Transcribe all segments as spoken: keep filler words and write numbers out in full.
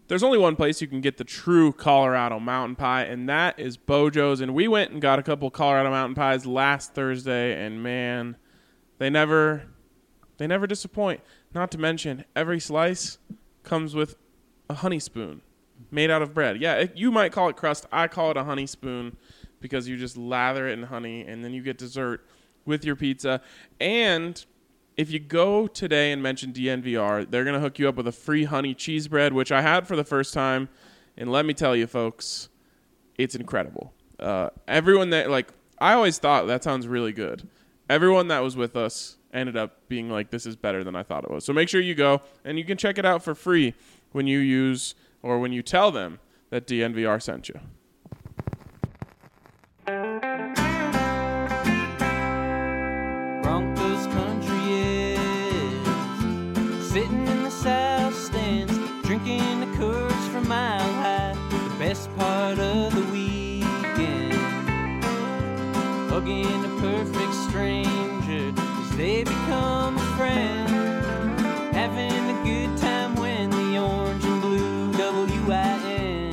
there's only one place you can get the true Colorado mountain pie, and that is Bojo's. And we went and got a couple Colorado mountain pies last Thursday, and man, they never, they never disappoint. Not to mention, every slice comes with a honey spoon made out of bread. Yeah, it, you might call it crust. I call it a honey spoon because you just lather it in honey, and then you get dessert with your pizza. And if you go today and mention D N V R, they're going to hook you up with a free honey cheese bread, which I had for the first time. And let me tell you, folks, it's incredible. Uh, everyone that, like, I always thought that sounds really good. Everyone that was with us ended up being like, this is better than I thought it was. So make sure you go, and you can check it out for free when you use or when you tell them that D N V R sent you. Broncos country is sitting in the south stands, drinking the Coors from Mile High. The best part of the weekend, hugging a perfect stranger as they become a friend, having a good time when the orange and blue W I N,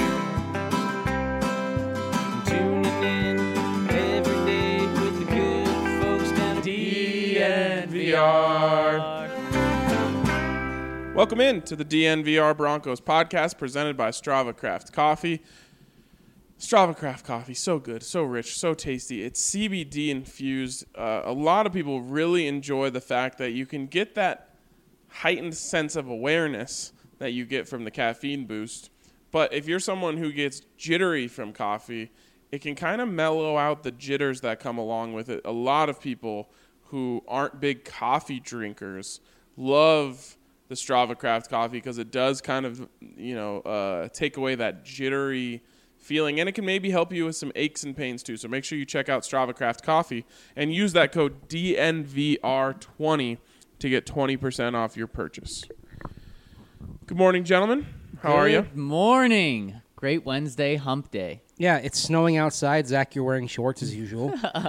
tuning in every day with the good folks down at D N V R. Welcome in to the D N V R Broncos podcast presented by Strava Craft Coffee. Strava Craft Coffee, so good, so rich, so tasty. It's C B D infused. Uh, a lot of people really enjoy the fact that you can get that heightened sense of awareness that you get from the caffeine boost. But if you're someone who gets jittery from coffee, it can kind of mellow out the jitters that come along with it. A lot of people who aren't big coffee drinkers love the Strava Craft Coffee because it does kind of, you know, uh, take away that jittery feeling, and it can maybe help you with some aches and pains too. So make sure you check out Strava Craft Coffee and use that code D N V R twenty to get twenty percent off your purchase. Good morning, gentlemen. How Good are you? Good morning. Great Wednesday hump day. Yeah, it's snowing outside. Zach, you're wearing shorts as usual.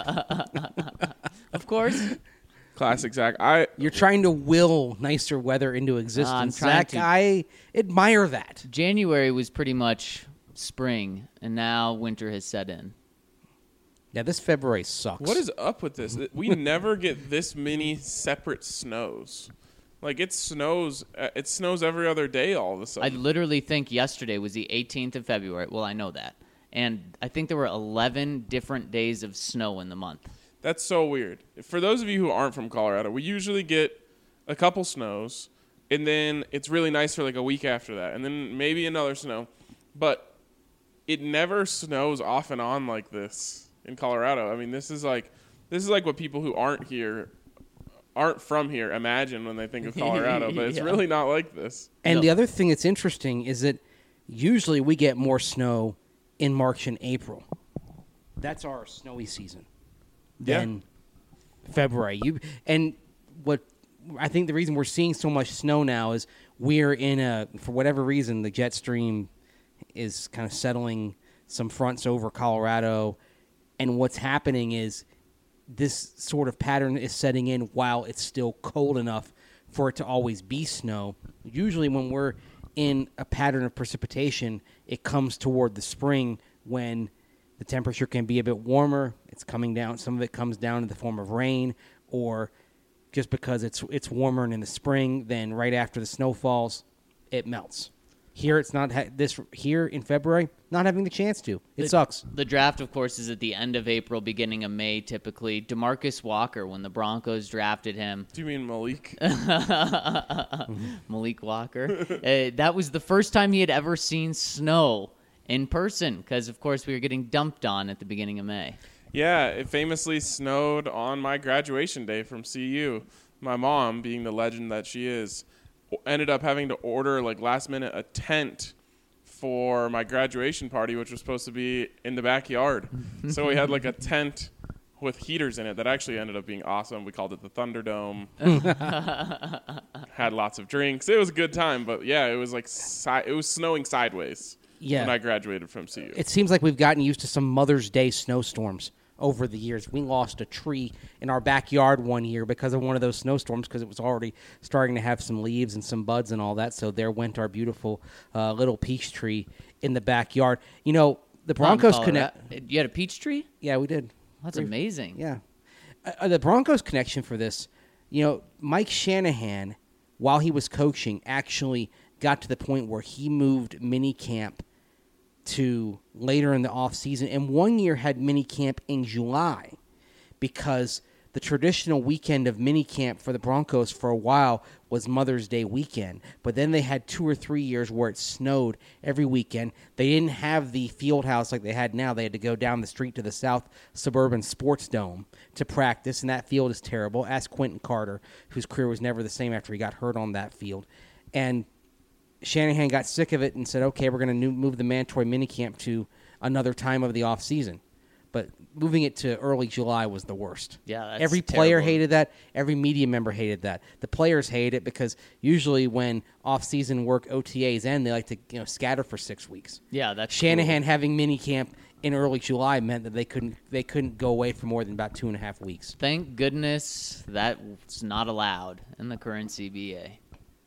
Of course. Classic Zach. I You're trying to will nicer weather into existence. trying Zach, to. I admire that. January was pretty much spring, and now winter has set in. Yeah, this February sucks. what is up with this? We never get this many separate snows. Like it snows, uh, it snows every other day all of a I sudden. literally think yesterday was the eighteenth of February. Well, I know that. And I think there were eleven different days of snow in the month. That's so weird. For those of you who aren't from Colorado, we usually get a couple snows, and then it's really nice for like a week after that, and then maybe another snow. But it never snows off and on like this in Colorado. I mean, this is like this is like what people who aren't here, aren't from here, imagine when they think of Colorado. But it's Yeah. really not like this. And No. the other thing that's interesting is that usually we get more snow in March and April. That's our snowy season. Yeah. Than February. You and what I think the reason we're seeing so much snow now is we're in a, for whatever reason, the jet stream is kind of settling some fronts over Colorado, and what's happening is this sort of pattern is setting in while it's still cold enough for it to always be snow. Usually when we're in a pattern of precipitation, it comes toward the spring when the temperature can be a bit warmer. It's coming down. Some of it comes down in the form of rain, or just because it's it's warmer in the spring, then right after the snow falls, it melts. Here, it's not ha- this here in February. Not having the chance to. It The- sucks. The draft, of course, is at the end of April, beginning of May, typically. DeMarcus Walker, when the Broncos drafted him, Do you mean Malik? Malik Walker, uh, that was the first time he had ever seen snow in person, because, of course, we were getting dumped on at the beginning of May. Yeah, it famously snowed on my graduation day from C U. My mom, being the legend that she is, ended up having to order, like, last minute a tent for my graduation party, which was supposed to be in the backyard. So we had, like, a tent with heaters in it that actually ended up being awesome. We called it the Thunderdome. Had lots of drinks. It was a good time, but, yeah, it was, like, si- it was snowing sideways Yeah. when I graduated from C U. It seems like we've gotten used to some Mother's Day snowstorms over the years. We lost a tree in our backyard one year because of one of those snowstorms because it was already starting to have some leaves and some buds and all that. So there went our beautiful uh, little peach tree in the backyard. You know, the Broncos connect. You had a peach tree? Yeah, we did. That's Very- amazing. Yeah. Uh, the Broncos connection for this, you know, Mike Shanahan, while he was coaching, actually got to the point where he moved minicamp to later in the offseason, and one year had minicamp in July because the traditional weekend of minicamp for the Broncos for a while was Mother's Day weekend. But then they had two or three years where it snowed every weekend. They didn't have the field house like they had now. They had to go down the street to the South Suburban Sports Dome to practice, and that field is terrible. Ask Quentin Carter, whose career was never the same after he got hurt on that field. And Shanahan got sick of it and said, okay, we're going to move the mandatory minicamp to another time of the offseason. But moving it to early July was the worst. Yeah, that's Every player terrible. hated that. Every media member hated that. The players hated it because usually when off-season work O T As end, they like to you know scatter for six weeks. Yeah, that's Shanahan cool. having minicamp in early July meant that they couldn't they couldn't go away for more than about two and a half weeks. Thank goodness that's not allowed in the current C B A.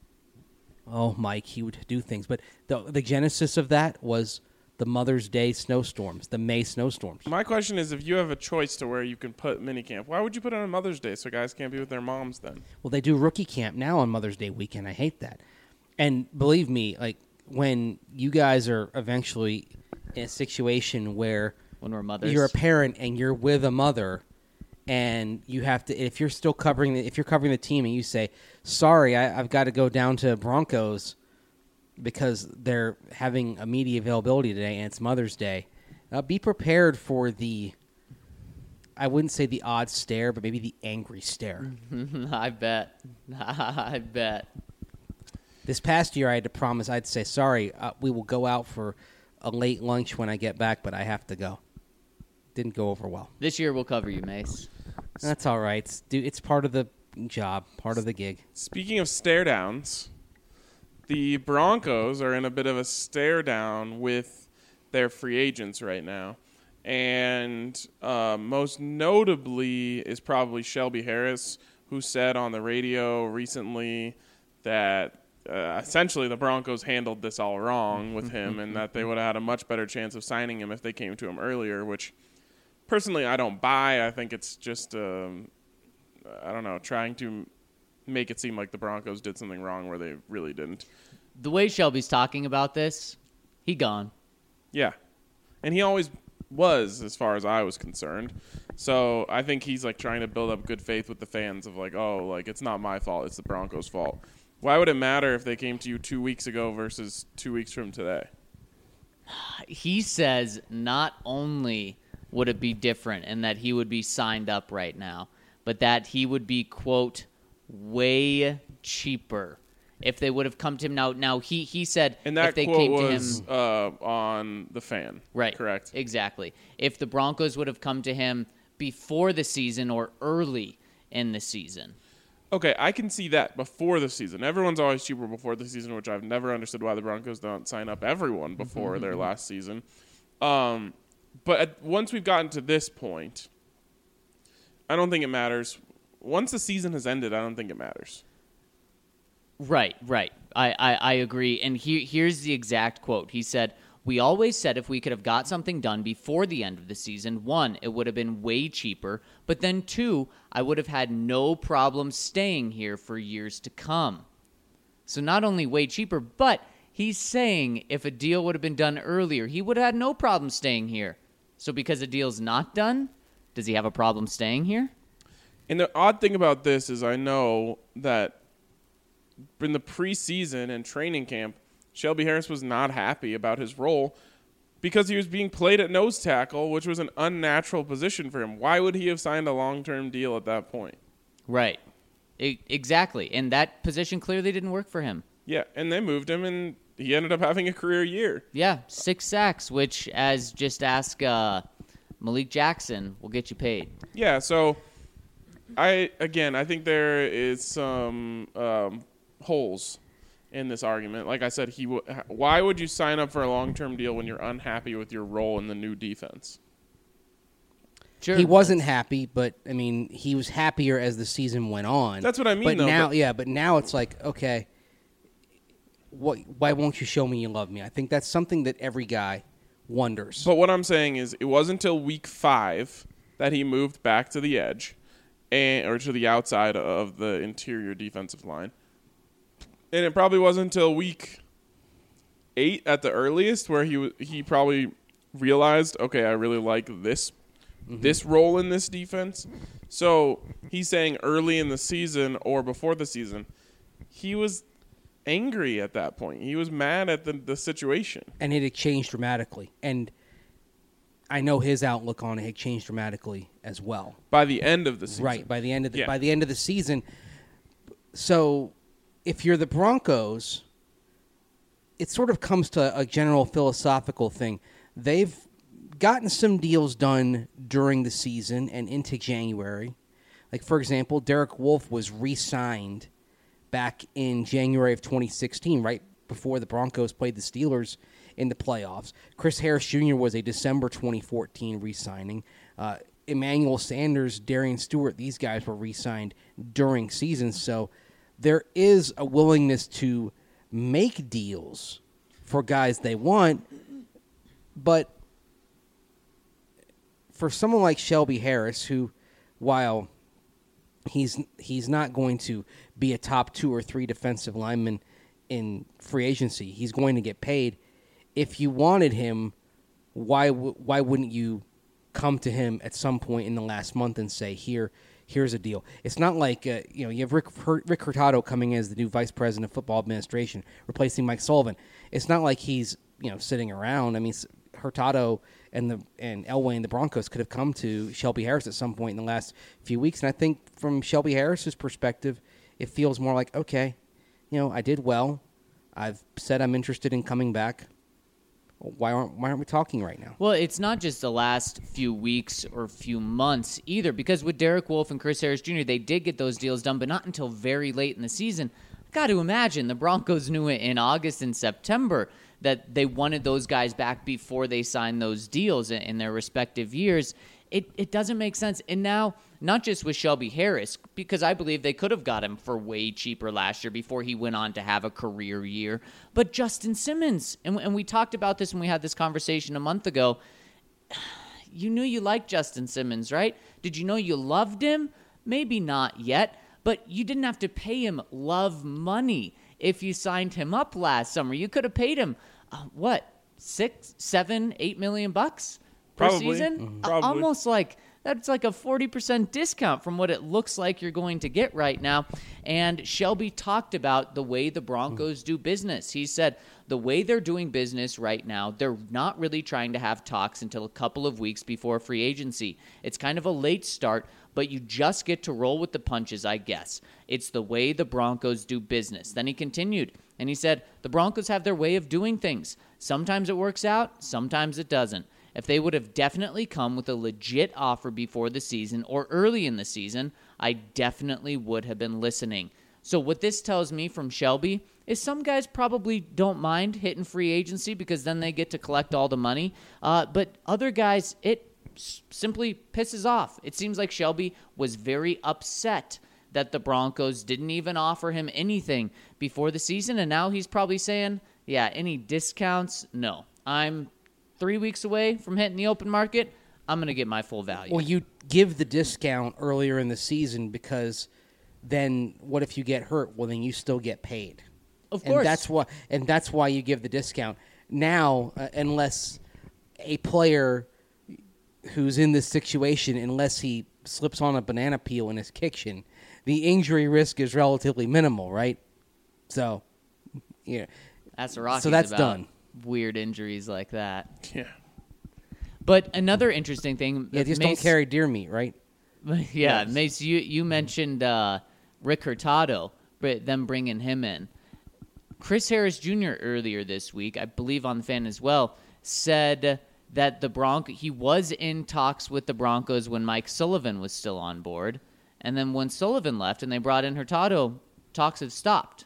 Oh, Mike, he would do things. But the the genesis of that was the Mother's Day snowstorms, the May snowstorms. My question is, if you have a choice to where you can put minicamp, why would you put it on Mother's Day so guys can't be with their moms then? Well, they do rookie camp now on Mother's Day weekend. I hate that. And believe me, like when you guys are eventually in a situation where When we're mothers. you're a parent and you're with a mother and you have to, if you're still covering, the, if you're covering the team and you say, sorry, I, I've got to go down to Broncos because they're having a media availability today and it's Mother's Day, uh, be prepared for the, I wouldn't say the odd stare, but maybe the angry stare. I bet. I bet. This past year, I had to promise, I'd say, sorry, uh, we will go out for a late lunch when I get back, but I have to go. Didn't go over well. This year we'll cover you, Mace. That's all right. It's, dude, it's part of the job, part of the gig. Speaking of stare downs, the Broncos are in a bit of a stare down with their free agents right now. And uh, most notably is probably Shelby Harris, who said on the radio recently that uh, essentially the Broncos handled this all wrong with him and that they would have had a much better chance of signing him if they came to him earlier, which personally I don't buy. I think it's just, um, I don't know, trying to make it seem like the Broncos did something wrong where they really didn't. The way Shelby's talking about this, he gone. Yeah. And he always was, as far as I was concerned. So I think he's like trying to build up good faith with the fans of like, oh, like it's not my fault, it's the Broncos' fault. Why would it matter if they came to you two weeks ago versus two weeks from today? He says not only would it be different and that he would be signed up right now, but that he would be, quote, way cheaper if they would have come to him. Now, now he, he said And that if they quote came was to him, uh, on The Fan. right, Correct. exactly. If the Broncos would have come to him before the season or early in the season. Okay, I can see that before the season. Everyone's always cheaper before the season, which I've never understood why the Broncos don't sign up everyone before their last season. Um, but at, once we've gotten to this point, I don't think it matters. Once the season has ended, I don't think it matters. Right, right. I, I, I agree. And he, here's the exact quote. He said, "We always said if we could have got something done before the end of the season, one, it would have been way cheaper, but then two, I would have had no problem staying here for years to come." So not only way cheaper, but he's saying if a deal would have been done earlier, he would have had no problem staying here. So because a deal's not done, does he have a problem staying here? And the odd thing about this is I know that in the preseason and training camp, Shelby Harris was not happy about his role because he was being played at nose tackle, which was an unnatural position for him. Why would he have signed a long-term deal at that point? Right. E- exactly. And that position clearly didn't work for him. Yeah, and they moved him, and he ended up having a career year. Yeah, six sacks, which, as just ask uh, Malik Jackson, will get you paid. Yeah, so I again, I think there is some um, holes in this argument. Like I said, he w- why would you sign up for a long-term deal when you're unhappy with your role in the new defense? Sure. He wasn't happy, but I mean, he was happier as the season went on. That's what I mean, But though, now, but- yeah, but now it's like, okay, what? Why won't you show me you love me? I think that's something that every guy wonders. But what I'm saying is, it wasn't until week five that he moved back to the edge, and or to the outside of the interior defensive line, and it probably wasn't until week eight at the earliest where he w- he probably realized, okay, I really like this Mm-hmm. this role in this defense. So he's saying early in the season or before the season, he was angry at that point. He was mad at the, the situation. and it had changed dramatically. And I know his outlook on it had changed dramatically as well. By the end of the season. Right, by the end of the Yeah. by the end of the season. So if you're the Broncos, it sort of comes to a general philosophical thing. They've gotten some deals done during the season and into January. Like, for example, Derek Wolfe was re-signed back in January of twenty sixteen, right before the Broncos played the Steelers in the playoffs. Chris Harris Junior was a December twenty fourteen re-signing. Uh, Emmanuel Sanders, Darian Stewart, these guys were re-signed during season. So there is a willingness to make deals for guys they want, but for someone like Shelby Harris, who, while he's he's not going to be a top two or three defensive lineman in free agency, he's going to get paid. If you wanted him, why w- why wouldn't you come to him at some point in the last month and say, here, here's a deal? It's not like uh, you know you have Rick Rick Hurtado coming in as the new vice president of football administration, replacing Mike Sullivan. It's not like he's you know sitting around. I mean, Hurtado and the and Elway and the Broncos could have come to Shelby Harris at some point in the last few weeks, and I think from Shelby Harris's perspective, it feels more like, okay, you know, I did well. I've said I'm interested in coming back. Why aren't why aren't we talking right now? Well, it's not just the last few weeks or few months either, because with Derek Wolfe and Chris Harris Junior, they did get those deals done, but not until very late in the season. I've got to imagine the Broncos knew it in August and September that they wanted those guys back before they signed those deals in, in their respective years. It it doesn't make sense. And now, not just with Shelby Harris, because I believe they could have got him for way cheaper last year before he went on to have a career year, but Justin Simmons. And, and we talked about this when we had this conversation a month ago. You knew you liked Justin Simmons, right? Did you know you loved him? Maybe not yet, but you didn't have to pay him love money if you signed him up last summer. You could have paid him, uh, what, six, seven, eight million bucks per Probably. season? Mhm. Uh, Probably. Almost like that's like a forty percent discount from what it looks like you're going to get right now. And Shelby talked about the way the Broncos do business. He said the way they're doing business right now, they're not really trying to have talks until a couple of weeks before free agency. It's kind of a late start, but you just get to roll with the punches, I guess. It's the way the Broncos do business. Then he continued, and he said, the Broncos have their way of doing things. Sometimes it works out, sometimes it doesn't. If they would have definitely come with a legit offer before the season or early in the season, I definitely would have been listening. So what this tells me from Shelby is some guys probably don't mind hitting free agency because then they get to collect all the money. Uh, but other guys, it s- simply pisses off. It seems like Shelby was very upset that the Broncos didn't even offer him anything before the season. And now he's probably saying, yeah, any discounts? No. I'm three weeks away from hitting the open market. I'm going to get my full value. Well, you give the discount earlier in the season because then what if you get hurt? Well, then you still get paid. Of And course. that's why and that's why you give the discount. Now, uh, unless a player who's in this situation, unless he slips on a banana peel in his kitchen, the injury risk is relatively minimal, right? So, yeah. That's the Rockies So that's about done. weird injuries like that. Yeah. But another interesting thing. Yeah, just Mace, don't carry deer meat, right? Yeah, Yes. Mace, you, you mentioned uh, Rick Hurtado, but them bringing him in. Chris Harris Junior earlier this week, I believe on the Fan as well, said that the Bronco he was in talks with the Broncos when Mike Sullivan was still on board, and then when Sullivan left and they brought in Hurtado, talks have stopped.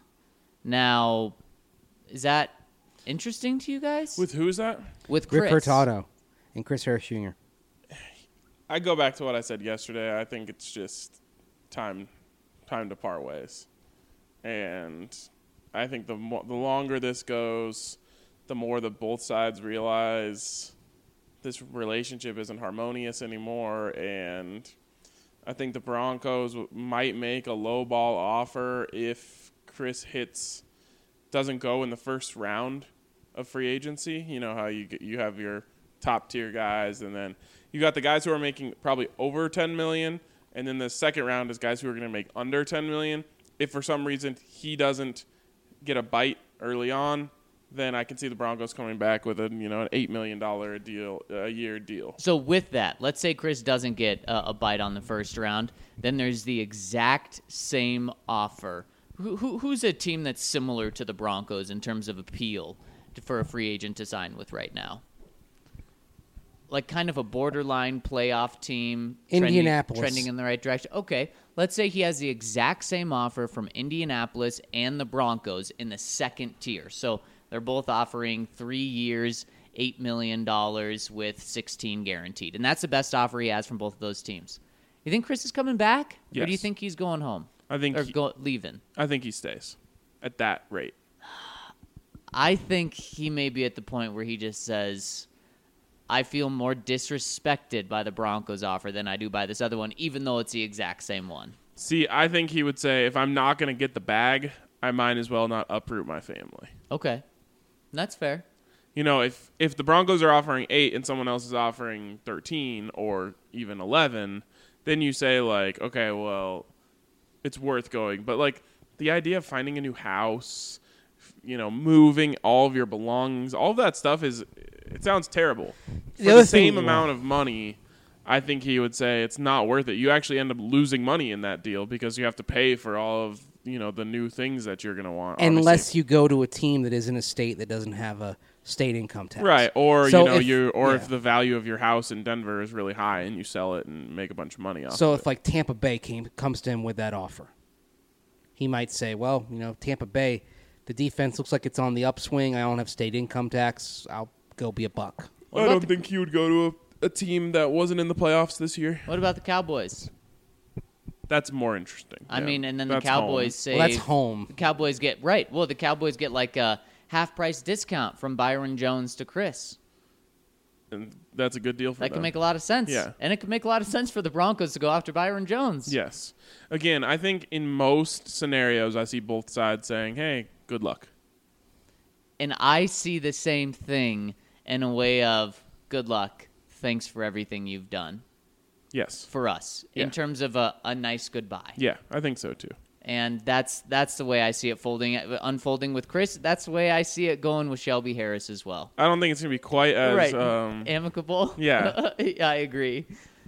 Now, is that interesting to you guys? With who is that? with Chris. Rick Hurtado and Chris Harris Junior I go back to what I said yesterday. I think it's just time time to part ways. And I think the mo- the longer this goes, the more that both sides realize this relationship isn't harmonious anymore. And I think the Broncos might make a low ball offer if Chris hits doesn't go in the first round of free agency. You know how you get, you have your top tier guys, and then you got the guys who are making probably over ten million, and then the second round is guys who are going to make under ten million. If for some reason he doesn't get a bite early on, then I can see the Broncos coming back with a you know an eight million dollar deal a year deal. So with that, let's say Chris doesn't get a, a bite on the first round, then there's the exact same offer. Who, who who's a team that's similar to the Broncos in terms of appeal to, for a free agent to sign with right now? Like kind of a borderline playoff team. Indianapolis. Trending, trending in the right direction. Okay, let's say he has the exact same offer from Indianapolis and the Broncos in the second tier. So they're both offering three years, eight million dollars with sixteen guaranteed. And that's the best offer he has from both of those teams. You think Chris is coming back? Yes. Or do you think he's going home? I think Or he, go, leaving? I think he stays at that rate. I think he may be at the point where he just says, I feel more disrespected by the Broncos offer than I do by this other one, even though it's the exact same one. See, I think he would say, if I'm not going to get the bag, I might as well not uproot my family. Okay. That's fair. You know, if, if the Broncos are offering eight and someone else is offering thirteen or even eleven, then you say, like, okay, well, it's worth going. But, like, the idea of finding a new house, you know, moving all of your belongings, all of that stuff is, it sounds terrible. For The the, other same thing- amount of money, I think he would say it's not worth it. You actually end up losing money in that deal because you have to pay for all of, you know, the new things that you're going to want. Unless obviously. you go to a team that is in a state that doesn't have a state income tax. Right, or So you know, if- you or yeah. if the value of your house in Denver is really high and you sell it and make a bunch of money off So of if it. like Tampa Bay came comes to him with that offer, he might say, "Well, you know, Tampa Bay, the defense looks like it's on the upswing. I don't have state income tax. I'll go be a buck." What I about don't the- think he would go to a, a team that wasn't in the playoffs this year. What about the Cowboys? That's more interesting. I Yeah. mean, and then the That's Cowboys home. say Well, that's home. The Cowboys get right. Well, the Cowboys get like a half price discount from Byron Jones to Chris. And that's a good deal for That them. can make a lot of sense. Yeah. And it can make a lot of sense for the Broncos to go after Byron Jones. Yes. Again, I think in most scenarios, I see both sides saying, "Hey, good luck." And I see the same thing in a way of good luck. Thanks for everything you've done Yes. for us Yeah. in terms of a, a nice goodbye. Yeah, I think so too. And that's that's the way I see it folding unfolding with Chris. That's the way I see it going with Shelby Harris as well. I don't think it's gonna be quite as right. um, Amicable. Yeah. I agree.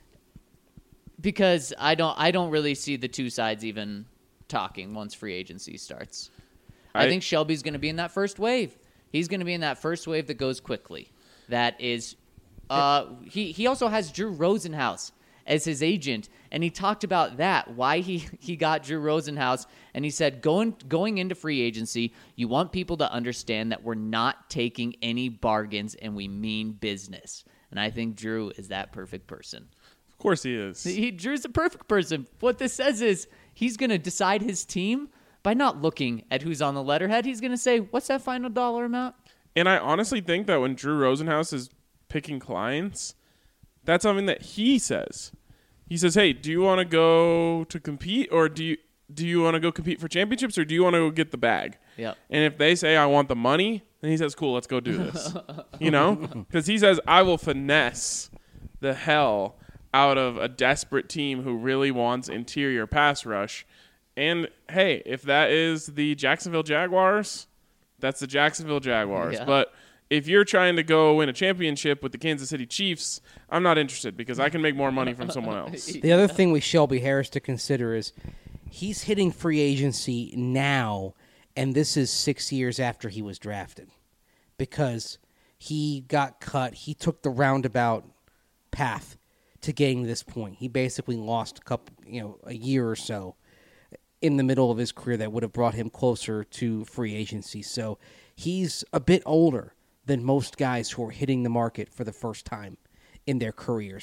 Because I don't I don't really see the two sides even talking once free agency starts. I, I- think Shelby's going to be in that first wave. He's going to be in that first wave that goes quickly. That is uh he he also has Drew Rosenhaus as his agent, and he talked about that, why he, he got Drew Rosenhaus, and he said going going into free agency, you want people to understand that we're not taking any bargains and we mean business. And I think Drew is that perfect person. Of course he is. He Drew's the perfect person. What this says is he's going to decide his team by not looking at who's on the letterhead. He's going to say, what's that final dollar amount? And I honestly think that when Drew Rosenhaus is picking clients, that's something that he says. He says, "Hey, do you want to go to compete, or do you do you want to go compete for championships, or do you want to go get the bag?" Yep. And if they say, "I want the money," then he says, "Cool, let's go do this." You know, because he says, "I will finesse the hell out of a desperate team who really wants interior pass rush." And hey, if that is the Jacksonville Jaguars, that's the Jacksonville Jaguars. Yeah. But if you're trying to go win a championship with the Kansas City Chiefs, I'm not interested because I can make more money from someone else. The other thing with Shelby Harris to consider is he's hitting free agency now, and this is six years after he was drafted because he got cut. He took the roundabout path to getting to this point. He basically lost a couple, you know, a year or so in the middle of his career that would have brought him closer to free agency. So he's a bit older than most guys who are hitting the market for the first time in their careers.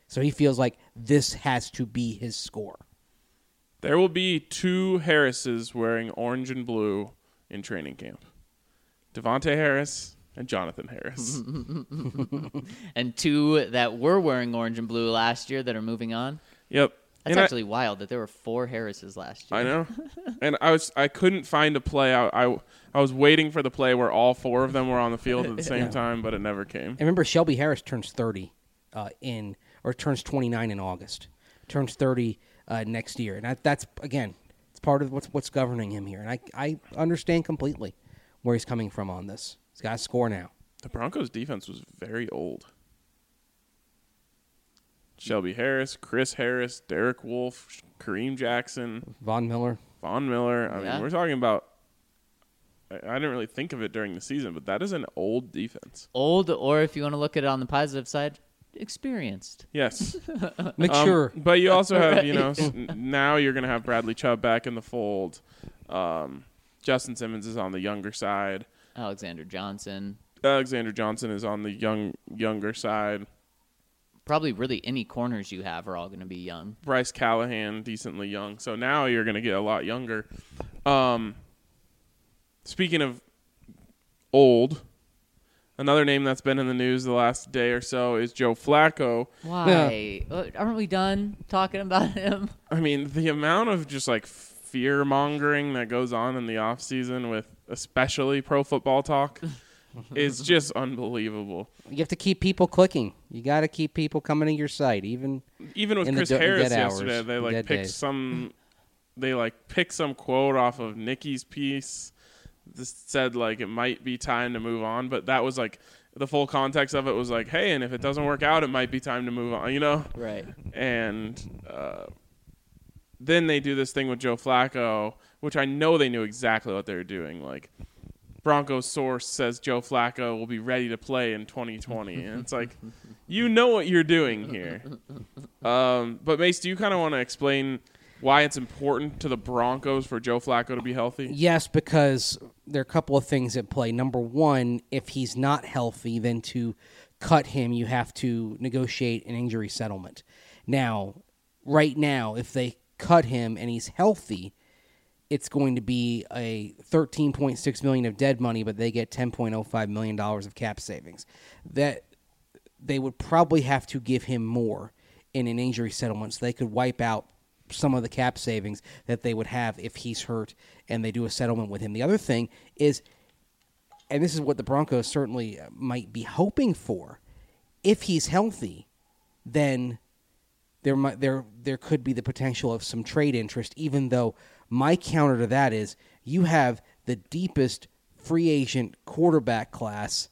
So he feels like this has to be his score. There will be two Harrises wearing orange and blue in training camp. Devontae Harris and Jonathan Harris. And two that were wearing orange and blue last year that are moving on. Yep. That's And actually I, wild that there were four Harrises last year. I know. And I was I couldn't find a play. I, I, I was waiting for the play where all four of them were on the field at the same Yeah. time, but it never came. And remember, Shelby Harris turns thirty uh, in, or turns twenty-nine in August. Turns thirty uh, next year. And that, that's, again, it's part of what's what's governing him here. And I, I understand completely where he's coming from on this. He's got to score now. The Broncos' defense was very old. Shelby Harris, Chris Harris, Derek Wolfe, Kareem Jackson, Von Miller. Von Miller. I Yeah. mean, we're talking about. I, I didn't really think of it during the season, but that is an old defense. Old, or if you want to look at it on the positive side, experienced. Yes. Mature. Um, but you also have, you know, Right. s- n- now you're going to have Bradley Chubb back in the fold. Um, Justin Simmons is on the younger side. Alexander Johnson. Alexander Johnson is on the young younger side. Probably really any corners you have are all going to be young. Bryce Callahan, decently young. So now you're going to get a lot younger. Um, speaking of old, another name that's been in the news the last day or so is Joe Flacco. Why? Uh, Aren't we done talking about him? I mean, the amount of just like fear mongering that goes on in the off season with especially Pro Football Talk is just unbelievable. You have to keep people clicking. You got to keep people coming to your site, even Even with In the Chris d- Harris dead yesterday, hours, they like dead picked days. some they like picked some quote off of Nikki's piece. This said like it might be time to move on, but that was like the full context of it was like, hey, and if it doesn't work out, it might be time to move on, you know? Right. And uh, then they do this thing with Joe Flacco, which I know they knew exactly what they were doing. Like, Broncos source says Joe Flacco will be ready to play in twenty twenty. And it's like, you know what you're doing here. Um, but, Mace, do you kind of want to explain why it's important to the Broncos for Joe Flacco to be healthy? Yes, because there are a couple of things at play. Number one, if he's not healthy, then to cut him, you have to negotiate an injury settlement. Now, right now, if they cut him and he's healthy, it's going to be a thirteen point six million dollars of dead money, but they get ten point oh five million dollars of cap savings. That they would probably have to give him more in an injury settlement so they could wipe out some of the cap savings that they would have if he's hurt and they do a settlement with him. The other thing is, and this is what the Broncos certainly might be hoping for, if he's healthy, then there might there there could be the potential of some trade interest, even though my counter to that is you have the deepest free agent quarterback class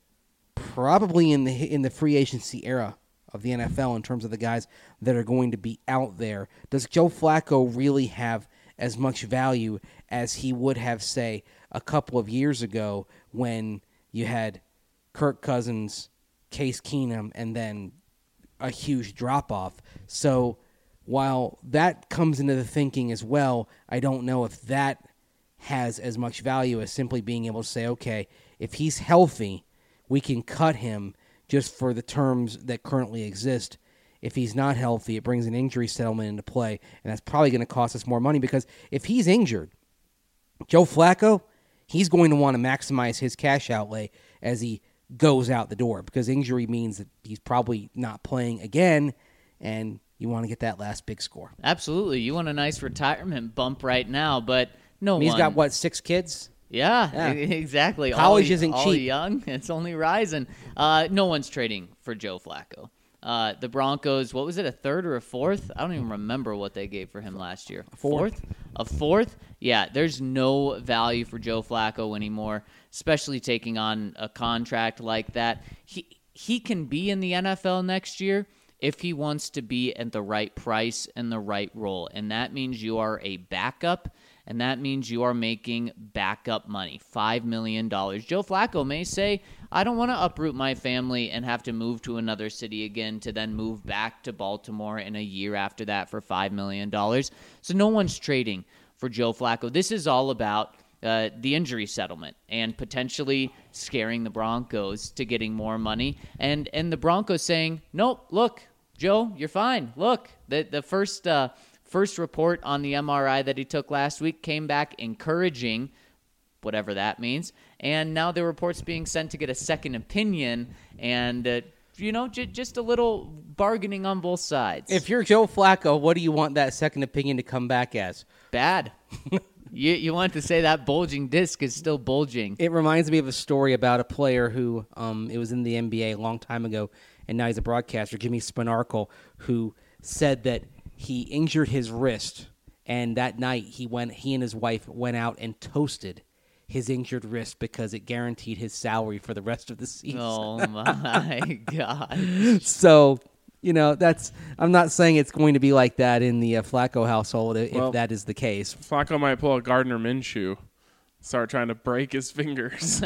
probably in the in the free agency era of the N F L in terms of the guys that are going to be out there. Does Joe Flacco really have as much value as he would have, say, a couple of years ago when you had Kirk Cousins, Case Keenum, and then a huge drop-off? So while that comes into the thinking as well, I don't know if that has as much value as simply being able to say, okay, if he's healthy, we can cut him just for the terms that currently exist. If he's not healthy, it brings an injury settlement into play, and that's probably going to cost us more money because if he's injured, Joe Flacco, he's going to want to maximize his cash outlay as he goes out the door because injury means that he's probably not playing again, and you want to get that last big score. Absolutely. You want a nice retirement bump right now, but no I mean, one. he's got, what, six kids? Yeah, Yeah. e- exactly. College all, isn't all cheap. young. It's only rising. Uh, no one's trading for Joe Flacco. Uh, the Broncos, what was it, a third or a fourth? I don't even remember what they gave for him last year. A fourth. A fourth? Yeah, there's no value for Joe Flacco anymore, especially taking on a contract like that. He he can be in the N F L next year if he wants to be at the right price and the right role. And that means you are a backup, and that means you are making backup money, five million dollars. Joe Flacco may say, I don't want to uproot my family and have to move to another city again to then move back to Baltimore in a year after that for five million dollars. So no one's trading for Joe Flacco. This is all about uh, the injury settlement and potentially scaring the Broncos to getting more money. And, and the Broncos saying, nope, look, Joe, you're fine. Look, the the first uh, first report on the M R I that he took last week came back encouraging, whatever that means. And now the report's being sent to get a second opinion, and uh, you know, j- just a little bargaining on both sides. If you're Joe Flacco, what do you want that second opinion to come back as? Bad. you you want to say that bulging disc is still bulging. It reminds me of a story about a player who, um, it was in the N B A a long time ago, and now he's a broadcaster, Jimmy Spinarkle, who said that he injured his wrist, and that night he went, he and his wife went out and toasted his injured wrist because it guaranteed his salary for the rest of the season. Oh my God. So, you know, that's, I'm not saying it's going to be like that in the uh, Flacco household if Well, that is the case. Flacco might pull a Gardner Minshew, start trying to break his fingers.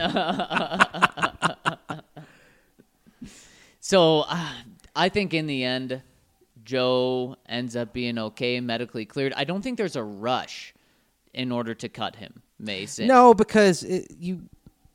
So uh, I think in the end, Joe ends up being okay, medically cleared. I don't think there's a rush in order to cut him, Mason. No, because it, you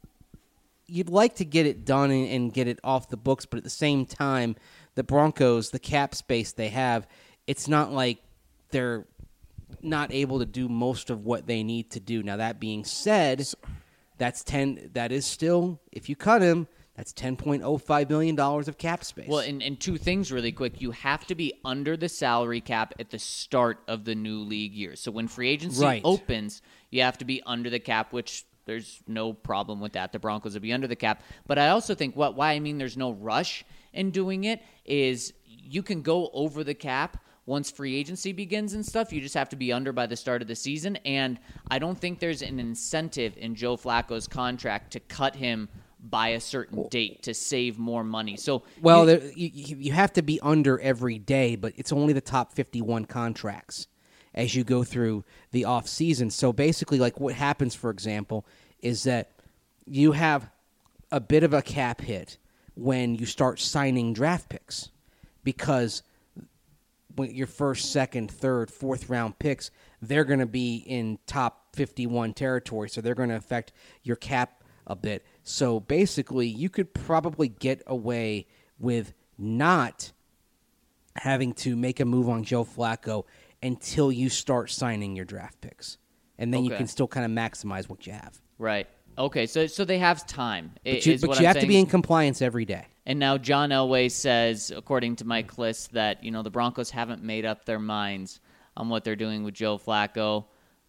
you'd like to get it done and, and get it off the books, but at the same time, the Broncos, the cap space they have, it's not like they're not able to do most of what they need to do. Now, that being said, that's ten. That is still, if you cut him, that's ten point oh five million dollars of cap space. Well, and, and two things really quick. You have to be under the salary cap at the start of the new league year. So when free agency Right. opens, you have to be under the cap, which there's no problem with that. The Broncos will be under the cap. But I also think what why I mean there's no rush in doing it is you can go over the cap once free agency begins and stuff. You just have to be under by the start of the season. And I don't think there's an incentive in Joe Flacco's contract to cut him by a certain date to save more money. So Well, you, there, you, you have to be under every day, but it's only the top fifty-one contracts as you go through the off season. So basically, like what happens, for example, is that you have a bit of a cap hit when you start signing draft picks because when your first, second, third, fourth round picks, they're going to be in top fifty-one territory, so they're going to affect your cap a bit. So basically, you could probably get away with not having to make a move on Joe Flacco until you start signing your draft picks. And then you Okay. can still kind of maximize what you have. right. Okay, so so they have time. i- But you, is but what you I'm have to saying. be in compliance every day. And now John Elway says, according to Mike Kliss, that you know the Broncos haven't made up their minds on what they're doing with Joe Flacco.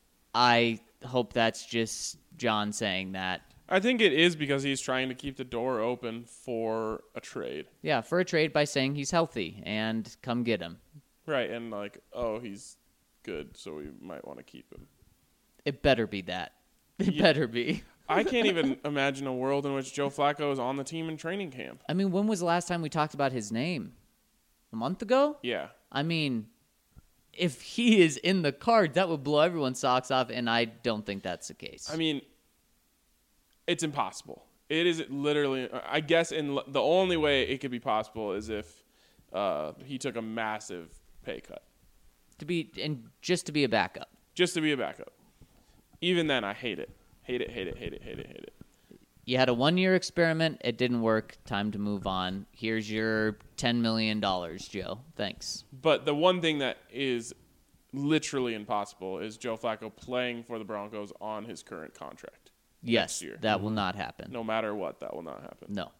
I hope that's just John saying that. I think it is because he's trying to keep the door open for a trade. Yeah, for a trade by saying he's healthy and come get him. Right, and like, oh, he's good, so we might want to keep him. It better be that. It Yeah. better be. I can't even imagine a world in which Joe Flacco is on the team in training camp. I mean, when was the last time we talked about his name? A month ago? Yeah. I mean, if he is in the card, that would blow everyone's socks off, and I don't think that's the case. I mean, it's impossible. It is literally, I guess, in the only way it could be possible is if uh, he took a massive pay cut to be and just to be a backup. just to be a backup. Even then, I hate it. Hate it, hate it, hate it, hate it, hate it. You had a one-year experiment. It didn't work. Time to move on. Here's your ten million dollars, Joe. Thanks. But the one thing that is literally impossible is Joe Flacco playing for the Broncos on his current contract. Yes, Next year. that will not happen. No matter what, that will not happen. No.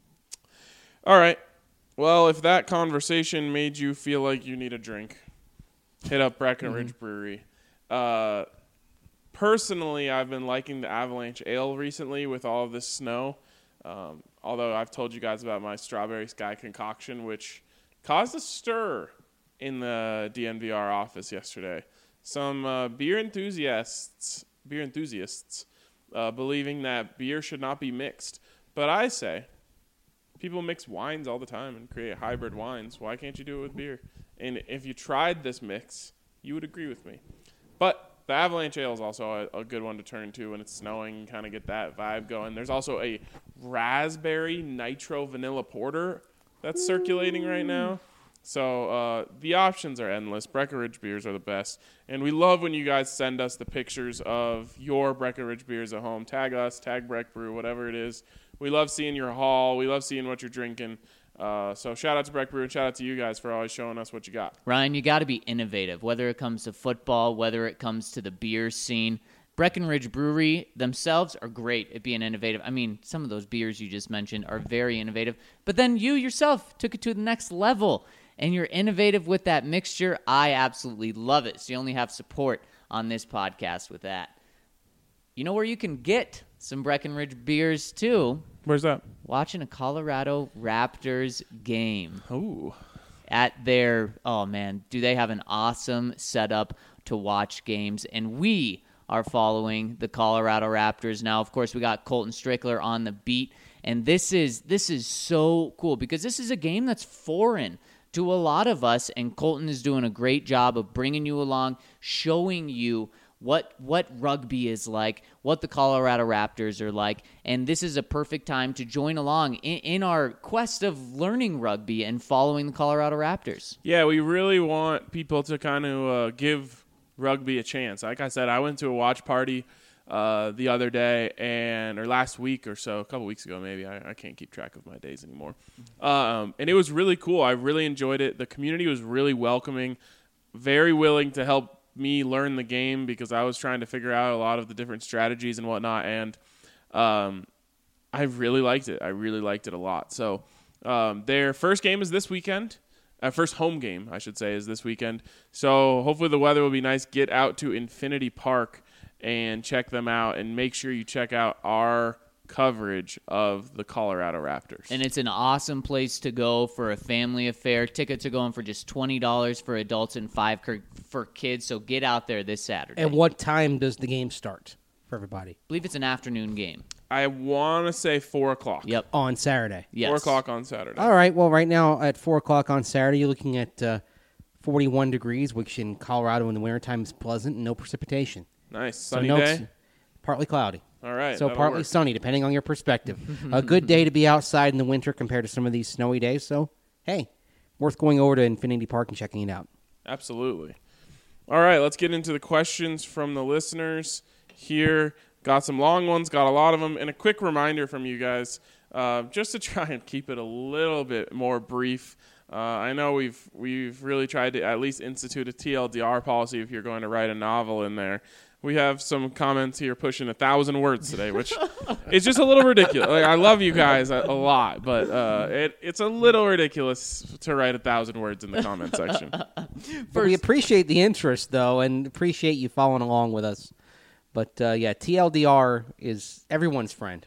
All right. Well, if that conversation made you feel like you need a drink, hit up Breckenridge Brewery. Uh, personally, I've been liking the Avalanche Ale recently with all of this snow. Um, although I've told you guys about my Strawberry Sky concoction, which caused a stir in the D N V R office yesterday. Some uh, beer enthusiasts, beer enthusiasts, uh, believing that beer should not be mixed. But I say, people mix wines all the time and create hybrid wines. Why can't you do it with beer? And if you tried this mix, you would agree with me. But the Avalanche Ale is also a, a good one to turn to when it's snowing and kind of get that vibe going. There's also a raspberry nitro vanilla porter that's circulating right now. So uh, the options are endless. Breckenridge beers are the best. And we love when you guys send us the pictures of your Breckenridge beers at home. Tag us, tag Breck Brew, whatever it is. We love seeing your haul. We love seeing what you're drinking. Uh, so shout out to Breck Brew and shout out to you guys for always showing us what you got. Ryan, you got to be innovative, whether it comes to football, whether it comes to the beer scene. Breckenridge Brewery themselves are great at being innovative. I mean, some of those beers you just mentioned are very innovative. But then you yourself took it to the next level, and you're innovative with that mixture. I absolutely love it. So you only have support on this podcast with that. You know where you can get some Breckenridge beers, too? Where's that? Watching a Colorado Raptors game. Ooh. At their, oh man, do they have an awesome setup to watch games. And we are following the Colorado Raptors now. Of course, we got Colton Strickler on the beat. And this is this is so cool because this is a game that's foreign to a lot of us. And Colton is doing a great job of bringing you along, showing you what what rugby is like, what the Colorado Raptors are like, and this is a perfect time to join along in, in our quest of learning rugby and following the Colorado Raptors. Yeah, we really want people to kind of uh, give rugby a chance. Like I said, I went to a watch party uh, the other day, and or last week or so, a couple weeks ago maybe. I, I can't keep track of my days anymore. Um, and it was really cool. I really enjoyed it. The community was really welcoming, very willing to help me learn the game because I was trying to figure out a lot of the different strategies and whatnot, and um, I really liked it. I really liked it a lot. So um, their first game is this weekend. Uh, first home game, I should say, is this weekend. So hopefully the weather will be nice. Get out to Infinity Park and check them out, and make sure you check out our coverage of the Colorado Raptors. And it's an awesome place to go for a family affair. Tickets are going for just twenty dollars for adults and five for kids, so get out there this Saturday. And what time does the game start for everybody? I believe it's an afternoon game. I want to say four o'clock. Yep. On Saturday. Yes. four o'clock on Saturday. All right. Well, right now at four o'clock on Saturday, you're looking at uh, forty-one degrees, which in Colorado in the wintertime is pleasant and no precipitation. Nice. So Sunny no- day? Partly cloudy. All right. So that'll partly work. sunny, depending on your perspective. A good day to be outside in the winter compared to some of these snowy days. So, hey, worth going over to Infinity Park and checking it out. Absolutely. All right, let's get into the questions from the listeners here. Got some long ones, got a lot of them, and a quick reminder from you guys, uh, just to try and keep it a little bit more brief. Uh, I know we've we've really tried to at least institute a T L D R policy if you're going to write a novel in there. We have some comments here pushing a thousand words today, which is just a little ridiculous. Like, I love you guys a, a lot, but uh, it, it's a little ridiculous to write a thousand words in the comment section. But we appreciate the interest, though, and appreciate you following along with us. But, uh, yeah, T L D R is everyone's friend.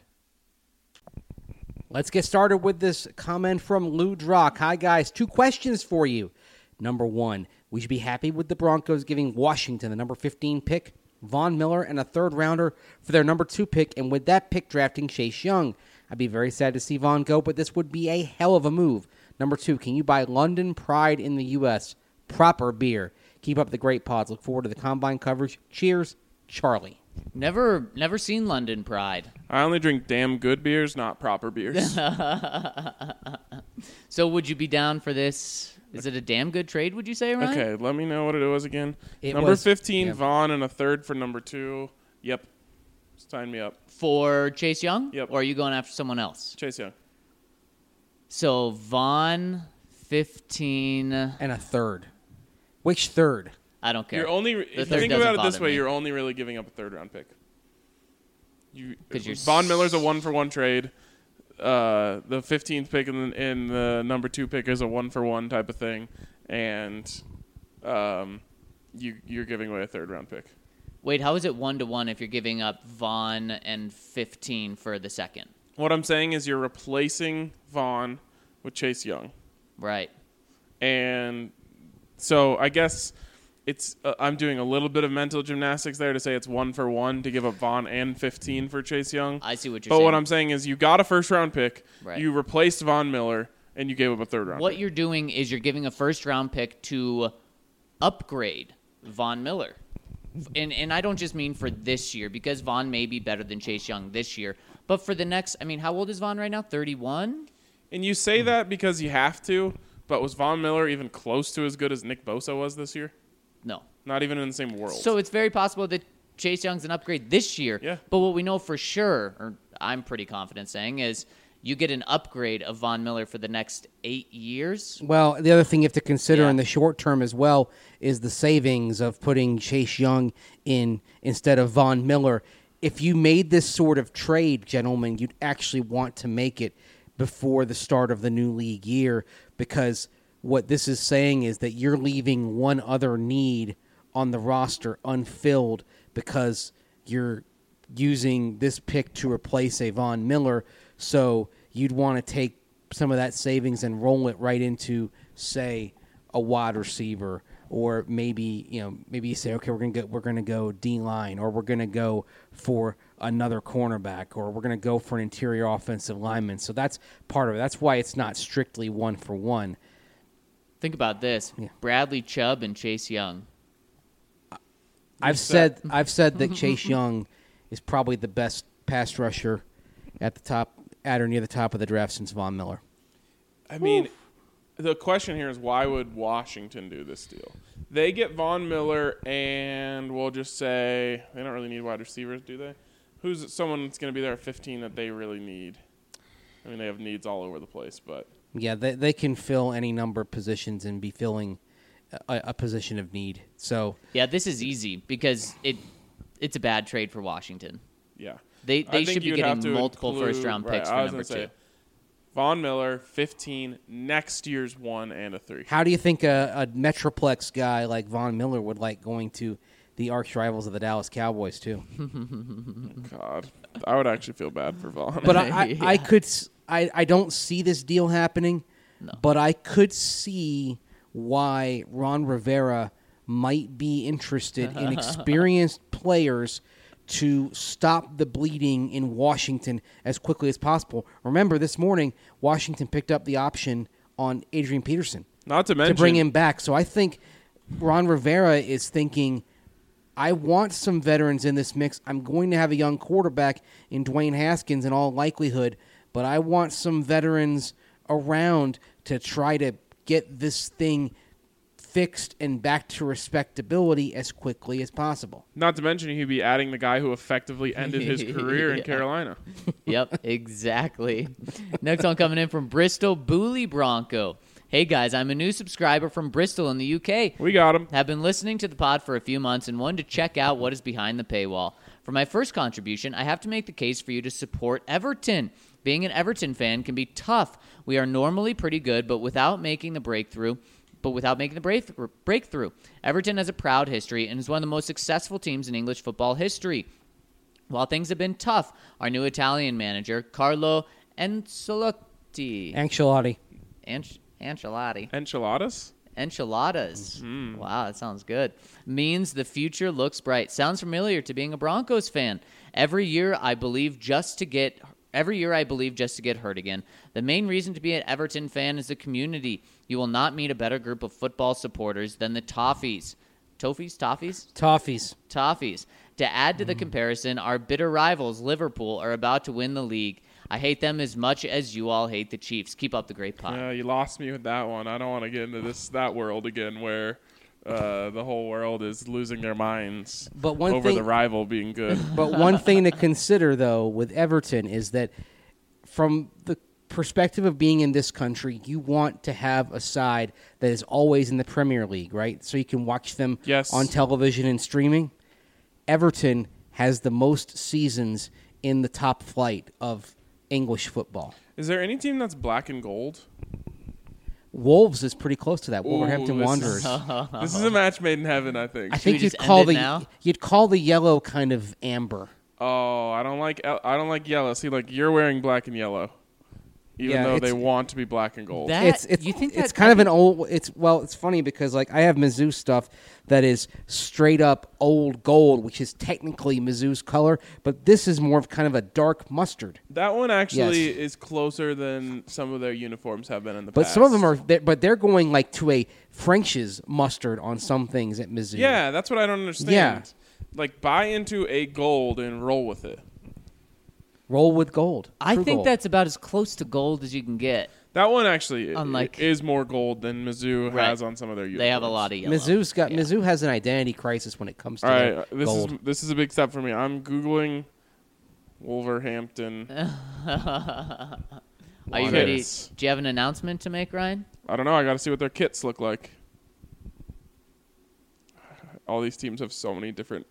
Let's get started with this comment from Lou Drock. Hi, guys. Two questions for you. Number one, we should be happy with the Broncos giving Washington the number fifteen pick, Von Miller, and a third rounder for their number two pick, and with that pick drafting Chase Young. I'd be very sad to see Von go, but this would be a hell of a move. Number two, can you buy London Pride in the U S? Proper beer. Keep up the great pods. Look forward to the combine coverage. Cheers, Charlie. Never never seen London Pride. I only drink damn good beers, not proper beers. So would you be down for this? Is it a damn good trade, would you say, Ryan? Okay, let me know what it was again. It number was- fifteen, yeah. Vaughn, and a third for number two. Yep. Sign me up. For Chase Young? Yep. Or are you going after someone else? Chase Young. So Vaughn, fifteen. And a third. Which third? I don't care. You're only if you third think doesn't about it this bother way, me. you're only really giving up a third round pick. You 'Cause you're Von Miller's a s- one for one trade. Uh, the fifteenth pick and the, and the number two pick is a one for one type of thing, and um, you you're giving away a third round pick. Wait, how is it one to one if you're giving up Vaughn and fifteen for the second? What I'm saying is you're replacing Vaughn with Chase Young. Right. And so I guess it's uh, I'm doing a little bit of mental gymnastics there to say it's one for one to give up Vaughn and fifteen for Chase Young. I see what you're but saying. what I'm saying is you got a first round pick, Right. you replaced Von Miller, and you gave up a third round What pick. you're doing is you're giving a first round pick to upgrade Von Miller. And and I don't just mean for this year, because Vaughn may be better than Chase Young this year. But for the next, I mean, how old is Vaughn right now? thirty-one? And you say that because you have to, but was Von Miller even close to as good as Nick Bosa was this year? No. Not even in the same world. So it's very possible that Chase Young's an upgrade this year. Yeah. But what we know for sure, or I'm pretty confident saying, is you get an upgrade of Von Miller for the next eight years. Well, the other thing you have to consider Yeah. in the short term as well is the savings of putting Chase Young in instead of Von Miller. If you made this sort of trade, gentlemen, you'd actually want to make it before the start of the new league year, because what this is saying is that you're leaving one other need on the roster unfilled because you're using this pick to replace a Von Miller. So you'd want to take some of that savings and roll it right into, say, a wide receiver, or maybe you know maybe you say, okay, we're gonna go we're gonna go D line, or we're gonna go for another cornerback, or we're gonna go for an interior offensive lineman. So that's part of it. That's why it's not strictly one for one. Think about this: Yeah. Bradley Chubb and Chase Young. I've said I've said that Chase Young is probably the best pass rusher at the top, at or near the top of the draft since Von Miller. I mean, the question here is, why would Washington do this deal? They get Von Miller, and we'll just say they don't really need wide receivers, do they? Who's someone that's going to be there at fifteen that they really need? I mean, they have needs all over the place, but Yeah, they they can fill any number of positions and be filling a, a position of need. So Yeah, this is easy because it it's a bad trade for Washington. yeah. They I they think should be you'd have getting to multiple include- first round right, picks I for was number gonna two. say, Von Miller, fifteen, next year's one and a three. how do you think a, a Metroplex guy like Von Miller would like going to the arch rivals of the Dallas Cowboys too? God, I would actually feel bad for Von. But I, I, Yeah. I could s- I, I don't see this deal happening, but I could see why Ron Rivera might be interested in experienced players to stop the bleeding in Washington as quickly as possible. Remember, this morning, Washington picked up the option on Adrian Peterson Not to to mention, bring him back. So I think Ron Rivera is thinking, I want some veterans in this mix. I'm going to have a young quarterback in Dwayne Haskins in all likelihood, but I want some veterans around to try to get this thing fixed and back to respectability as quickly as possible. not to mention, he'd be adding the guy who effectively ended his career in Yeah. Carolina. Yep, exactly. Next one coming in from Bristol, Booley Bronco. Hey guys, I'm a new subscriber from Bristol in the U K. We got him. Have been listening to the pod for a few months and wanted to check out what is behind the paywall. For my first contribution, I have to make the case for you to support Everton. Being an Everton fan can be tough. We are normally pretty good, but without making the breakthrough, but without making the breakthrough, breakthrough. Everton has a proud history and is one of the most successful teams in English football history. While things have been tough, our new Italian manager, Carlo Ancelotti, Ancelotti. Anch- Ancelotti, Enchiladas? Enchiladas. Wow, that sounds good. Means the future looks bright. Sounds familiar to being a Broncos fan. Every year I believe just to get every year I believe just to get hurt again. The main reason to be an Everton fan is the community. You will not meet a better group of football supporters than the Toffees. Toffees? Toffees? Toffees. Toffees. To add to the comparison, our bitter rivals, Liverpool, are about to win the league. I hate them as much as you all hate the Chiefs. Keep up the great pod. Yeah, you lost me with that one. I don't want to get into this that world again where uh, the whole world is losing their minds But one over thing- the rival being good. But one thing to consider, though, with Everton is that from the perspective of being in this country, you want to have a side that is always in the Premier League, right? So you can watch them Yes. on television and streaming. Everton has the most seasons in the top flight of English football. Is there any team that's black and gold? Wolves is pretty close to that. Ooh, Wolverhampton this Wanderers. Is, this is a match made in heaven, I think. I we think you'd just call end it the now? you'd call the yellow kind of amber. Oh, I don't like I don't like yellow. See, like you're wearing black and yellow, even Yeah, though they it's- want to be black and gold. That- it's it's you think it's that- kind of an old. It's well, it's funny because like I have Mizzou stuff that is straight up old gold, which is technically Mizzou's color, but this is more of kind of a dark mustard. That one actually Yes. is closer than some of their uniforms have been in the But past. some of them are, they're- but they're going like to a French's mustard on some things at Mizzou. Yeah, that's what I don't understand. Yeah. Like buy into a gold and roll with it. roll with gold. I True think gold. that's about as close to gold as you can get. That one actually i- Unlike- is more gold than Mizzou Right. has on some of their uniforms. They have a lot of yellow. Mizzou's got Yeah. Mizzou has an identity crisis when it comes to All their right, this gold. is this is a big step for me. I'm googling Wolverhampton. Are you Kits. ready? Do you have an announcement to make, Ryan? I don't know. I got to see what their kits look like. All these teams have so many different.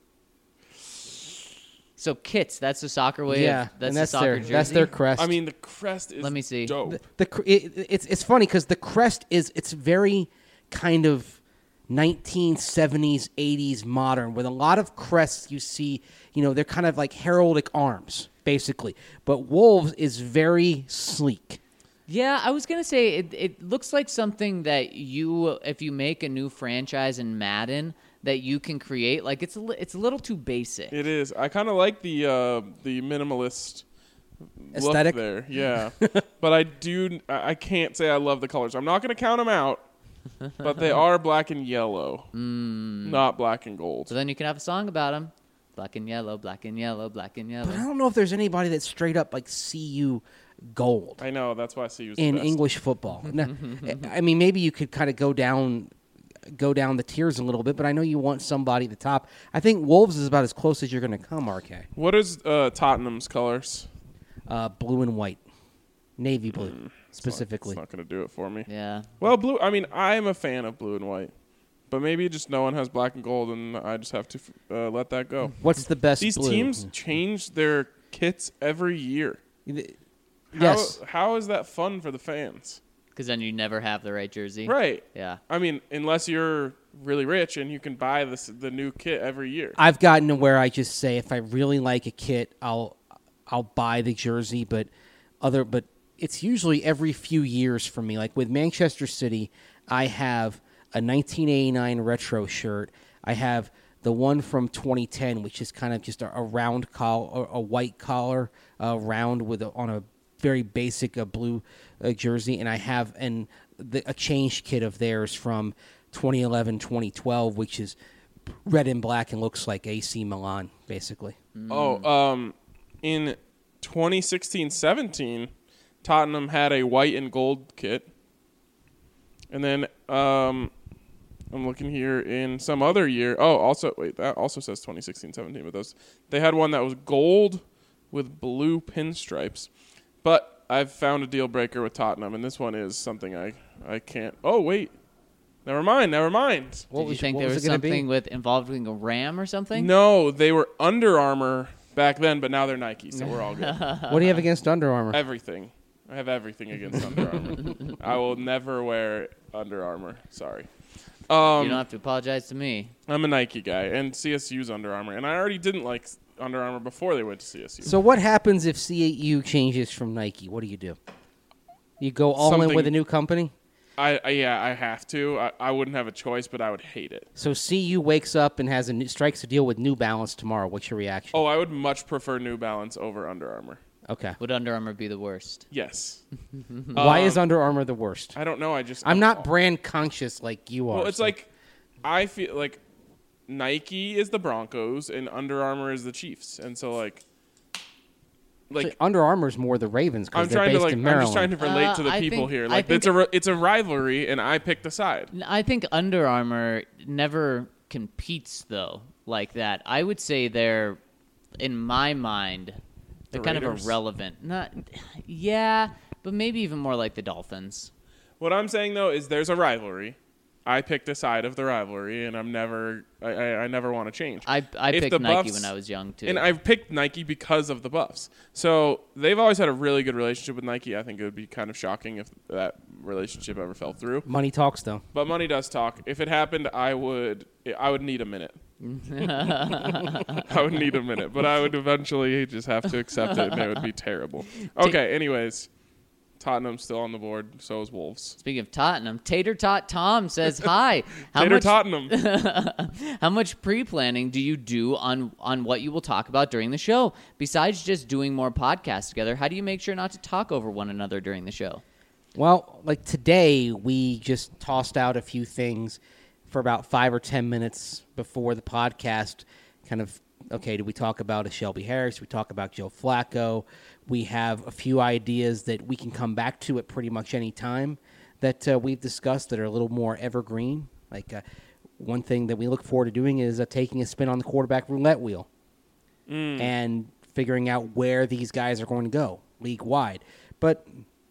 So kits, that's the soccer way. yeah, of, that's, and that's the soccer their jersey. that's their crest. I mean, the crest is Let me see. dope. the, the cr- it, it's it's funny because the crest is it's very kind of nineteen seventies, eighties modern with a lot of crests you see. You know, they're kind of like heraldic arms basically, but Wolves is very sleek. Yeah, I was gonna say it. It looks like something that you, if you make a new franchise in Madden, that you can create. Like it's a, li- it's a little too basic. It is. I kind of like the uh, the minimalist Aesthetic? look there. Yeah, but I do. I I can't say I love the colors. I'm not going to count them out, but they are black and yellow, not black and gold. So then you can have a song about them. Black and yellow, black and yellow, black and yellow. But I don't know if there's anybody that's straight up like C U gold I know. That's why I see you in English football. Now, I mean, maybe you could kind of go down, go down the tiers a little bit, but I know you want somebody at the top. I think Wolves is about as close as you're going to come, R K. What is uh, Tottenham's colors? Uh, blue and white, navy blue specifically. It's not going to do it for me. Yeah. Well, blue. I mean, I'm a fan of blue and white, but maybe just no one has black and gold, and I just have to uh, let that go. What's the best These blue? teams change their kits every year. How, Yes. How is that fun for the fans? Because then you never have the right jersey. Right. Yeah. I mean, unless you're really rich and you can buy this the new kit every year. I've gotten to where I just say if I really like a kit, I'll I'll buy the jersey, but other but it's usually every few years for me. Like with Manchester City, I have a nineteen eighty-nine retro shirt. I have the one from twenty ten, which is kind of just a, a round collar, a white collar, uh, round with a, on a very basic uh, blue uh, jersey, and I have an the, a changed kit of theirs from twenty eleven, twenty twelve, which is red and black and looks like A C Milan, basically. Oh, um, in twenty sixteen seventeen, Tottenham had a white and gold kit. And then um, I'm looking here in some other year. Oh, also, wait, that also says twenty sixteen seventeen, but those they had one that was gold with blue pinstripes. But I've found a deal breaker with Tottenham, and this one is something I, I can't. Oh, wait. Never mind. Never mind. What Did you was- think what there was was it gonna be? something with involving a ram or something? No, they were Under Armour back then, but now they're Nike, so we're all good. What do you have against Under Armour? Everything. I have everything against Under Armour. I will never wear Under Armour. Sorry. You Um, don't have to apologize to me. I'm a Nike guy, and C S U's Under Armour, and I already didn't like Under Armour before they went to C S U. So what happens if C U changes from Nike? What do you do? You go all in Something- with a new company? I, I yeah, I have to. I, I wouldn't have a choice, but I would hate it. So C U wakes up and has a new, strikes a deal with New Balance tomorrow. What's your reaction? Oh, I would much prefer New Balance over Under Armour. Okay. Would Under Armour be the worst? Yes. Why Um, is Under Armour the worst? I don't know. I just I'm not brand conscious like you are. Well, it's so- like I feel like Nike is the Broncos and Under Armour is the Chiefs, and so like, like so Under Armour's more the Ravens because I'm they're trying based to like in I'm Maryland. just trying to relate Uh, to the I people think- here. I Like think- it's a ri- it's a rivalry, and I picked a side. N- I think Under Armour never competes though like that. I would say they're, in my mind, they're The kind Raiders? of irrelevant. Not, yeah, but maybe even more like the Dolphins. What I'm saying though is there's a rivalry. I picked a side of the rivalry, and I'm never I, I, I never want to change. I I If picked the Nike Buffs- when I was young too. And I've picked Nike because of the Buffs. So they've always had a really good relationship with Nike. I think it would be kind of shocking if that relationship ever fell through. Money talks though. But money does talk. If it happened, I would I would need a minute. I would need a minute, but I would eventually just have to accept it, and it would be terrible. Okay, anyways, Tottenham's still on the board. So is Wolves. Speaking of Tottenham, Tater Tot Tom says hi. How Tater much Tottenham. how much pre-planning do you do on on what you will talk about during the show? Besides just doing more podcasts together, how do you make sure not to talk over one another during the show? Well, like today, we just tossed out a few things for about five or ten minutes before the podcast. Kind of, okay, do we talk about a Shelby Harris? Do we talk about Joe Flacco? We have a few ideas that we can come back to at pretty much any time that uh, we've discussed that are a little more evergreen. Like uh, one thing that we look forward to doing is uh, taking a spin on the quarterback roulette wheel and figuring out where these guys are going to go league-wide. But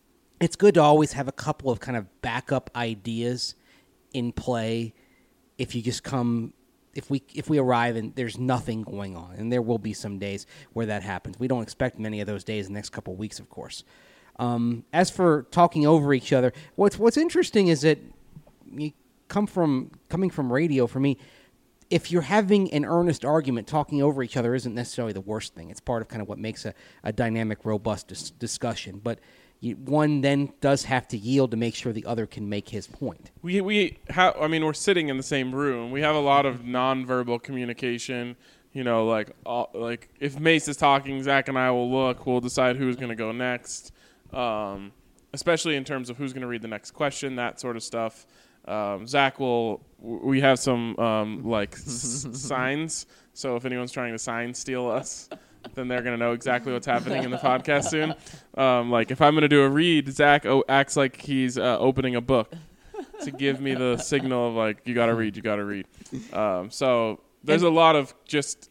it's good to always have a couple of kind of backup ideas in play if you just come if we if we arrive and there's nothing going on, and there will be some days where that happens. We don't expect many of those days in the next couple of weeks, of course. Um, as for talking over each other, what's what's interesting is that you come from coming from radio. For me, if you're having an earnest argument, talking over each other isn't necessarily the worst thing. It's part of kind of what makes a, a dynamic, robust dis- discussion. But you, one then does have to yield to make sure the other can make his point. We we have. I mean, we're sitting in the same room. We have a lot of nonverbal communication. You know, like uh, like if Mace is talking, Zach and I will look. We'll decide who's going to go next. Um, especially in terms of who's going to read the next question, that sort of stuff. Um, Zach will. We have some um, like s- signs. So if anyone's trying to sign steal us, then they're going to know exactly what's happening in the podcast soon. Um, like if I'm going to do a read, Zach o- acts like he's uh, opening a book to give me the signal of like, you got to read, you got to read. Um, so there's a lot of just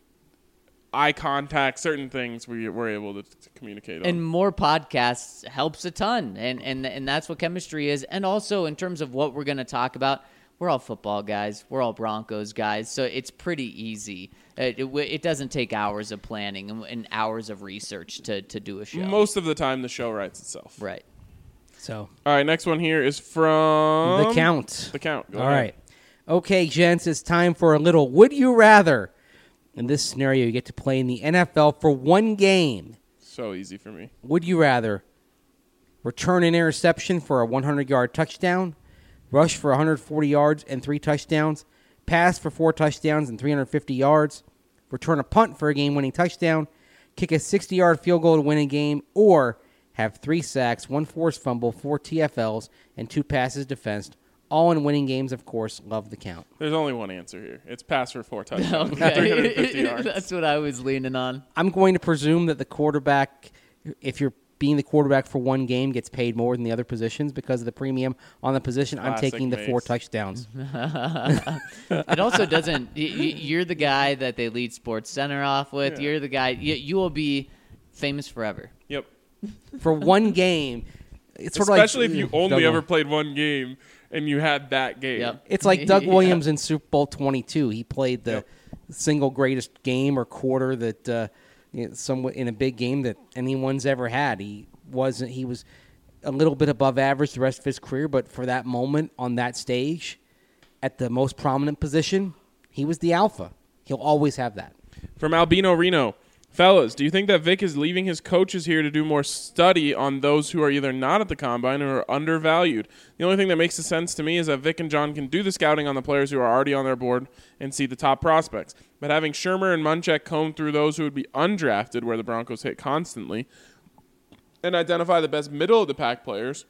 eye contact, certain things we we're able to, to communicate on. And more podcasts helps a ton, and and and that's what chemistry is. And also in terms of what we're going to talk about, we're all football guys, we're all Broncos guys, so it's pretty easy. It, it, it doesn't take hours of planning and, and hours of research to to do a show. Most of the time, the show writes itself. Right. So, all right, next one here is from the count. The count. Go All ahead. right. Okay, gents, it's time for a little Would You Rather. In this scenario, you get to play in the N F L for one game. So easy for me. Would you rather return an interception for a hundred-yard touchdown, rush for one hundred forty yards and three touchdowns, pass for four touchdowns and three hundred fifty yards, return a punt for a game-winning touchdown, kick a sixty-yard field goal to win a game, or have three sacks, one forced fumble, four T F Ls, and two passes defensed, all in winning games, of course. Love the count. There's only one answer here. It's pass for four touchdowns, three hundred fifty Okay. yards. That's what I was leaning on. I'm going to presume that the quarterback, if you're being the quarterback for one game, gets paid more than the other positions because of the premium on the position. I'm Classic taking the Mace. four touchdowns. It also doesn't. y- y- You're the guy that they lead Sports Center off with. Yeah. You're the guy. You, you will be famous forever. Yep. For one game, it's sort Especially of like if you Doug only Wil- ever played one game and you had that game. Yep. It's like Doug Yeah. Williams in Super Bowl twenty-two. He played the Yep. single greatest game or quarter that uh, you know, somewhat in a big game that anyone's ever had. He wasn't. He was a little bit above average the rest of his career, but for that moment on that stage, at the most prominent position, he was the alpha. He'll always have that. From Albino Reno. Fellas, do you think that Vic is leaving his coaches here to do more study on those who are either not at the combine or are undervalued? The only thing that makes sense to me is that Vic and John can do the scouting on the players who are already on their board and see the top prospects. But having Shermer and Munchak comb through those who would be undrafted, where the Broncos hit constantly, and identify the best middle of the pack players,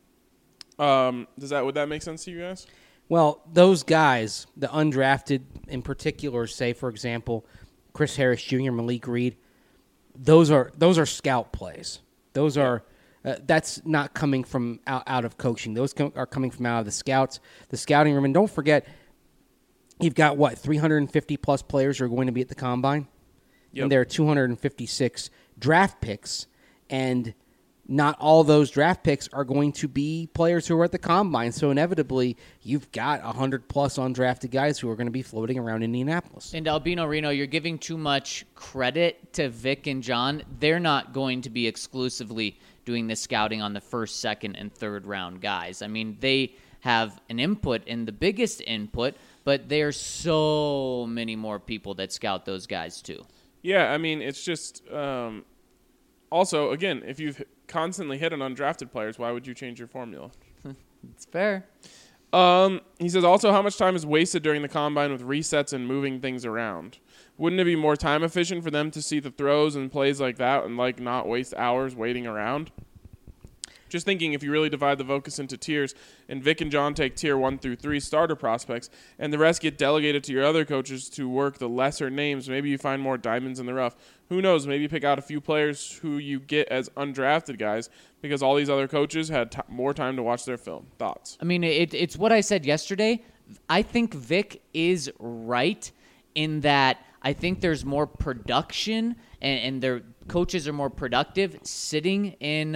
um, does that would that make sense to you guys? Well, those guys, the undrafted in particular, say for example, Chris Harris Junior, Malik Reed, those are those are scout plays. Those are uh, that's not coming from out, out of coaching. Those com- are coming from out of the scouts, the scouting room. And don't forget, you've got what three hundred fifty plus players who are going to be at the combine, Yep. and there are two hundred fifty-six draft picks, and not all those draft picks are going to be players who are at the combine. So inevitably, you've got one hundred plus undrafted guys who are going to be floating around Indianapolis. And Albino Reno, you're giving too much credit to Vic and John. They're not going to be exclusively doing the scouting on the first, second, and third round guys. I mean, they have an input and the biggest input, but there's so many more people that scout those guys too. Yeah, I mean, it's just um, also, again, if you've constantly hit on undrafted players, why would you change your formula? It's fair. Um, he says also how much time is wasted during the combine with resets and moving things around. Wouldn't it be more time efficient for them to see the throws and plays like that and like not waste hours waiting around? Just thinking, if you really divide the focus into tiers and Vic and John take tier one through three starter prospects and the rest get delegated to your other coaches to work the lesser names, maybe you find more diamonds in the rough. Who knows? Maybe pick out a few players who you get as undrafted guys because all these other coaches had t- more time to watch their film. Thoughts? I mean, it, it's what I said yesterday. I think Vic is right in that I think there's more production and, and their coaches are more productive sitting in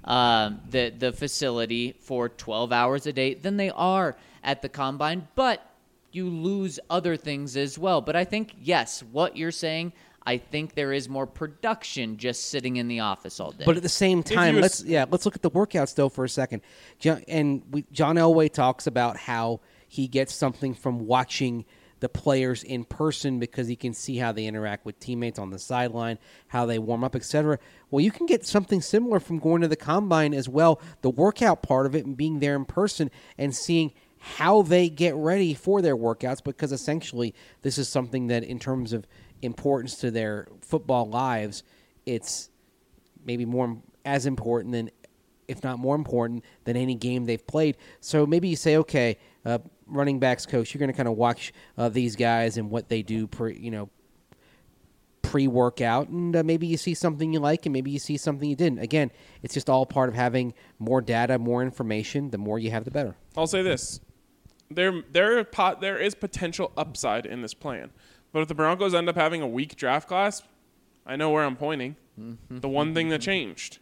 um, the the facility for twelve hours a day than they are at the combine, but you lose other things as well. But I think, yes, what you're saying, I think there is more production just sitting in the office all day. But at the same time, you let's yeah, let's look at the workouts though for a second. John, and we, John Elway talks about how he gets something from watching the players in person because he can see how they interact with teammates on the sideline, how they warm up, et cetera. Well, you can get something similar from going to the combine as well, the workout part of it and being there in person and seeing how they get ready for their workouts, because essentially this is something that in terms of importance to their football lives, it's maybe more as important than, if not more important than any game they've played. So maybe you say, okay, uh, running backs coach, you're going to kind of watch uh, these guys and what they do pre, you know, pre-workout, and uh, maybe you see something you like and maybe you see something you didn't. Again, it's just all part of having more data, more information. The more you have, the better. I'll say this. There, there, pot, there is potential upside in this plan. But if the Broncos end up having a weak draft class, I know where I'm pointing. Mm-hmm. The one thing that changed.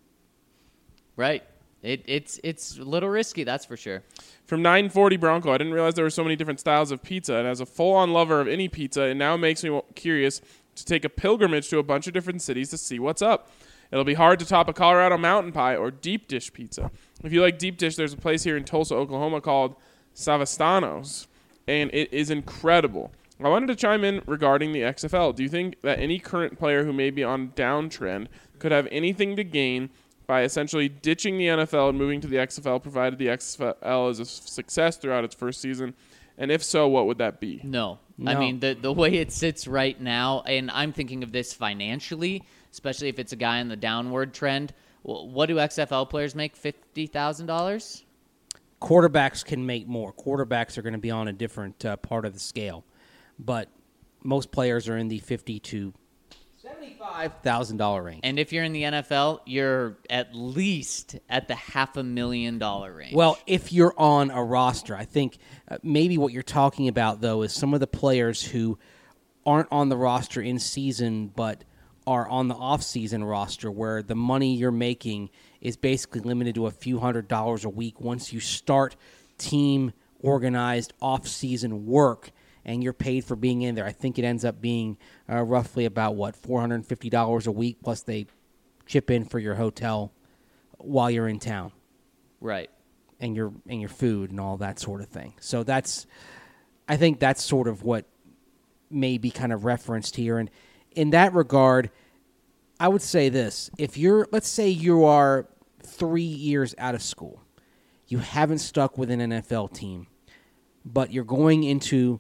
Right. It, it's it's a little risky, that's for sure. From nine forty Bronco, I didn't realize there were so many different styles of pizza. And as a full-on lover of any pizza, it now makes me curious to take a pilgrimage to a bunch of different cities to see what's up. It'll be hard to top a Colorado mountain pie or deep dish pizza. If you like deep dish, there's a place here in Tulsa, Oklahoma called Savastano's, and it is incredible. I wanted to chime in regarding the X F L. Do you think that any current player who may be on downtrend could have anything to gain by essentially ditching the N F L and moving to the X F L, provided the X F L is a success throughout its first season? And if so, what would that be? No. No. I mean, the, the way it sits right now, and I'm thinking of this financially, especially if it's a guy on the downward trend, what do X F L players make, fifty thousand dollars? Quarterbacks can make more. Quarterbacks are going to be on a different uh, part of the scale. But most players are in the fifty to seventy-five thousand dollar range. And if you're in the N F L, you're at least at the half a million dollar range. Well, if you're on a roster, I think uh, maybe what you're talking about, though, is some of the players who aren't on the roster in season but are on the off-season roster where the money you're making is basically limited to a few hundred dollars a week once you start team-organized off-season work and you're paid for being in there. I think it ends up being uh, roughly about, what, four hundred fifty dollars a week, plus they chip in for your hotel while you're in town. Right. And your and your food and all that sort of thing. So that's, I think that's sort of what may be kind of referenced here. And in that regard, I would say this. If you're, let's say you are three years out of school, you haven't stuck with an N F L team, but you're going into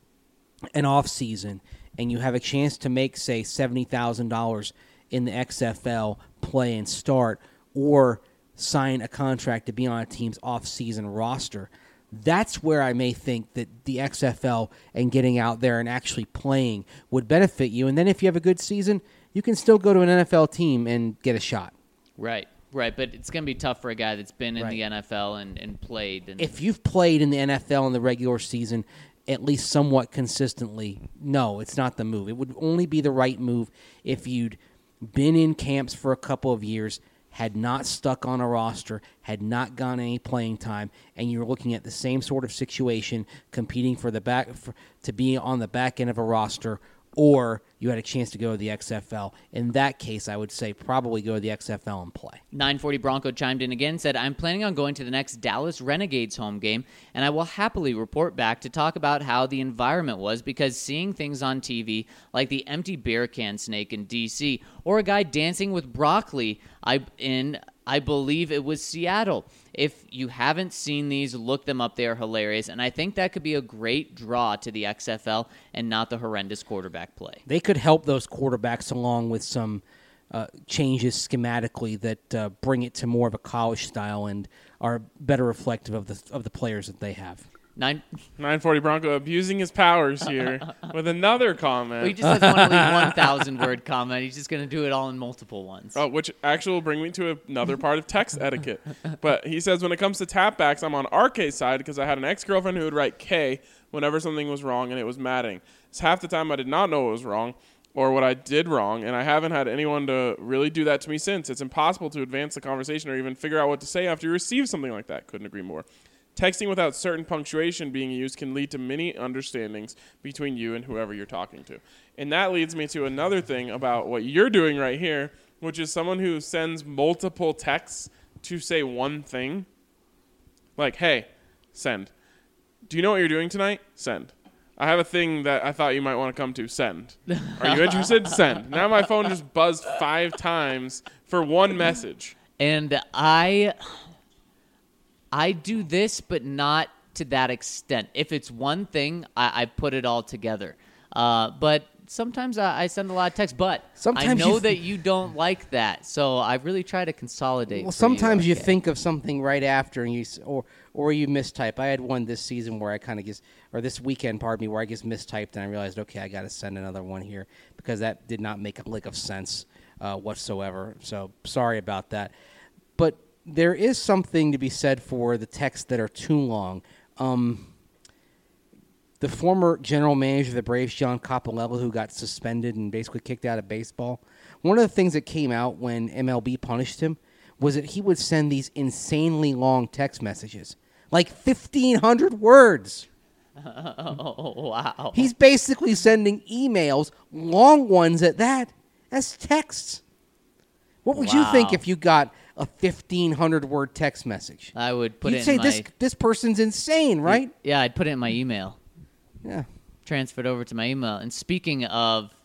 an off season and you have a chance to make, say, seventy thousand dollars in the X F L, play and start, or sign a contract to be on a team's off-season roster, that's where I may think that the X F L and getting out there and actually playing would benefit you. And then if you have a good season, you can still go to an N F L team and get a shot. Right, right. But it's going to be tough for a guy that's been in Right. the N F L and, and played. And If you've played in the N F L in the regular season at least somewhat consistently, no, it's not the move. It would only be the right move if you'd been in camps for a couple of years, had not stuck on a roster, had not gotten any playing time, and you're looking at the same sort of situation, competing for the back for, to be on the back end of a roster, or you had a chance to go to the X F L. In that case, I would say probably go to the X F L and play. nine forty Bronco chimed in again, said, I'm planning on going to the next Dallas Renegades home game, and I will happily report back to talk about how the environment was, because seeing things on T V, like the empty beer can snake in D C, or a guy dancing with broccoli I in, I believe it was Seattle. If you haven't seen these, look them up. They are hilarious, and I think that could be a great draw to the X F L and not the horrendous quarterback play. They could help those quarterbacks along with some uh, changes schematically that uh, bring it to more of a college style and are better reflective of the of the players that they have. Nine. nine forty Bronco abusing his powers here with another comment. Well, he just has one, one thousand word comment. He's just going to do it all in multiple ones. Oh, which actually will bring me to another part of text etiquette. But he says, when it comes to tapbacks, I'm on R K's side because I had an ex-girlfriend who would write K whenever something was wrong, and it was maddening. It's half the time I did not know it was wrong. or what I did wrong, and I haven't had anyone to really do that to me since. It's impossible to advance the conversation or even figure out what to say after you receive something like that. Couldn't agree more. Texting without certain punctuation being used can lead to many understandings between you and whoever you're talking to. And that leads me to another thing about what you're doing right here, which is someone who sends multiple texts to say one thing. Like, hey, send. Do you know what you're doing tonight? Send. I have a thing that I thought you might want to come to. Send. Are you interested? Send. Now my phone just buzzed five times for one message. And I I do this, but not to that extent. If it's one thing, I, I put it all together. Uh, but sometimes I, I send a lot of texts, but Sometimes I know you th- that you don't like that. So I really try to consolidate. Well, for sometimes you, okay? think of something right after, and you s- or or you mistype. I had one this season where I kind of just, or this weekend, pardon me, where I just mistyped, and I realized, okay, I got to send another one here because that did not make a lick of sense uh, whatsoever. So sorry about that. But there is something to be said for the texts that are too long. Um, the former general manager of the Braves, John Coppolella, who got suspended and basically kicked out of baseball, one of the things that came out when M L B punished him was that he would send these insanely long text messages, like fifteen hundred words. Oh, wow. He's basically sending emails, long ones at that, as texts. What would you think Wow. if you got a fifteen hundred word text message? I would put You'd it say in my... this this person's insane, right? Yeah, I'd put it in my email. Yeah. Transferred over to my email. And speaking of...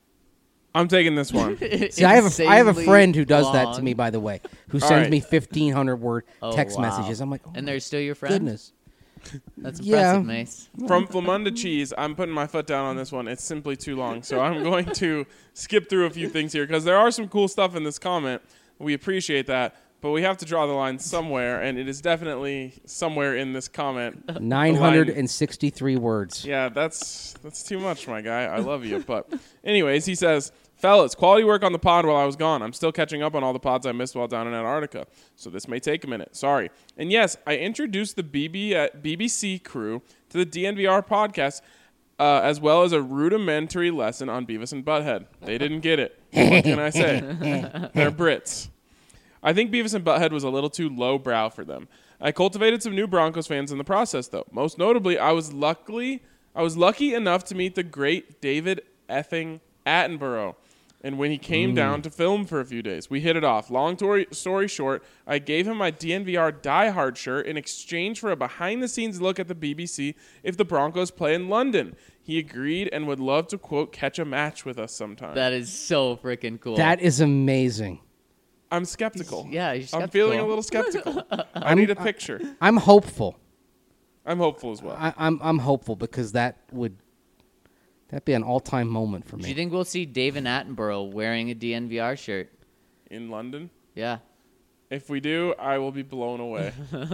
I'm taking this one. See, I have a I have a insanely friend who does that to long- me, by the way, who All sends right. me fifteen hundred word Oh, text wow. messages. I'm like, oh, And they're still your friend? goodness. That's Yeah. impressive, Mace. From Flamunda Cheese, I'm putting my foot down on this one. It's simply too long. So I'm going to skip through a few things here because there are some cool stuff in this comment. We appreciate that. But we have to draw the line somewhere, and it is definitely somewhere in this comment. nine hundred sixty-three words. Yeah, that's that's too much, my guy. I love you. But anyways, he says, fellas, quality work on the pod while I was gone. I'm still catching up on all the pods I missed while down in Antarctica, so this may take a minute. Sorry. And yes, I introduced the B B, uh, B B C crew to the D N V R podcast, uh, as well as a rudimentary lesson on Beavis and Butthead. They didn't get it. What can I say? They're Brits. I think Beavis and Butthead was a little too lowbrow for them. I cultivated some new Broncos fans in the process, though. Most notably, I was luckily I was lucky enough to meet the great David effing Attenborough. And when he came Mm. down to film for a few days, we hit it off. Long story, story short, I gave him my D N V R Die Hard shirt in exchange for a behind-the-scenes look at the B B C if the Broncos play in London. He agreed and would love to, quote, catch a match with us sometime. That is so freaking cool. That is amazing. I'm skeptical. Yeah, you're I'm skeptical. feeling a little skeptical. I need a picture. I'm hopeful. I'm hopeful as well. I, I'm I'm hopeful because that would that'd be an all time moment for Do me. you think we'll see David Attenborough wearing a D N V R shirt? In London? Yeah. If we do, I will be blown away.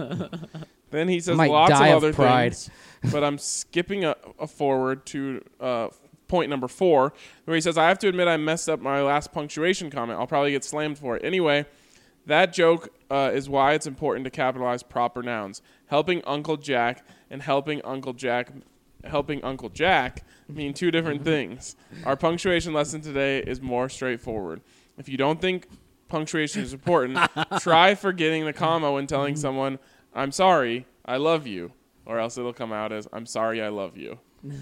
Then he says Might lots of die of other pride. things, but I'm skipping a, a forward to uh, point number four, where he says, I have to admit I messed up my last punctuation comment. I'll probably get slammed for it. Anyway, that joke uh, is why it's important to capitalize proper nouns. Helping Uncle Jack and helping Uncle Jack helping Uncle Jack mean two different things. Our punctuation lesson today is more straightforward. If you don't think punctuation is important, try forgetting the comma when telling someone, I'm sorry, I love you, or else it'll come out as, I'm sorry, I love you.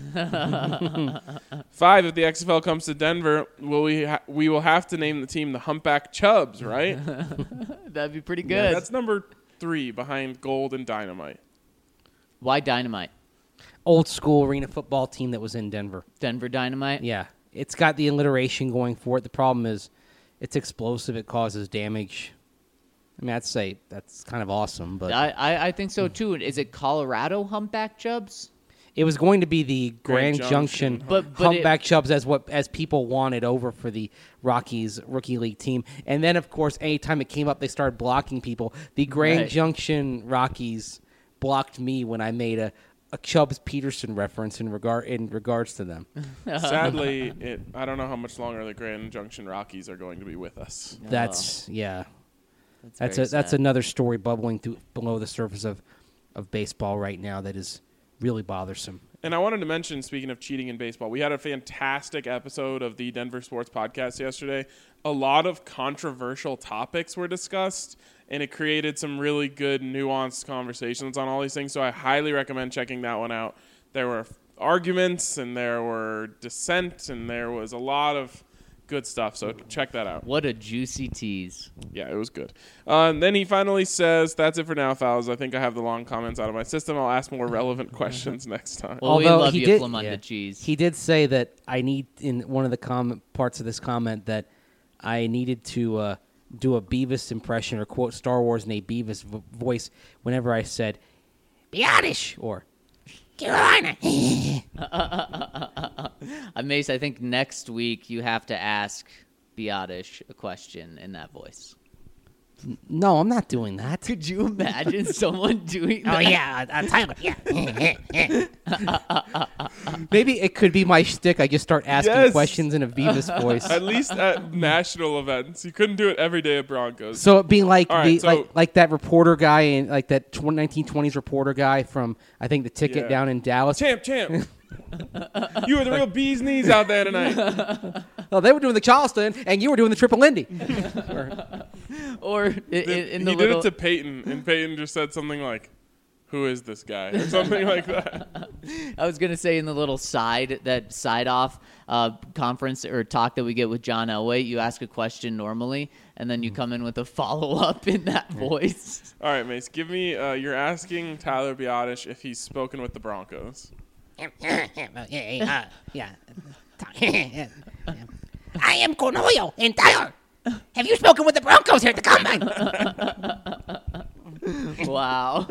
Five, if the X F L comes to Denver, will we ha- we will have to name the team the Humpback Chubs, right? That'd be pretty good. Yeah, that's number three behind Gold and Dynamite. Why Dynamite? Old school arena football team that was in Denver. Denver Dynamite? Yeah, it's got the alliteration going for it. The problem is, it's explosive. It causes damage. I mean, I'd say that's kind of awesome, but I, I, I think so, too. Is it Colorado Humpback Chubs? it was going to be the Grand, Grand Junction, Junction. But- but Humpback Chubs as what as people wanted over for the Rockies rookie league team. And then, of course, anytime it came up, they started blocking people. The Grand Right. Junction Rockies blocked me when I made a, a Chubbs Peterson reference in regard in regards to them. Sadly, it I don't know how much longer the Grand Junction Rockies are going to be with us. That's yeah. That's very a that's sad. another story bubbling through below the surface of, of baseball right now that is really bothersome. And I wanted to mention, speaking of cheating in baseball, we had a fantastic episode of the Denver Sports Podcast yesterday. A lot of controversial topics were discussed, and it created some really good, nuanced conversations on all these things. So I highly recommend checking that one out. There were arguments, and there were dissent, and there was a lot of good stuff. So check that out. What a juicy tease. Yeah, it was good. Uh, and then he finally says, that's it for now, fellas. I think I have the long comments out of my system. I'll ask more relevant questions next time. Well, we Although love he you, did- Flamunda yeah. cheese. He did say that I need, in one of the com- parts of this comment, that I needed to uh, do a Beavis impression or quote Star Wars in a Beavis vo- voice whenever I said, Beyondish, or Carolina. Uh, Mace, I think next week you have to ask Biotish a question in that voice. No, I'm not doing that. Could you imagine someone doing that? Oh, yeah, uh, Tyler, yeah. Maybe it could be my shtick. I just start asking Yes. questions in a Beavis voice. At least at national events. You couldn't do it every day at Broncos. So it being like All right, the so- like like that reporter guy and like that tw- nineteen twenties reporter guy from I think the ticket Yeah. down in Dallas. Champ, champ. You were the real bee's knees out there tonight. Oh, they were doing the Charleston, and you were doing the Triple Lindy. Or in, in the he little, did it to Peyton, and Peyton just said something like, who is this guy? Or something like that. I was gonna say in the little side that side off uh, conference or talk that we get with John Elway, you ask a question normally, and then you come in with a follow up in that voice. All right, Mace, give me, uh, you're asking Tyler Biotish if he's spoken with the Broncos. yeah. I am Cornelio and Tyler. Have you spoken with the Broncos here at the Combine? Wow.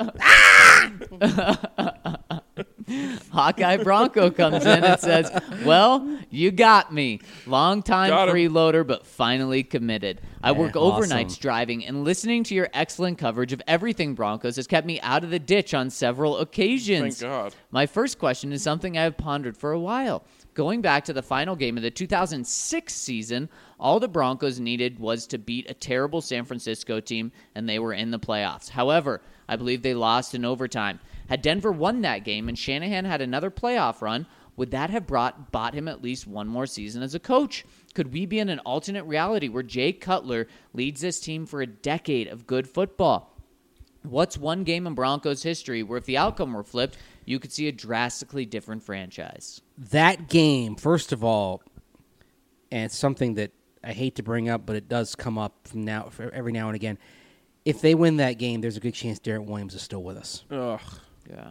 Hawkeye Bronco comes in and says, well, you got me. Long time Got him. freeloader, but finally committed. I work Yeah, overnights awesome. driving, and listening to your excellent coverage of everything Broncos has kept me out of the ditch on several occasions. Thank God. My first question is something I have pondered for a while. Going back to the final game of the two thousand six season, all the Broncos needed was to beat a terrible San Francisco team, and they were in the playoffs. However, I believe they lost in overtime. Had Denver won that game and Shanahan had another playoff run, would that have brought bought him at least one more season as a coach? Could we be in an alternate reality where Jay Cutler leads this team for a decade of good football? What's one game in Broncos history where if the outcome were flipped, you could see a drastically different franchise? That game, first of all, and it's something that I hate to bring up, but it does come up from now for every now and again. If they win that game, there's a good chance Derek Williams is still with us Ugh. Yeah.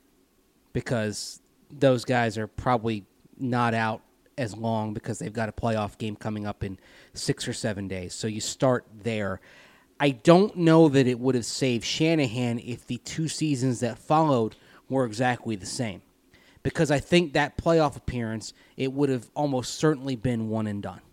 because those guys are probably not out as long because they've got a playoff game coming up in six or seven days. So you start there. I don't know that it would have saved Shanahan if the two seasons that followed were exactly the same. Because I think that playoff appearance, it would have almost certainly been one and done.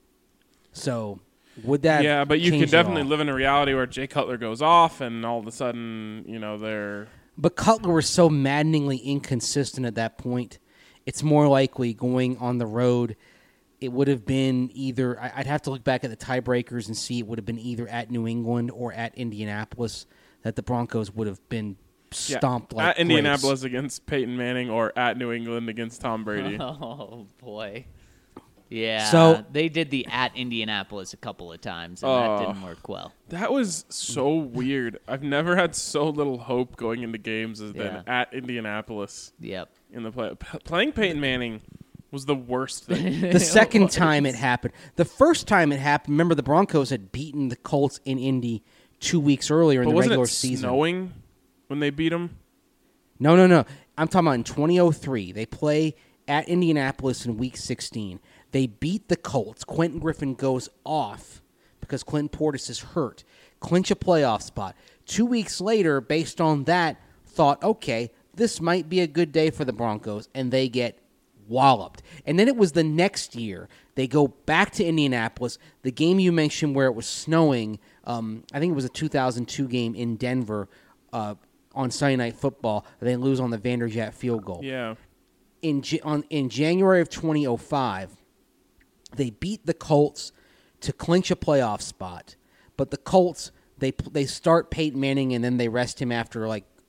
So would that Yeah, but you change can it definitely all? live in a reality where Jay Cutler goes off, and all of a sudden, you know, they're... But Cutler was so maddeningly inconsistent at that point. It's more likely going on the road. It would have been either, I- I'd have to look back at the tiebreakers and see it would have been either at New England or at Indianapolis that the Broncos would have been Yeah, stomped like at grapes. Indianapolis against Peyton Manning or at New England against Tom Brady. Oh, boy. Yeah. So- they did the at Indianapolis a couple of times, and Oh. that didn't work well. That was so weird. I've never had so little hope going into games as Yeah. than at Indianapolis Yep. in the play. P- playing Peyton Manning was the worst thing. The second time it happened. The first time it happened, remember the Broncos had beaten the Colts in Indy two weeks earlier in But the wasn't regular it season. snowing when they beat them? No, no, no. I'm talking about in twenty oh three. They play at Indianapolis in Week sixteen. They beat the Colts. Quentin Griffin goes off because Clinton Portis is hurt. Clinch a playoff spot. Two weeks later, based on that, thought, okay, this might be a good day for the Broncos, and they get walloped. And then it was the next year. They go back to Indianapolis. The game you mentioned where it was snowing, um, I think it was a two thousand two game in Denver uh, on Sunday Night Football. They lose on the Vanderjagt field goal. Yeah. In, J- on, in January of twenty oh five, they beat the Colts to clinch a playoff spot. But the Colts, they they start Peyton Manning and then they rest him after like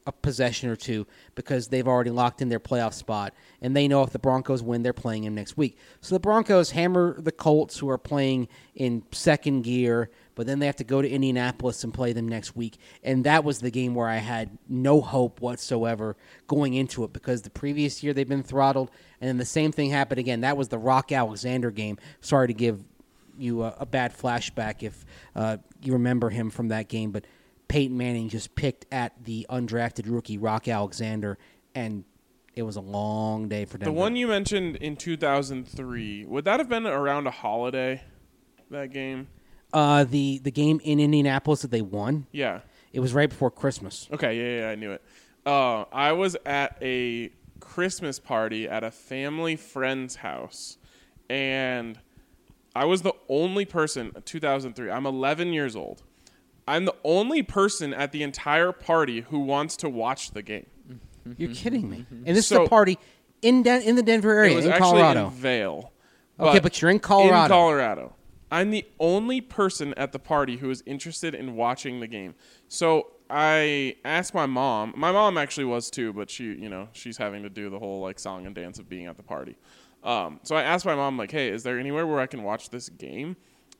a possession or two because they've already locked in their playoff spot, and they know if the Broncos win, they're playing them next week. So the Broncos hammer the Colts, who are playing in second gear, but then they have to go to Indianapolis and play them next week. And that was the game where I had no hope whatsoever going into it because the previous year they've been throttled, and then the same thing happened again. That was the Rock Alexander game. Sorry to give you a, a bad flashback if uh, you remember him from that game, but Peyton Manning just picked at the undrafted rookie Rock Alexander, and it was a long day for Denver. The one you mentioned in two thousand three, would that have been around a holiday, that game? Uh, the, the game in Indianapolis that they won, Yeah. it was right before Christmas. Okay, yeah, yeah, I knew it. Uh, I was at a Christmas party at a family friend's house, and I was the only person, two thousand three, I'm eleven years old. I'm the only person at the entire party who wants to watch the game. You're kidding me. And this So- is a party in Den- in the Denver area, It was in actually Colorado. in Vail. Okay, but you're in Colorado. In Colorado. I'm the only person at the party who is interested in watching the game. So I asked my mom. My mom actually was too, but she, you know, she's having to do the whole like song and dance of being at the party. Um, so I asked my mom, like, hey, is there anywhere where I can watch this game?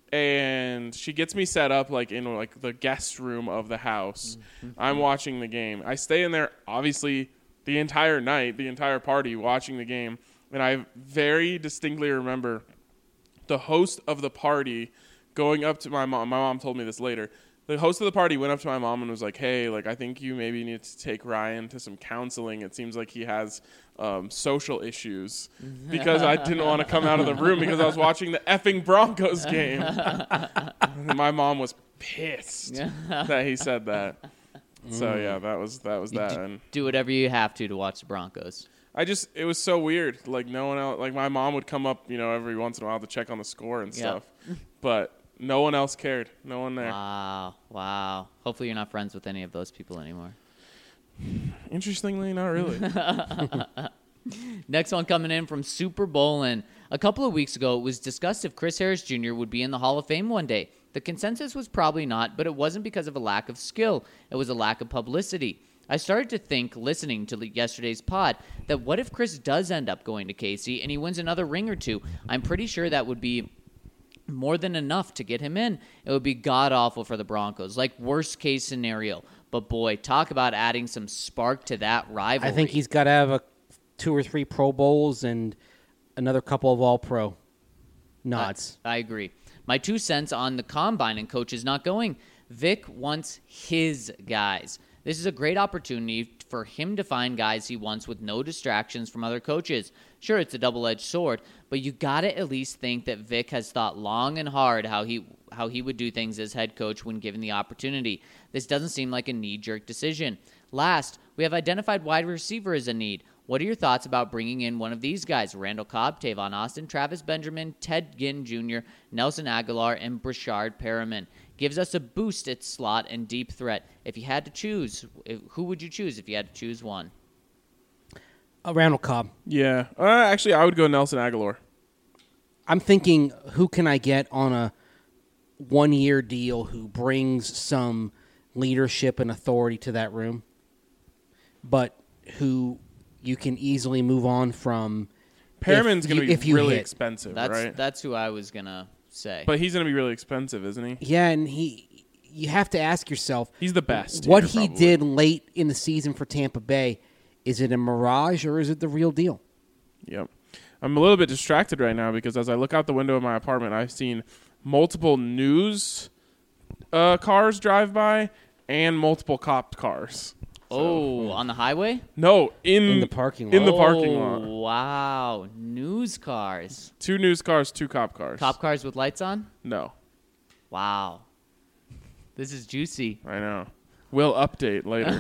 And she gets me set up like in like the guest room of the house. Mm-hmm. I'm watching the game. I stay in there obviously the entire night, the entire party watching the game. And I very distinctly remember the host of the party going up to my mom. My mom told me this later. The host of the party went up to my mom and was like, hey, like, I think you maybe need to take Ryan to some counseling. It seems like he has um, social issues, because I didn't want to come out of the room because I was watching the effing Broncos game. And my mom was pissed that he said that. So, yeah, that was that. Was that. And Do whatever you have to to watch the Broncos. I just, it was so weird. Like, no one else, like, my mom would come up, you know, every once in a while to check on the score and Yep. stuff. But no one else cared. No one there. Wow. Wow. Hopefully you're not friends with any of those people anymore. Interestingly, not really. Next one coming in from Super Bowlin. A couple of weeks ago, it was discussed if Chris Harris Junior would be in the Hall of Fame one day. The consensus was probably not, but it wasn't because of a lack of skill. It was a lack of publicity. I started to think, listening to yesterday's pod, that what if Chris does end up going to K C and he wins another ring or two? I'm pretty sure that would be more than enough to get him in. It would be god-awful for the Broncos, like worst-case scenario. But, boy, talk about adding some spark to that rivalry. I think he's got to have a two or three Pro Bowls and another couple of All-Pro nods. I, I agree. My two cents on the combine and coaches not going. Vic wants his guys. This is a great opportunity for him to find guys he wants with no distractions from other coaches. Sure, it's a double-edged sword, but you got to at least think that Vic has thought long and hard how he how he would do things as head coach when given the opportunity. This doesn't seem like a knee-jerk decision. Last, we have identified wide receiver as a need. What are your thoughts about bringing in one of these guys? Randall Cobb, Tavon Austin, Travis Benjamin, Ted Ginn Junior, Nelson Aguilar, and Brashard Perriman. Gives us a boost at slot and deep threat. If you had to choose, who would you choose if you had to choose one? Uh, Randall Cobb. Yeah. Uh, actually, I would go Nelson Aguilar. I'm thinking, who can I get on a one-year deal who brings some leadership and authority to that room, but who you can easily move on from. Perriman's if going to you- be if you really hit. expensive, That's right? that's who I was gonna say. But he's going to be really expensive, isn't he? Yeah, and he, you have to ask yourself, He's the best. what here, he probably. did late in the season for Tampa Bay, is it a mirage or is it the real deal? Yep. I'm a little bit distracted right now because as I look out the window of my apartment, I've seen multiple news uh, cars drive by and multiple cop cars. oh, on the highway? No, in, In the parking lot. In the parking Oh, lot. wow. News cars. Two news cars, two cop cars. Cop cars with lights on? No, Wow. This is juicy. I know. We'll update later.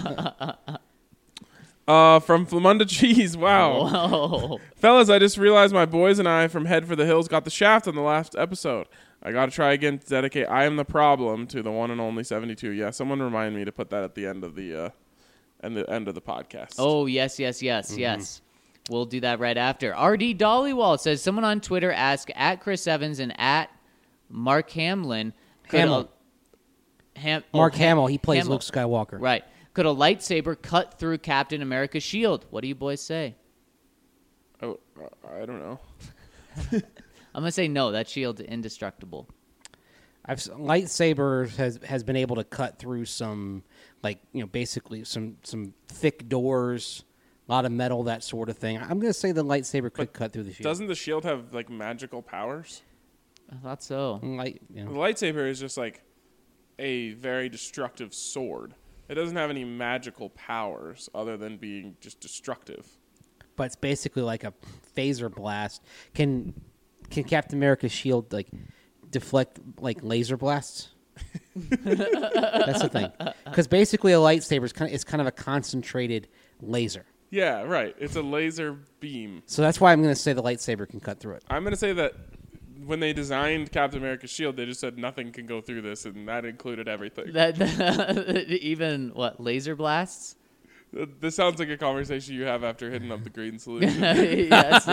uh, from Flamunda Cheese. Wow. Whoa. Fellas, I just realized my boys and I from Head for the Hills got the shaft on the last episode. I got to try again to dedicate I Am the Problem to the one and only seventy-two. Yeah, someone remind me to put that at the end of the uh, and the end of the podcast. Oh, yes, yes, yes, Mm-hmm. yes. We'll do that right after. R D Dollywall says, someone on Twitter asked at Chris Evans and at Mark Hamlin. could Hamill. a- Ham, oh, Mark Ham- Hamill, he plays Hamill. Luke Skywalker. Right. Could a lightsaber cut through Captain America's shield? What do you boys say? Oh, I don't know. I'm gonna say no. That shield's indestructible. I've s- lightsaber has has been able to cut through some, like, you know, basically some some thick doors, a lot of metal, that sort of thing. I'm gonna say the lightsaber could But cut through the shield. Doesn't the shield have like magical powers? I thought so. Light, you The know. lightsaber is just like a very destructive sword. It doesn't have any magical powers other than being just destructive. But it's basically like a phaser blast. Can can Captain America's shield like deflect like laser blasts? That's the thing. Because basically a lightsaber is kind of it's kind of a concentrated laser. Yeah, right. It's a laser beam. So that's why I'm going to say the lightsaber can cut through it. I'm going to say that when they designed Captain America's shield, they just said nothing can go through this, and that included everything. That even what laser blasts? This sounds like a conversation you have after hitting up the green solution. Yes,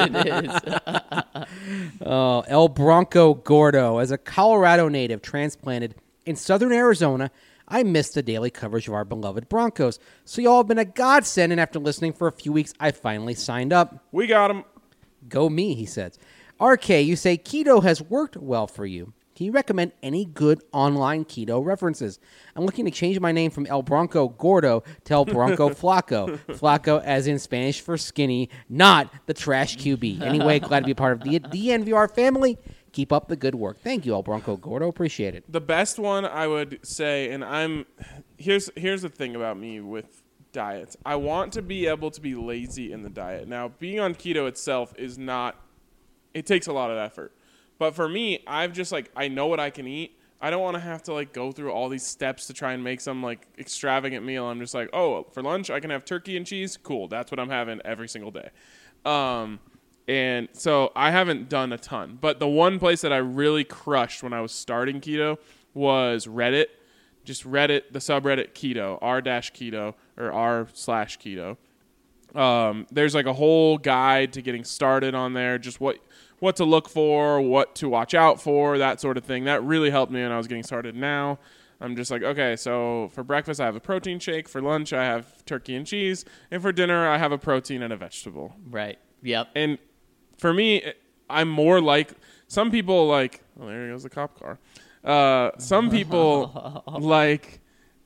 it is. Oh, El Bronco Gordo. As a Colorado native transplanted in southern Arizona, I missed the daily coverage of our beloved Broncos. So y'all have been a godsend, and after listening for a few weeks, I finally signed up. We got him. Go me, he says. R K, you say keto has worked well for you. Can you recommend any good online keto references? I'm looking to change my name from El Bronco Gordo to El Bronco Flaco. Flaco as in Spanish for skinny, not the trash Q B. Anyway, glad to be a part of the D N V R family. Keep up the good work. Thank you, El Bronco Gordo. Appreciate it. The best one I would say, and I'm here's here's the thing about me with diets. I want to be able to be lazy in the diet. Now, being on keto itself is not. It takes a lot of effort. But for me, I've just like I know what I can eat. I don't want to have to like go through all these steps to try and make some like extravagant meal. I'm just like, oh, for lunch I can have turkey and cheese. Cool, that's what I'm having every single day. Um, and so I haven't done a ton. But the one place that I really crushed when I was starting keto was Reddit. Just Reddit, the subreddit keto, r dash keto or r slash keto. Um, there's like a whole guide to getting started on there. Just what. what to look for, what to watch out for, that sort of thing. That really helped me when I was getting started. Now I'm just like, okay, so for breakfast I have a protein shake, for lunch I have turkey and cheese, and for dinner I have a protein and a vegetable. Right. Yep. And for me, I'm more like some people like, oh, there goes the cop car. Uh, some people like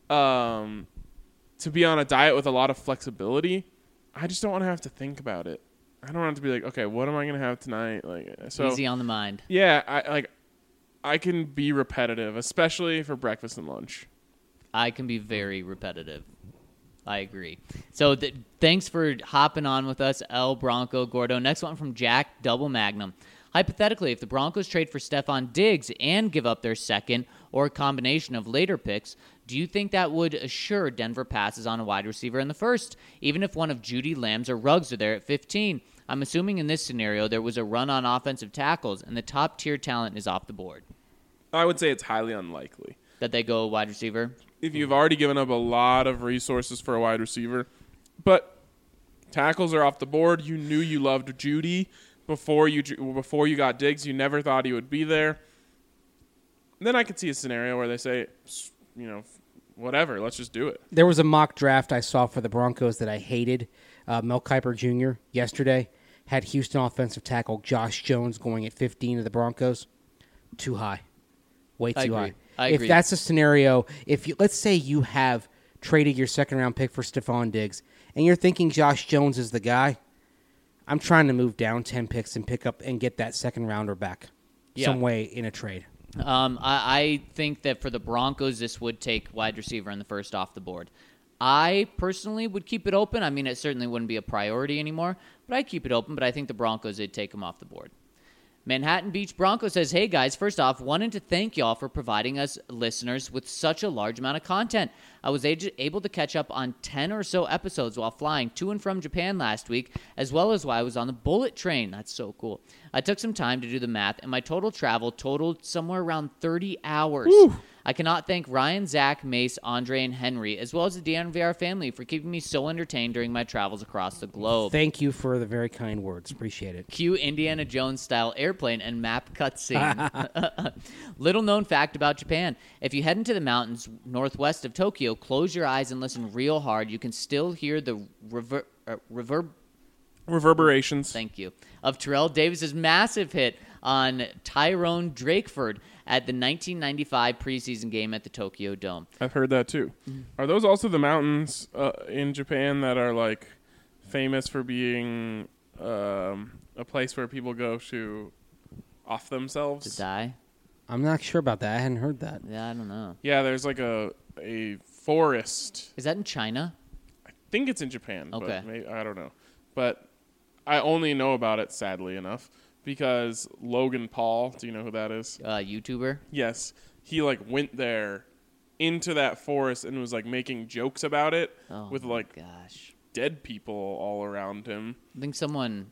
um, to be on a diet with a lot of flexibility. I just don't want to have to think about it. I don't have to be like, okay, what am I gonna have tonight? Like, so Easy on the mind. yeah, I like, I can be repetitive, especially for breakfast and lunch. I can be very repetitive. I agree. So th- thanks for hopping on with us, El Bronco Gordo. Next one from Jack Double Magnum. Hypothetically, if the Broncos trade for Stephon Diggs and give up their second or a combination of later picks, do you think that would assure Denver passes on a wide receiver in the first, even if one of Judy Lambs or Ruggs are there at fifteen? I'm assuming in this scenario there was a run on offensive tackles and the top-tier talent is off the board. I would say it's highly unlikely. That they go wide receiver? If you've already given up a lot of resources for a wide receiver, but tackles are off the board, you knew you loved Judy before you before you got Diggs, you never thought he would be there. Then I could see a scenario where they say, you know, whatever, let's just do it. There was a mock draft I saw for the Broncos that I hated. Uh, Mel Kiper Junior yesterday had Houston offensive tackle Josh Jones going at fifteen of the Broncos. Too high. Way too I agree. high. I if agree. that's a scenario, if you, let's say you have traded your second round pick for Stephon Diggs and you're thinking Josh Jones is the guy, I'm trying to move down ten picks and pick up and get that second rounder back Yeah. some way in a trade. Um, I, I think that for the Broncos, this would take wide receiver in the first off the board. I personally would keep it open. I mean, it certainly wouldn't be a priority anymore, but I'd keep it open. But I think the Broncos would take him off the board. Manhattan Beach Bronco says, hey guys, first off, wanted to thank y'all for providing us listeners with such a large amount of content. I was able to catch up on ten or so episodes while flying to and from Japan last week, as well as while I was on the bullet train. That's so cool. I took some time to do the math, and my total travel totaled somewhere around thirty hours. Woo. I cannot thank Ryan, Zach, Mace, Andre, and Henry, as well as the D N V R family for keeping me so entertained during my travels across the globe. Thank you for the very kind words. Appreciate it. Cue Indiana Jones-style airplane and map cutscene. Little known fact about Japan. If you head into the mountains northwest of Tokyo, close your eyes and listen real hard. You can still hear the rever- uh, reverb... Reverberations. Thank you. Of Terrell Davis's massive hit on Tyrone Drakeford at the nineteen ninety-five preseason game at the Tokyo Dome. I've heard that too. Are those also the mountains uh, in Japan that are like famous for being um, a place where people go to off themselves? To die? I'm not sure about that. I hadn't heard that. Yeah, I don't know. Yeah, there's like a a forest. Is that in China? I think it's in Japan. Okay. But maybe, I don't know. But I only know about it, sadly enough, because Logan Paul, do you know who that is? Uh, YouTuber? Yes. He like went there into that forest and was like making jokes about it Oh, with my like gosh. dead people all around him. I think someone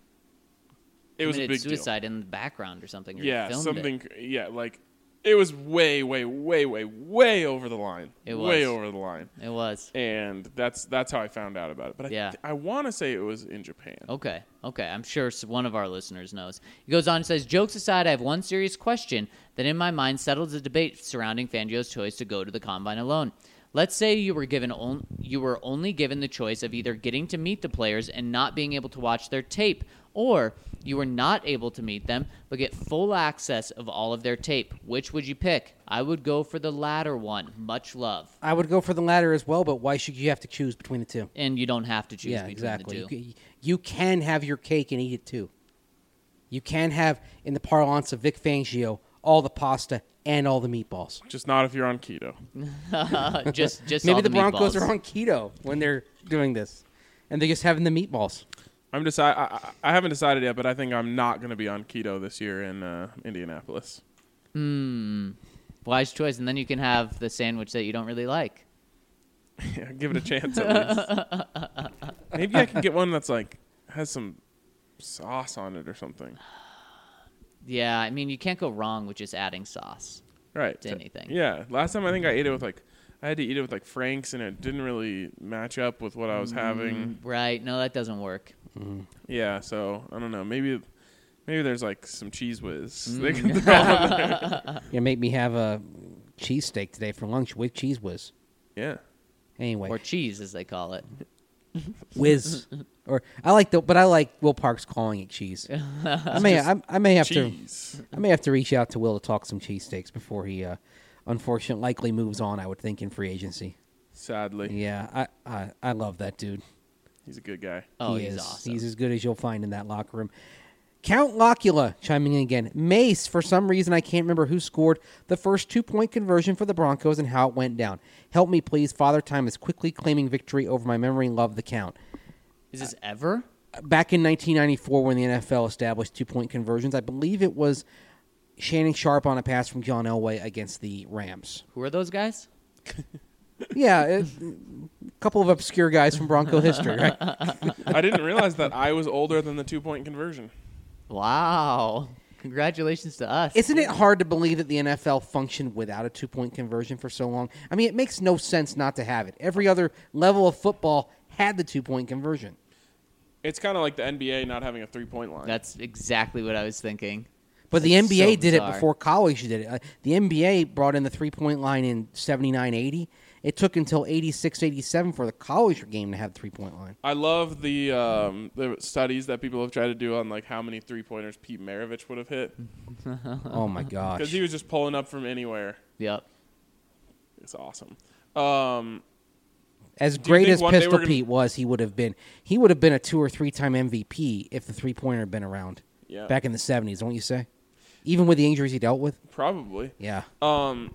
It was a committed big deal. suicide in the background or something. Or Yeah, filmed something. It. Yeah, like it was way, way, way, way, way over the line. It way was. over the line, It was. and that's that's how I found out about it. But I, Yeah. I want to say it was in Japan. Okay, okay. I'm sure s- one of our listeners knows. He goes on and says, jokes aside, I have one serious question that in my mind settles the debate surrounding Fangio's choice to go to the Combine alone. Let's say you were given on- you were only given the choice of either getting to meet the players and not being able to watch their tape, or you were not able to meet them but get full access of all of their tape. Which would you pick? I would go for the latter one. Much love. I would go for the latter as well, but why should you have to choose between the two? And you don't have to choose Yeah, between exactly. the two. You, ca- you can have your cake and eat it too. You can have, in the parlance of Vic Fangio, all the pasta and all the meatballs. Just not if you're on keto. just, just Maybe all the, Broncos meatballs. are on keto when they're doing this, and they're just having the meatballs. I'm deci- I, I, I haven't decided yet, but I think I'm not going to be on keto this year in uh, Indianapolis. Hmm. Wise choice. And then you can have the sandwich that you don't really like. Yeah, give it a chance at least. Maybe I can get one that's like has some sauce on it or something. Yeah, I mean, you can't go wrong with just adding sauce Right. to anything. Yeah. Last time I think I ate it with like I had to eat it with like Frank's and it didn't really match up with what I was having. Right. No, that doesn't work. Yeah, so I don't know. Maybe maybe there's like some cheese whiz. Mm. They can throw on there. You make me have a cheesesteak today for lunch with cheese whiz. Yeah. Anyway, Or cheese, as they call it. whiz, or I like the, but I like Will Parks calling it cheese. I may, I, I may have Cheese. to, I may have to reach out to Will to talk some cheesesteaks before he, uh, unfortunately, likely moves on. I would think in free agency. Sadly. Yeah, I, I, I love that dude. He's a good guy. Oh, he he's is. awesome. He's as good as you'll find in that locker room. Count Locula chiming in again. Mace, for some reason I can't remember who scored the first two-point conversion for the Broncos and how it went down. Help me, please. Father Time is quickly claiming victory over my memory and love the count. Is this ever? Back in nineteen ninety-four when the N F L established two-point conversions, I believe it was Shannon Sharp on a pass from John Elway against the Rams. Who are those guys? Yeah, it, a couple of obscure guys from Bronco history, right? I didn't realize that I was older than the two point conversion. Wow. Congratulations to us. Isn't it hard to believe that the N F L functioned without a two-point conversion for so long? I mean, it makes no sense not to have it. Every other level of football had the two-point conversion. It's kind of like the N B A not having a three point line. That's exactly what I was thinking. But the That's N B A so did it bizarre. before college did it. Uh, the N B A brought in the three-point line in seventy-nine eighty. It took until eighty-six eighty-seven for the college game to have the three-point line. I love the um, the studies that people have tried to do on like how many three pointers Pete Maravich would have hit Oh, my gosh. because he was just pulling up from anywhere. Yep. It's awesome. Um, As Do you great think as one day Pistol we're gonna- Pete was, he would have been he would have been a two- or three-time M V P if the three-pointer had been around yeah, back in the seventies, don't you say? Even with the injuries he dealt with? probably. Yeah. Um,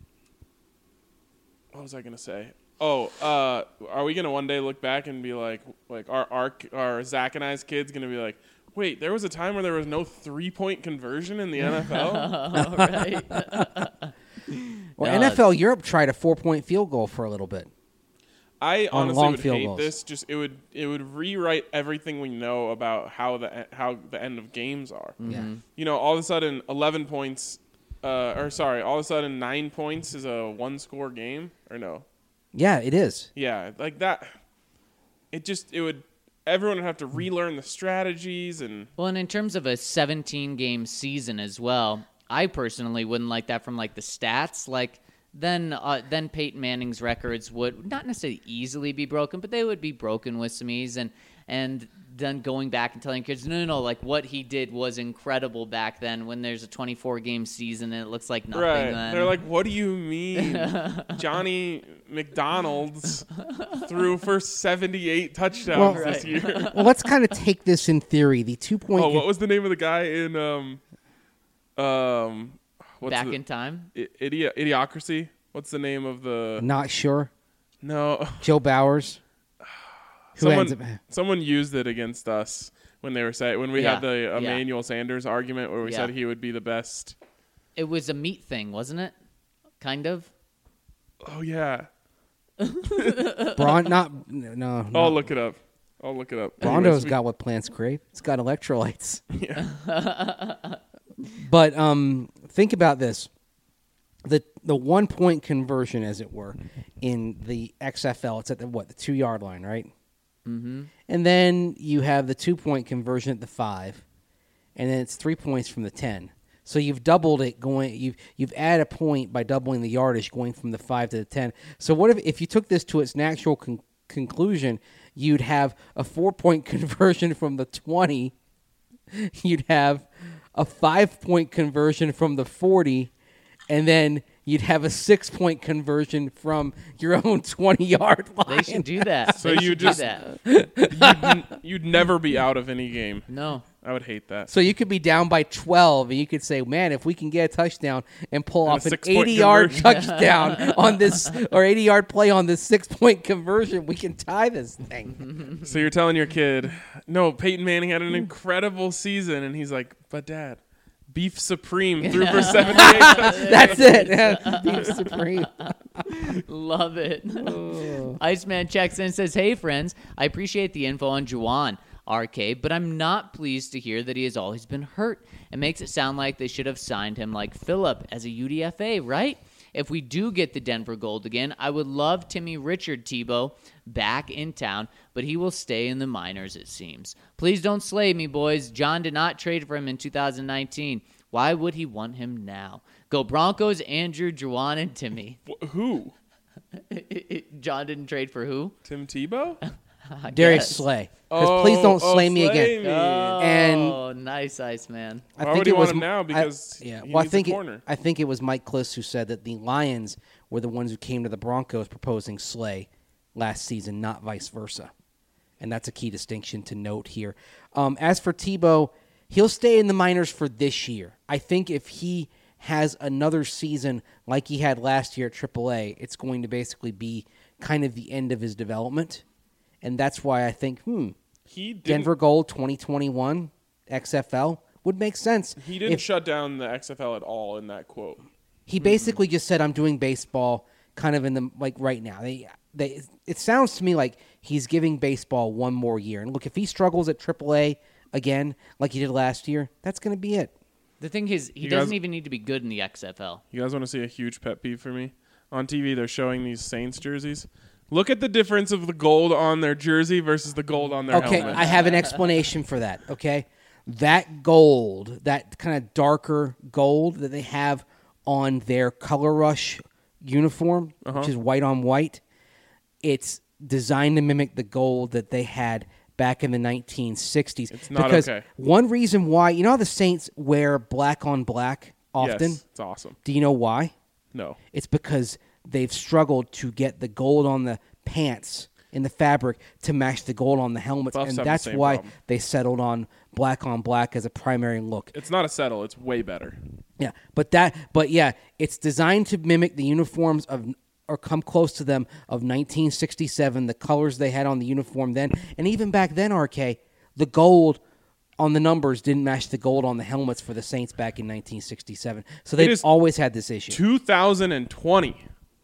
what was I gonna say? Oh, uh, are we gonna one day look back and be like, like our our our Zach and I's kids gonna be like, wait, there was a time where there was no three point conversion in the N F L? All right. Well, No, N F L Europe tried a four-point field goal for a little bit. I On honestly long would field hate goals. this. Just it would it would rewrite everything we know about how the how the end of games are. Yeah. You know, all of a sudden, eleven points uh, or sorry, all of a sudden nine points is a one-score game, or no? Yeah, it is. Yeah, like that. It just it would everyone would have to relearn the strategies and Well, and in terms of a seventeen-game season as well, I personally wouldn't like that from like the stats. Like then, uh, then Peyton Manning's records would not necessarily easily be broken, but they would be broken with some ease. And and then going back and telling kids, no, no, no, like what he did was incredible back then. When there's a twenty-four game season and it looks like nothing. right. Then They're like, what do you mean? Johnny McDonald's threw for seventy-eight touchdowns Well, this year. Well, let's kind of take this in theory. The two point. Oh, what was the name of the guy in um um what's back the, in time. I- Idi- Idiocracy? What's the name of the Not sure. No. Joe Bowers. Who Someone, ends up? someone used it against us when they were say when we Yeah, had the yeah. Emmanuel Sanders argument where we Yeah. said he would be the best. It was a meat thing, wasn't it? Kind of. Oh yeah. Braun, not no. no I'll not- look it up. I'll look it up. Brondo's Anyways, we- got what plants crave. It's got electrolytes. Yeah. But um, think about this: the the one point conversion, as it were, in the X F L. It's at the what the two yard line, right? Mm-hmm. And then you have the two point conversion at the five, and then it's three points from the ten. So you've doubled it going. You've you've added a point by doubling the yardage going from the five to the ten. So what if if you took this to its natural con- conclusion? You'd have a four point conversion from the twenty. You'd have a five-point conversion from the forty, and then you'd have a six-point conversion from your own twenty-yard line. They should do that. So They you should do just- that. you'd, n- you'd never be out of any game. No. I would hate that. So you could be down by twelve, and you could say, man, if we can get a touchdown and pull And a off an six-point eighty-yard conversion." touchdown on this, or eighty-yard play on this six-point conversion, we can tie this thing. So you're telling your kid, no, Peyton Manning had an incredible season, and he's like, but Dad, Beef Supreme threw for seventy-eight touchdowns. That's it. Beef Supreme. Love it. Oh. Iceman checks in and says, hey, friends, I appreciate the info on Juwan R K, but I'm not pleased to hear that he has always been hurt. It makes it sound like they should have signed him like Phillip as a U D F A, right? If we do get the Denver Gold again, I would love Timmy Richard Tebow back in town, but he will stay in the minors, it seems. Please don't slay me, boys. John did not trade for him in two thousand nineteen. Why would he want him now? Go Broncos, Andrew, Juwan, and Timmy. Wh- Who? John didn't trade for who? Tim Tebow? I Darius guess. Slay. Because please don't Oh, slay oh, me again. me. And Oh, nice, Iceman. I Why think would he it want was him now? I- Because yeah. he Well, I needs a think it, corner. I think it was Mike Kliss who said that the Lions were the ones who came to the Broncos proposing Slay last season, not vice versa, and that's a key distinction to note here. Um, as for Tebow, he'll stay in the minors for this year. I think if he has another season like he had last year at triple A, it's going to basically be kind of the end of his development, and that's why I think, hmm. He didn't, Denver Gold twenty twenty-one X F L would make sense. He didn't If- shut down the X F L at all in that quote. He basically just said, "I'm doing baseball kind of in the like right now." They, they, it sounds to me like he's giving baseball one more year. And look, if he struggles at triple A again, like he did last year, that's going to be it. The thing is, he You doesn't guys- even need to be good in the X F L. You guys want to see a huge pet peeve for me? On T V, they're showing these Saints jerseys. Look at the difference of the gold on their jersey versus the gold on their Okay, helmet. I have an explanation for that. Okay, that gold, that kind of darker gold that they have on their Color Rush uniform, Uh-huh. which is white on white, it's designed to mimic the gold that they had back in the nineteen sixties. It's not because okay. one reason why, you know how the Saints wear black on black often? Yes, it's awesome. Do you know why? No. It's because they've struggled to get the gold on the pants in the fabric to match the gold on the helmets, Buffs and have the that's same why problem. they settled on black on black as a primary look. It's not a settle. It's way better. Yeah, but that, but yeah, it's designed to mimic the uniforms of, or come close to them of nineteen sixty-seven, the colors they had on the uniform then, and even back then, R K, the gold on the numbers didn't match the gold on the helmets for the Saints back in nineteen sixty-seven. So they've is always had this issue. two thousand twenty.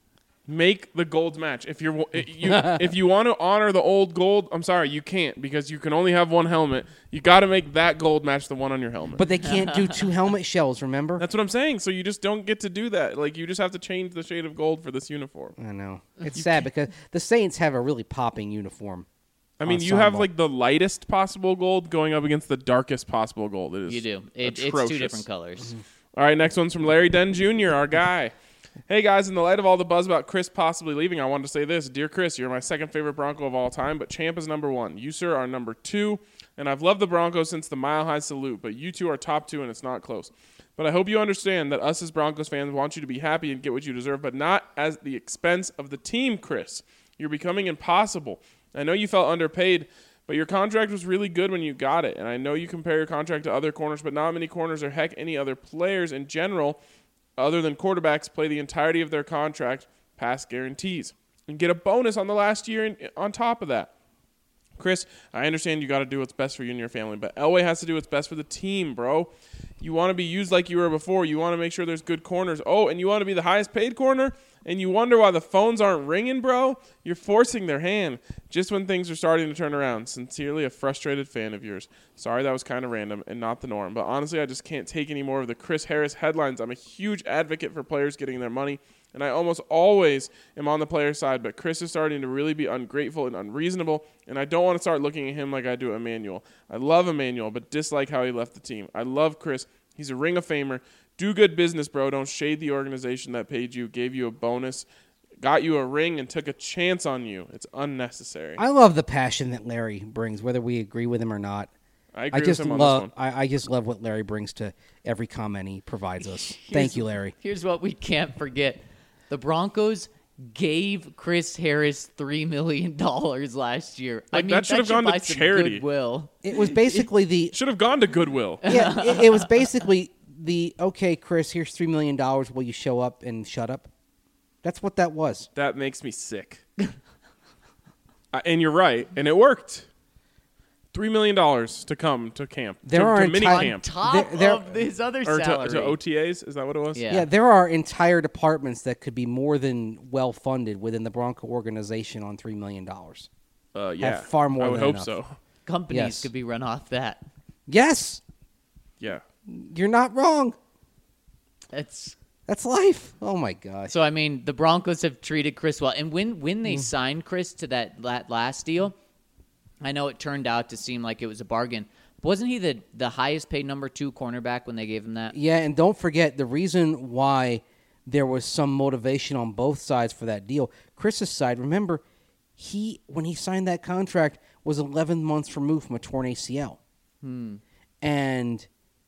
Make the golds match. If you're you, if you want to honor the old gold, I'm sorry, you can't because you can only have one helmet. You got to make that gold match the one on your helmet. But they can't do two helmet shells, remember? That's what I'm saying. So you just don't get to do that. Like you just have to change the shade of gold for this uniform. I know. It's sad because the Saints have a really popping uniform. I mean, you have like the lightest possible gold going up against the darkest possible gold. It is You do. It, it's atrocious. two different colors. All right, next one's from Larry Den Junior, our guy. Hey, guys, in the light of all the buzz about Chris possibly leaving, I wanted to say this. Dear Chris, you're my second favorite Bronco of all time, but Champ is number one. You, sir, are number two, and I've loved the Broncos since the Mile High Salute, but you two are top two, and it's not close. But I hope you understand that us as Broncos fans want you to be happy and get what you deserve, but not at the expense of the team, Chris. You're becoming impossible. I know you felt underpaid, but your contract was really good when you got it, and I know you compare your contract to other corners, but not many corners or heck any other players in general other than quarterbacks play the entirety of their contract past guarantees and get a bonus on the last year in, on top of that. Chris, I understand you got to do what's best for you and your family, but Elway has to do what's best for the team, bro. You want to be used like you were before. You want to make sure there's good corners. Oh, and you want to be the highest paid corner? And you wonder why the phones aren't ringing, bro? You're forcing their hand just when things are starting to turn around. Sincerely, a frustrated fan of yours. Sorry that was kind of random and not the norm, but honestly, I just can't take any more of the Chris Harris headlines. I'm a huge advocate for players getting their money, and I almost always am on the player side, but Chris is starting to really be ungrateful and unreasonable, and I don't want to start looking at him like I do Emmanuel. I love Emmanuel, but dislike how he left the team. I love Chris. He's a Ring of Famer. Do good business, bro. Don't shade the organization that paid you, gave you a bonus, got you a ring, and took a chance on you. It's unnecessary. I love the passion that Larry brings, whether we agree with him or not. I agree I just with him on love. this one. I, I just love what Larry brings to every comment he provides us. Here's- Thank you, Larry. Here's what we can't forget. The Broncos gave Chris Harris three million dollars last year. I Like, mean, that should have gone to buy some charity. Goodwill. It was basically the Should have gone to Goodwill. yeah. It, it was basically the okay, Chris. Here's three million dollars. Will you show up and shut up? That's what that was. That makes me sick. uh, and you're right, and it worked. Three million dollars to come to camp. There to, are to mini entire- On camp top There- there- of his other or to, salary. to O T As. Is that what it was? Yeah. Yeah, there are entire departments that could be more than well funded within the Bronco organization on three million dollars. Uh, yeah. Have far more I would than hope enough. so. Companies Yes. could be run off that. Yes, Yeah. you're not wrong. It's That's life. Oh my gosh. so. I mean, the Broncos have treated Chris well, and when when Mm. they signed Chris to that, that last deal, I know it turned out to seem like it was a bargain. But wasn't he the the highest paid number two cornerback when they gave him that? Yeah, and don't forget the reason why there was some motivation on both sides for that deal. Chris's side, remember, he when he signed that contract was eleven months removed from a torn A C L. And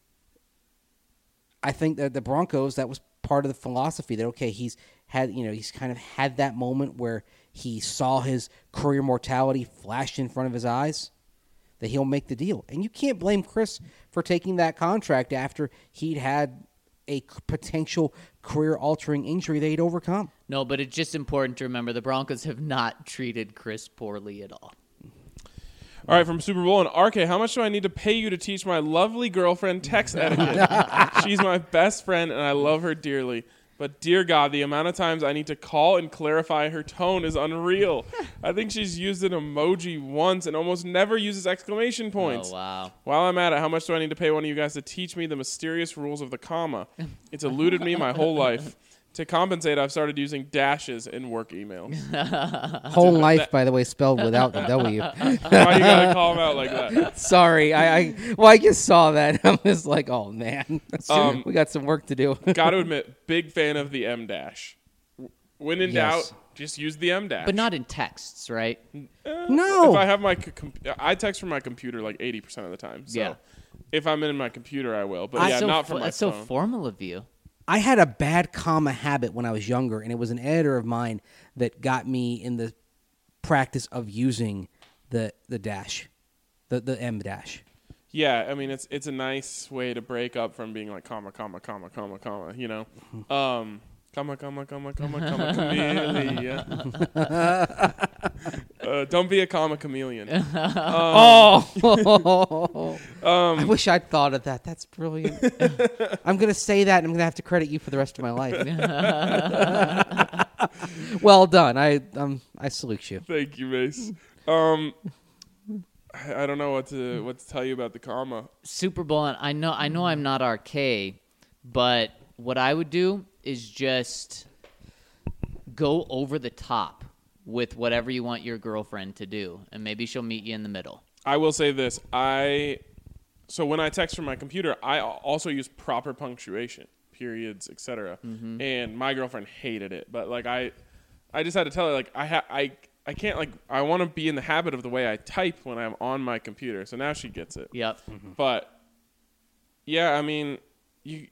I think that the Broncos, that was part of the philosophy that, okay, he's had, you know, he's kind of had that moment where he saw his career mortality flash in front of his eyes, that he'll make the deal. And you can't blame Chris for taking that contract after he'd had a c- potential career-altering injury that he'd overcome. No, but it's just important to remember the Broncos have not treated Chris poorly at all. All right, from Super Bowl and R K, how much do I need to pay you to teach my lovely girlfriend text etiquette? She's my best friend, and I love her dearly. But dear God, the amount of times I need to call and clarify her tone is unreal. I think she's used an emoji once and almost never uses exclamation points. Oh, wow. While I'm at it, how much do I need to pay one of you guys to teach me the mysterious rules of the comma? It's eluded me my whole life. To compensate, I've started using dashes in work emails. Whole life, by the way, spelled without the W. Why you gotta call them out like that? Sorry, I, I well, I just saw that. I'm just like, oh man, Um, we got some work to do. Got to admit, big fan of the M dash. When in Yes. doubt, just use the M dash. But not in texts, right? No, If I have my c- com- I text from my computer like eighty percent of the time. So Yeah. if I'm in my computer, I will. But I- yeah, so not fo- from my That's phone. so formal of you. I had a bad comma habit when I was younger, and it was an editor of mine that got me in the practice of using the the dash, the the M dash. Yeah, I mean it's it's a nice way to break up from being like comma comma comma comma comma. You know, um, comma comma comma comma comma chameleon. uh, don't be a comma chameleon. Oh, Um, I wish I'd thought of that. That's brilliant. I'm gonna say that, and I'm gonna have to credit you for the rest of my life. Well done. I um I salute you. Thank you, Mace. Um, I, I don't know what to what to tell you about the comma. Super Bowl, and I know I know I'm not R K, but what I would do is just go over the top with whatever you want your girlfriend to do, and maybe she'll meet you in the middle. I will say this. I so when I text from my computer, I also use proper punctuation, periods, et cetera. Mm-hmm. And my girlfriend hated it, but like I, I just had to tell her like I ha- I I can't like I want to be in the habit of the way I type when I'm on my computer. So now she gets it. Yep. But yeah, I mean, you,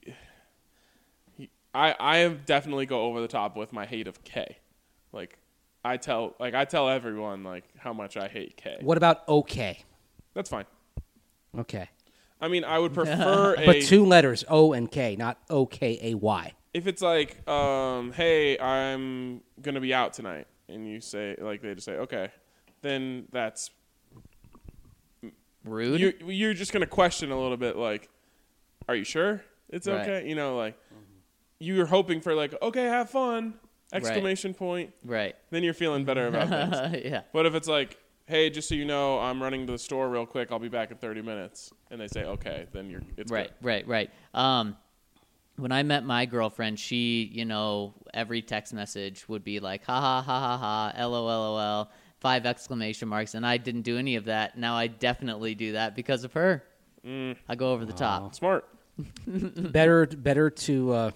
I I definitely go over the top with my hate of K. Like I tell like I tell everyone like how much I hate K. What about okay? That's fine. Okay. I mean, I would prefer a But two letters, O and K, not O K A Y. if it's like, um, hey, I'm gonna be out tonight, and you say like they just say okay, then that's Rude. you. You're just gonna question a little bit, like, are you sure it's Right. okay? You know, like you're hoping for like, okay, have fun! Exclamation point. right. Then you're feeling better about things. Yeah. But if it's like, hey, just so you know, I'm running to the store real quick. I'll be back in thirty minutes, and they say okay, then you're it's Right, good. right, right. Um, when I met my girlfriend, she, you know, every text message would be like, ha ha ha ha ha, lol, lol, five exclamation marks, and I didn't do any of that. Now I definitely do that because of her. Mm. I go over the top. Smart. better better to uh,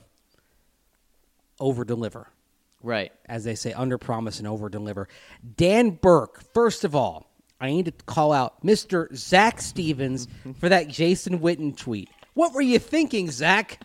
over deliver. Right. As they say, under promise and over deliver. Dan Burke, first of all, I need to call out Mister Zach Stevens for that Jason Witten tweet. What were you thinking, Zach?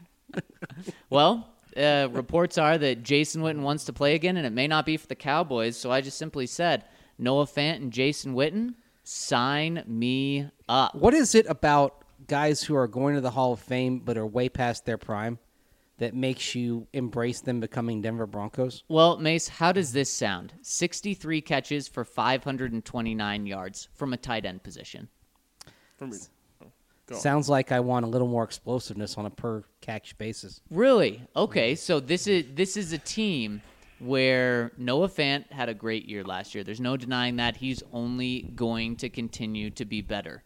Well, uh, reports are that Jason Witten wants to play again, and it may not be for the Cowboys, so I just simply said, Noah Fant and Jason Witten, sign me up. What is it about guys who are going to the Hall of Fame but are way past their prime that makes you embrace them becoming Denver Broncos? Well, Mace, how does this sound? sixty-three catches for five hundred twenty-nine yards from a tight end position. For me. Oh, go on. Sounds like I want a little more explosiveness on a per catch basis. Really? Okay, so this is this is a team where Noah Fant had a great year last year. There's no denying that. He's only going to continue to be better.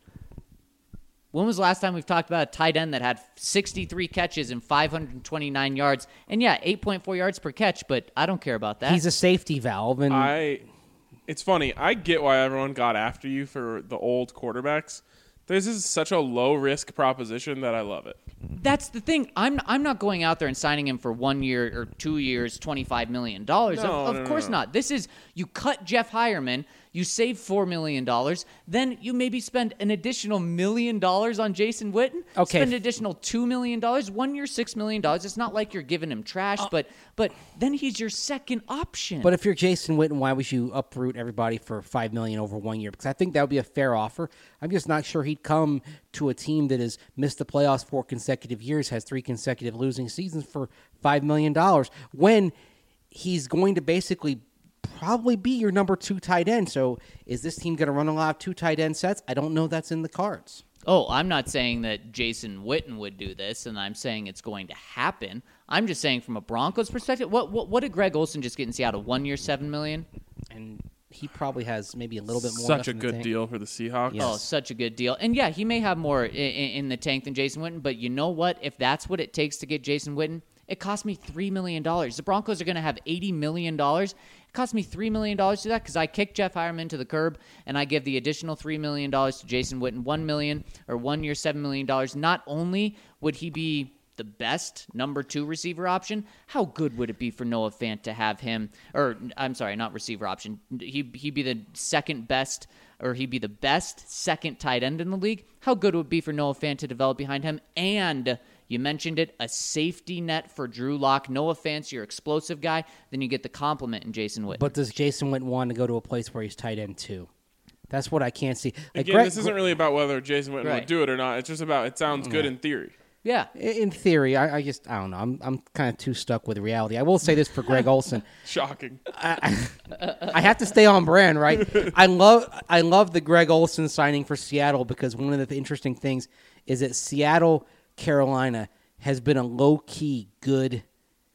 When was the last time we've talked about a tight end that had sixty-three catches and five hundred twenty-nine yards? And yeah, eight point four yards per catch, but I don't care about that. He's a safety valve, and I. It's funny. I get why everyone got after you for the old quarterbacks. This is such a low risk proposition that I love it. That's the thing. I'm I'm not going out there and signing him for one year or two years, twenty-five million dollars. No, of of no, no, course no. not. This is, you cut Jeff Hireman, you save four million dollars, then you maybe spend an additional million dollars on Jason Witten. Okay. Spend an additional two million dollars, one year, six million dollars. It's not like you're giving him trash, but but then he's your second option. But if you're Jason Witten, why would you uproot everybody for five million dollars over one year? Because I think that would be a fair offer. I'm just not sure he'd come to a team that has missed the playoffs four consecutive years, has three consecutive losing seasons for five million dollars, when he's going to basically probably be your number two tight end. So is this team going to run a lot of two tight end sets? I don't know that's in the cards. Oh, I'm not saying that Jason Witten would do this, and I'm saying it's going to happen. I'm just saying from a Broncos perspective, what what, what did Greg Olsen just get in Seattle? One year, seven million? And he probably has maybe a little bit more. Such left a in the good tank. deal for the Seahawks. Yes. Oh, such a good deal. And yeah, he may have more in, in the tank than Jason Witten, but you know what? If that's what it takes to get Jason Witten, it cost me three million dollars. The Broncos are going to have eighty million dollars. It cost me three million dollars to do that because I kicked Jeff Hireman to the curb, and I give the additional three million dollars to Jason Witten, one million dollars or one year, seven million dollars. Not only would he be the best number two receiver option, how good would it be for Noah Fant to have him, or I'm sorry, not receiver option. He, he'd be the second best, or he'd be the best second tight end in the league. How good would it be for Noah Fant to develop behind him? And you mentioned it, a safety net for Drew Lock. Noah Fant's your explosive guy. Then you get the compliment in Jason Witten. But does Jason Witten want to go to a place where he's tight end too? That's what I can't see. Like Again, Greg- this isn't really about whether Jason Witten Right. would do it or not. It's just about it sounds good in theory. yeah. In theory, I, I just I don't know. I'm I'm kind of too stuck with reality. I will say this for Greg Olsen. Shocking. I have to stay on brand, right? I love I love the Greg Olsen signing for Seattle because one of the interesting things is that Seattle, Carolina has been a low key good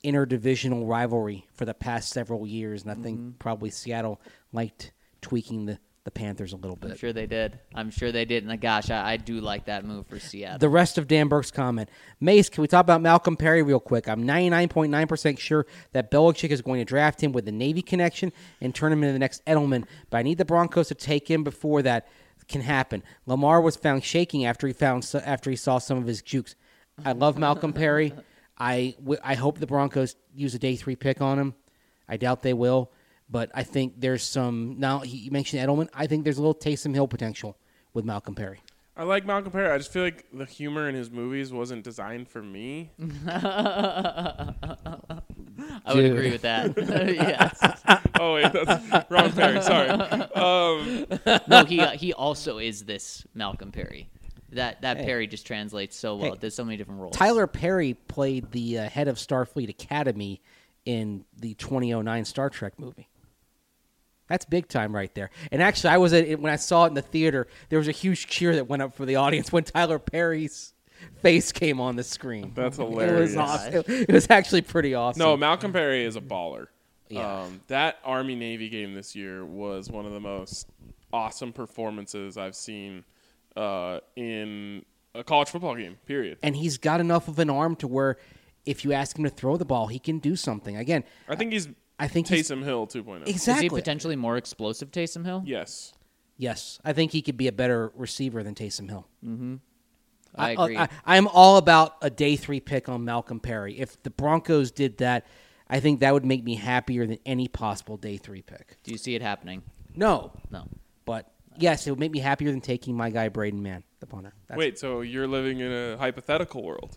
interdivisional rivalry for the past several years, and I think probably Seattle liked tweaking the, the Panthers a little I'm bit. sure they did. I'm sure they did. And gosh, I, I do like that move for Seattle. The rest of Dan Burke's comment. Mace, can we talk about Malcolm Perry real quick? I'm ninety-nine point nine percent sure that Belichick is going to draft him with the Navy connection and turn him into the next Edelman, but I need the Broncos to take him before that can happen. Lamar was found shaking after he found after he saw some of his jukes. I love Malcolm Perry. I, w- I hope the Broncos use a day three pick on him. I doubt they will, but I think there's some. Now, he, you mentioned Edelman. I think there's a little Taysom Hill potential with Malcolm Perry. I like Malcolm Perry. I just feel like the humor in his movies wasn't designed for me. I would Dude. agree with that. Yes. Oh, wait, that's wrong Perry. Sorry. Um, No, he uh, he also is this Malcolm Perry. That that Hey. Perry just translates so well. Hey. There's so many different roles. Tyler Perry played the uh, head of Starfleet Academy in the twenty oh nine Star Trek movie. That's big time right there. And actually, I was at, when I saw it in the theater, there was a huge cheer that went up for the audience when Tyler Perry's face came on the screen. That's It hilarious. was awesome. It, it was actually pretty awesome. No, Malcolm Perry is a baller. Yeah. Um, that Army-Navy game this year was one of the most awesome performances I've seen uh, in a college football game, period. And he's got enough of an arm to where if you ask him to throw the ball, he can do something. Again, I think he's I think he's- Taysom Hill two point oh. exactly. Is he potentially more explosive, Taysom Hill? Yes. Yes, I think he could be a better receiver than Taysom Hill. I agree. I, I am all about a day three pick on Malcolm Perry. If the Broncos did that, I think that would make me happier than any possible day three pick. Do you see it happening? No, No. but yes, it would make me happier than taking my guy Braden Mann, the punter. That's Wait, so you're living in a hypothetical world?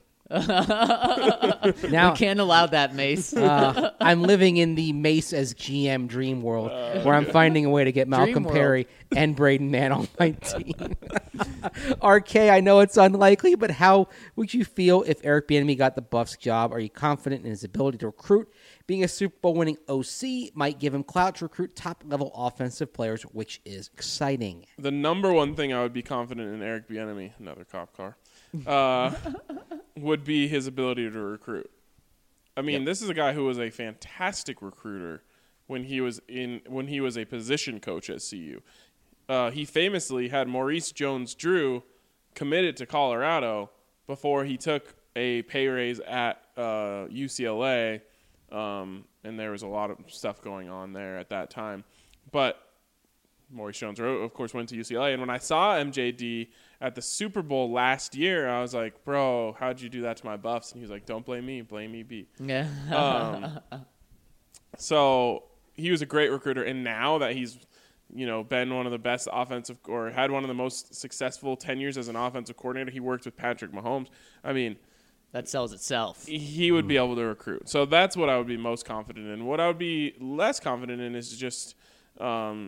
now we can't allow that, Mace. uh, I'm living in the Mace as G M dream world, where I'm finding a way to get Malcolm world. Perry and Braden Mann on my team. R K, I know it's unlikely, but how would you feel if Eric Bieniemy got the Buffs job? Are you confident in his ability to recruit? Being a Super Bowl winning O C might give him clout to recruit top-level offensive players, which is exciting. The number one thing I would be confident in Eric Bieniemy, another cop car, uh, would be his ability to recruit. I mean, Yep. this is a guy who was a fantastic recruiter when he was in when he was a position coach at C U. Uh, he famously had Maurice Jones-Drew committed to Colorado before he took a pay raise at uh, U C L A, um, and there was a lot of stuff going on there at that time. But Maurice Jones-Drew, of course, went to U C L A, and when I saw M J D at the Super Bowl last year, I was like, bro, how'd you do that to my Buffs? And he was like, don't blame me, blame me, B. Yeah. Um, so he was a great recruiter, and now that he's, you know, been one of the best offensive or had one of the most successful tenures as an offensive coordinator, he worked with Patrick Mahomes. I mean, That sells itself. he would be able to recruit. So that's what I would be most confident in. What I would be less confident in is just um,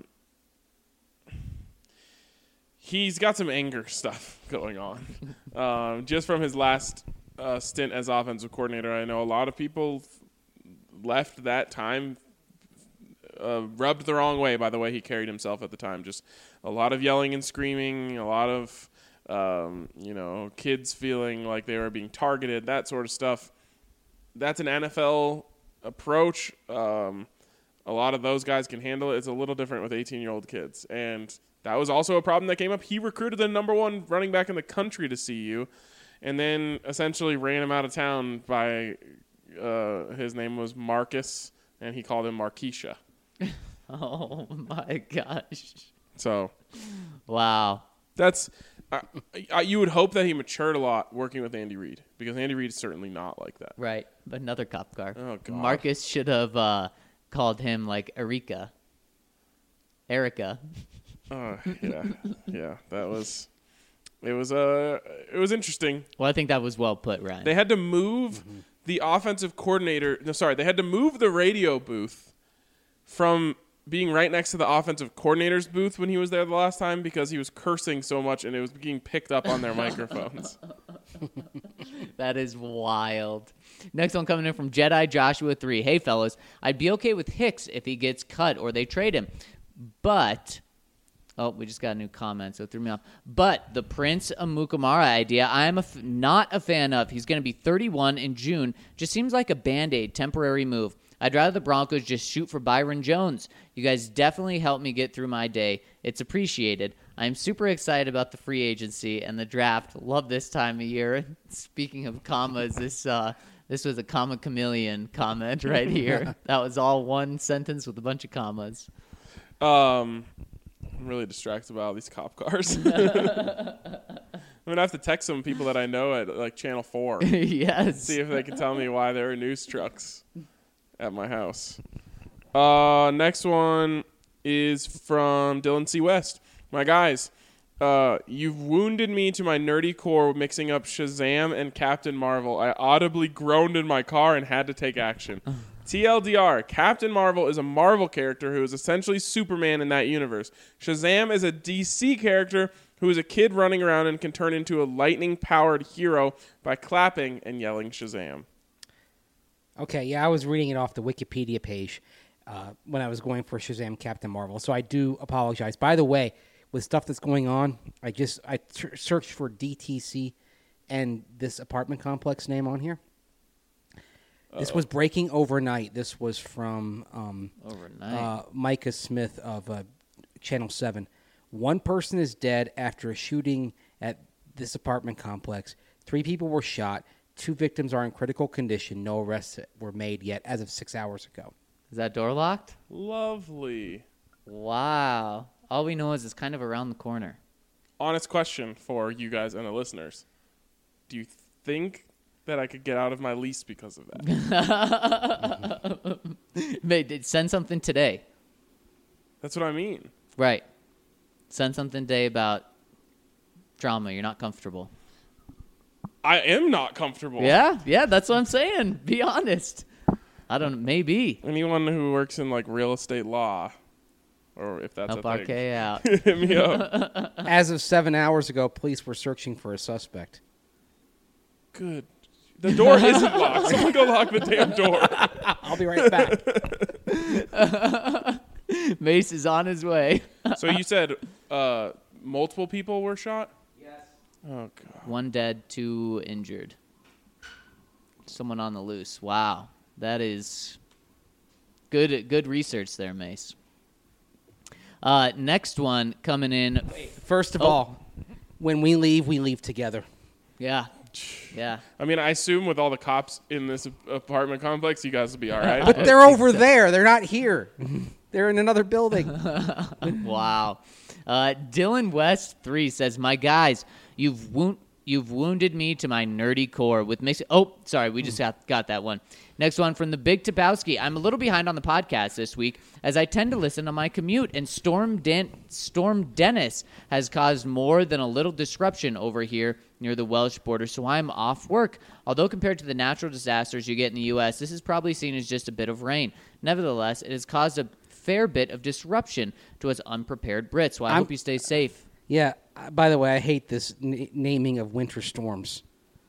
he's got some anger stuff going on. um, just from his last uh, stint as offensive coordinator, I know a lot of people left that time uh, rubbed the wrong way by the way he carried himself at the time. Just a lot of yelling and screaming, a lot of um, you know, kids feeling like they were being targeted, that sort of stuff. That's an N F L approach. Um, a lot of those guys can handle it. It's a little different with eighteen-year-old kids. And that was also a problem that came up. He recruited the number one running back in the country to C U and then essentially ran him out of town by uh, his name was Marcus, and he called him Marquisha. Oh, my gosh. So Wow. that's uh, – you would hope that he matured a lot working with Andy Reid because Andy Reid's certainly not like that. Right. But another cop car. Oh, God. Marcus should have uh, called him, like, Erika. Erica. Uh, yeah, yeah, that was it was uh it was interesting. Well, I think that was well put, Ryan. They had to move the offensive coordinator. No, sorry, they had to move the radio booth from being right next to the offensive coordinator's booth when he was there the last time because he was cursing so much and it was being picked up on their microphones. That is wild. Next one coming in from Jedi Joshua three. Hey, fellas, I'd be okay with Hicks if he gets cut or they trade him. But Oh, we just got a new comment, so it threw me off. But the Prince Amukamara idea, I am a f- not a fan of. He's going to be thirty-one in June. Just seems like a Band-Aid, temporary move. I'd rather the Broncos just shoot for Byron Jones. You guys definitely helped me get through my day. It's appreciated. I'm super excited about the free agency and the draft. Love this time of year. Speaking of commas, this uh, this was a comma chameleon comment right here. That was all one sentence with a bunch of commas. Um, I'm really distracted by all these cop cars. I'm gonna have to text some people that I know at like Channel Four. Yes. See if they can tell me why there are news trucks at my house. Uh, next one is from Dylan C. West. My guys, uh, you've wounded me to my nerdy core mixing up Shazam and Captain Marvel. I audibly groaned in my car and had to take action. T L D R, Captain Marvel is a Marvel character who is essentially Superman in that universe. Shazam is a D C character who is a kid running around and can turn into a lightning-powered hero by clapping and yelling Shazam. Okay, yeah, I was reading it off the Wikipedia page uh, when I was going for Shazam Captain Marvel, so I do apologize. By the way, with stuff that's going on, I just I t- searched for D T C and this apartment complex name on here. Uh-oh. This was breaking overnight. This was from um, overnight. Uh, Micah Smith of uh, Channel seven. One person is dead after a shooting at this apartment complex. Three people were shot. Two victims are in critical condition. No arrests were made yet as of six hours ago. Is that door locked? Lovely. Wow. All we know is it's kind of around the corner. Honest question for you guys and the listeners. Do you think that I could get out of my lease because of that? Mate, send something today. That's what I mean. Right. Send something today about drama. You're not comfortable. I am not comfortable. Yeah, yeah, that's what I'm saying. Be honest. I don't know. Maybe. Anyone who works in like real estate law, or if that's Help a R thing, K out. hit me up. As of seven hours ago, police were searching for a suspect. Good. The door isn't locked. Someone go lock the damn door. I'll be right back. Mace is on his way. So you said uh, multiple people were shot? Yes. Oh, God. One dead, two injured. Someone on the loose. Wow. That is good good research there, Mace. Uh, next one coming in. First of Oh. all, when we leave, we leave together. Yeah. Yeah. I mean, I assume with all the cops in this apartment complex, you guys will be all right. But they're over there. They're not here. They're in another building. Wow. Uh, Dylan West three says, "My guys, you've wound you've wounded me to my nerdy core with mix." Oh, sorry, we just got got that one. Next one from the Big Topowski. I'm a little behind on the podcast this week as I tend to listen on my commute, and Storm Den- Storm Dennis has caused more than a little disruption over here near the Welsh border, so I'm off work. Although compared to the natural disasters you get in the U S, this is probably seen as just a bit of rain. Nevertheless, it has caused a fair bit of disruption to us unprepared Brits, so I I'm- hope you stay safe. Yeah. uh, By the way, I hate this n- naming of winter storms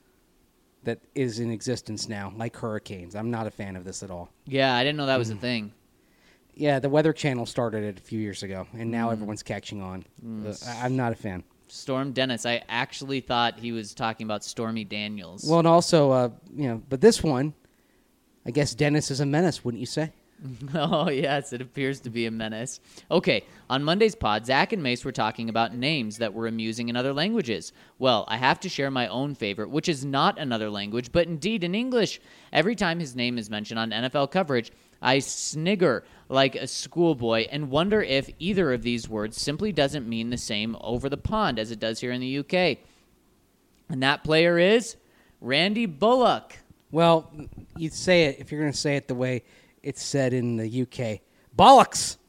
that is in existence now, like hurricanes. I'm not a fan of this at all. Yeah, I didn't know that was a thing. Yeah, the Weather Channel started it a few years ago, and now everyone's catching on. Uh, I- I'm not a fan. Storm Dennis. I actually thought he was talking about Stormy Daniels. Well, and also, uh, you know, but this one, I guess Dennis is a menace, wouldn't you say? Oh, yes, it appears to be a menace. Okay, on Monday's pod, Zach and Mace were talking about names that were amusing in other languages. Well, I have to share my own favorite, which is not another language, but indeed in English. Every time his name is mentioned on N F L coverage, I snigger like a schoolboy and wonder if either of these words simply doesn't mean the same over the pond as it does here in the U K. And that player is Randy Bullock. Well, you'd say it if you're going to say it the way it's said in the U K. Bollocks!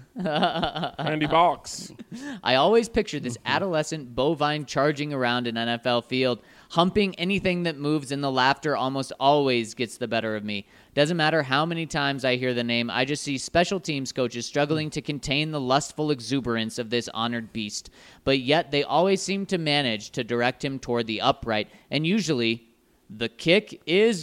Randy Box. I always picture this adolescent bovine charging around an N F L field, humping anything that moves, and the laughter almost always gets the better of me. Doesn't matter how many times I hear the name, I just see special teams coaches struggling to contain the lustful exuberance of this honored beast. But yet they always seem to manage to direct him toward the upright, and usually the kick is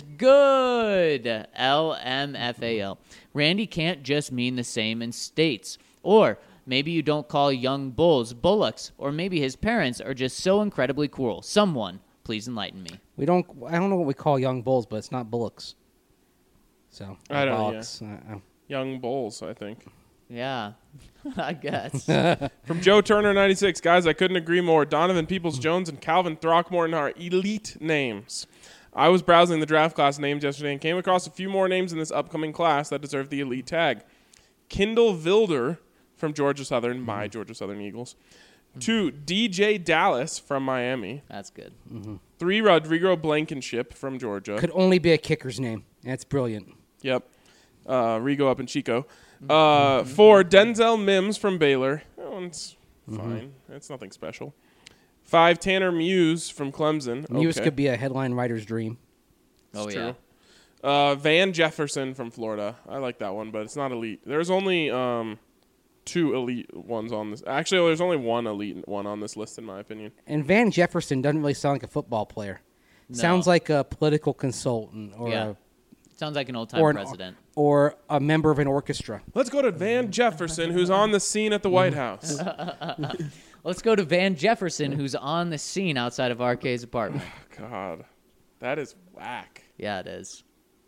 good. L M F A L. Randy can't just mean the same in states. Or Maybe you don't call young bulls bullocks, or maybe his parents are just so incredibly cruel. Someone, please enlighten me. We don't. I don't know what we call young bulls, but it's not bullocks. So I don't know, bullocks. Uh, uh. Young Bulls, I think. Yeah, I guess. From Joe Turner ninety-six, guys, I couldn't agree more. Donovan Peoples-Jones and Calvin Throckmorton are elite names. I was browsing the draft class names yesterday and came across a few more names in this upcoming class that deserve the elite tag. Kendall Vilder from Georgia Southern, my Georgia Southern Eagles. Two, D J Dallas from Miami. That's good. Three, Rodrigo Blankenship from Georgia. Could only be a kicker's name. That's brilliant. Yep. Uh, Rigo up in Chico. Uh, four, Denzel Mims from Baylor. That one's fine. It's nothing special. Five, Tanner Muse from Clemson. Muse Okay. could be a headline writer's dream. Oh, It's yeah. true. Uh, Van Jefferson from Florida. I like that one, but it's not elite. There's only um, two elite ones on this. Actually, there's only one elite one on this list, in my opinion. And Van Jefferson doesn't really sound like a football player. No. Sounds like a political consultant or Yeah. a, Sounds like an old-time or, an, president. or a member of an orchestra. Let's go to Van Jefferson, who's on the scene at the White House. Let's go to Van Jefferson, who's on the scene outside of R K's apartment. God, that is whack. Yeah, it is.